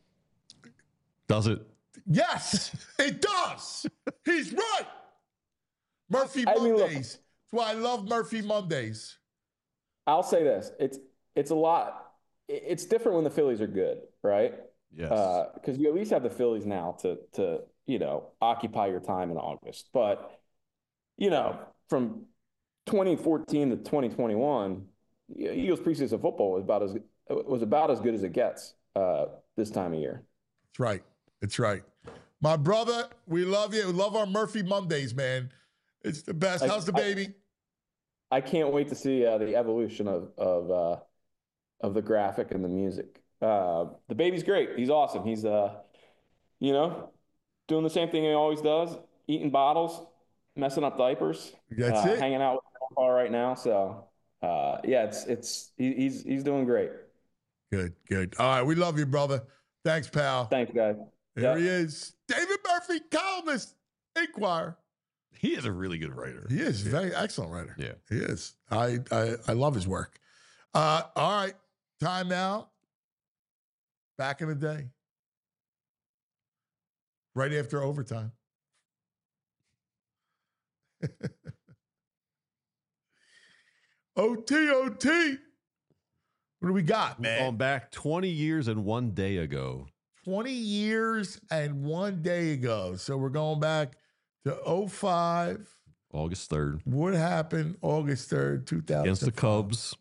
Does it? Yes, it does. He's right. Murphy I mean, Mondays. look, That's why I love Murphy Mondays. I'll say this: it's it's a lot. It's different when the Phillies are good, right? Yes. Because uh, you at least have the Phillies now to to you know occupy your time in August. But you know, from twenty fourteen to twenty twenty-one, Eagles preseason football was about as was about as good as it gets uh, this time of year. That's right. That's right. My brother, we love you. We love our Murphy Mondays, man. It's the best. I, How's the baby? I, I can't wait to see uh, the evolution of of uh, of the graphic and the music. Uh, the baby's great. He's awesome. He's uh, you know, doing the same thing he always does, eating bottles, messing up diapers. That's uh, it. Hanging out with Grandpa right now. So uh, yeah, it's it's he, he's he's doing great. Good, good. All right, we love you, brother. Thanks, pal. Thanks, guys. There yep. he is, David Murphy, columnist, Inquirer. He is a really good writer. He is a yeah. very excellent writer. Yeah, he is. I I, I love his work. Uh, all right, time now. Back in the day, right after overtime. O T, O T. What do we got, man? Going back twenty years and one day ago. twenty years and one day ago. So we're going back to oh five. August third. What happened August third, two thousand? Against the Cubs.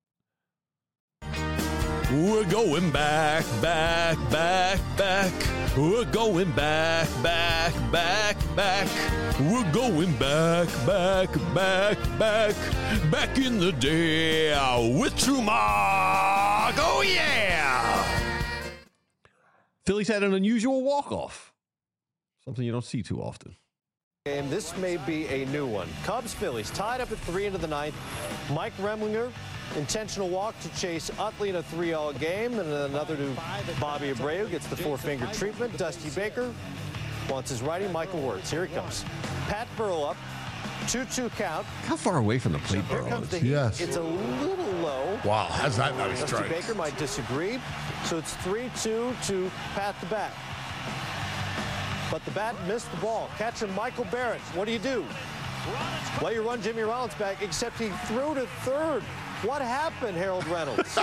We're going back, back, back, back. We're going back, back, back, back. We're going back, back, back, back. Back in the day with Trumark. Oh, yeah. Phillies had an unusual walk-off. Something you don't see too often. Game. This may be a new one. Cubs Phillies tied up at three into the ninth. Mike Remlinger, intentional walk to Chase Utley in a three all game, and another to Bobby Abreu, gets the four-finger treatment. Dusty Baker wants his righty, Michael Wirtz. Here he comes. Pat Burrow up, two two count. How far away from the plate, Here Burrow comes the is? heat. Yes. It's a little low. Wow, how's that not a Dusty strike? Baker might disagree. So it's three two to Pat the bat. But the bat missed the ball. Catching Michael Barrett. What do you do? Well, you run Jimmy Rollins back, except he threw to third. What happened, Harold Reynolds?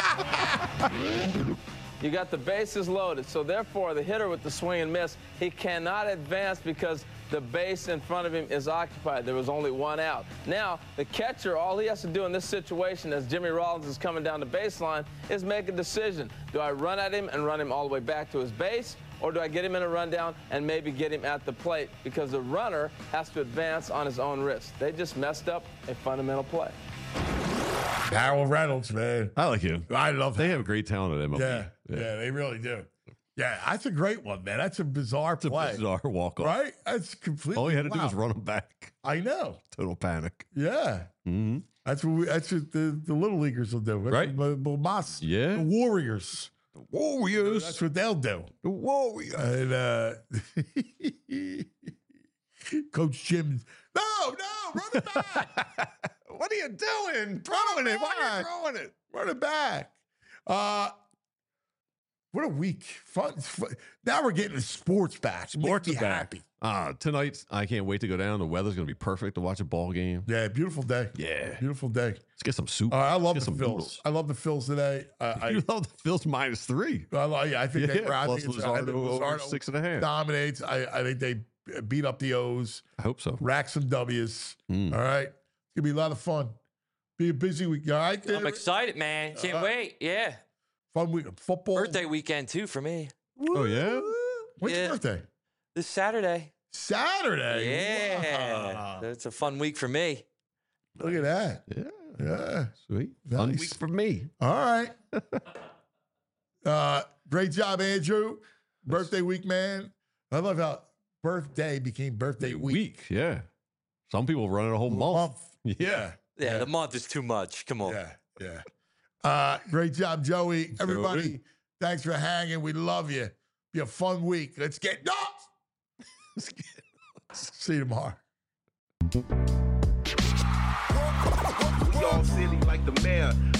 You got the bases loaded, so therefore the hitter with the swing and miss, he cannot advance because the base in front of him is occupied. There was only one out. Now, the catcher, all he has to do in this situation as Jimmy Rollins is coming down the baseline is make a decision. Do I run at him and run him all the way back to his base, or do I get him in a rundown and maybe get him at the plate? Because the runner has to advance on his own risk. They just messed up a fundamental play. Harold Reynolds, man. I like him. I love They him. have great talent at M L B. Yeah, yeah, they really do. Yeah, that's a great one, man. That's a bizarre It's a play. bizarre walk-off. Right? That's completely. All you had to do wow. was run him back. I know. Total panic. Yeah. Mm-hmm. That's what we, that's what the, the little leaguers will do. That's Right. what the, the Mas- Yeah. the Warriors. The Warriors. That's what they'll do. The Warriors. And uh, Coach Jim, no, no, run it back. What are you doing? Throwing it. Why are you Why? throwing it? Run it back. Uh, what a week. Fun, fun. Now we're getting the sports back. Sports Make is me back. happy. Uh, tonight, I can't wait to go down. The weather's going to be perfect to watch a ball game. Yeah, beautiful day. Yeah. Beautiful day. Let's get some soup. Uh, I love Let's the get some Phils. noodles. I love the Phils today. Uh, I, You love the Phils minus three. I, li- yeah, I think they. Yeah, I plus think it's, I think Luzardo over Luzardo six and a half. dominates. I, I think they beat up the O's. I hope so. Rack some W's. Mm. All right, it's gonna be a lot of fun. Be a busy week. All right, I'm excited, man. Can't Uh, wait. Yeah. fun week. Football. Birthday weekend, too, for me. Oh, yeah? When's your Yeah. birthday? This Saturday. Saturday. Yeah. Wow. It's a fun week for me. Look at that. Yeah. Yeah. Sweet. Fun Nice. week for me. All right. uh, great job, Andrew. Birthday week, man. I love how birthday became birthday week. Week, yeah. Some people run it a whole month. Yeah. Yeah, the month is too much. Come on. Yeah, yeah. Uh, great job, Joey. Everybody, Joey. thanks for hanging. We love you. Be a fun week. Let's get nuts. Let's get nuts. See you tomorrow. We all silly like the mayor.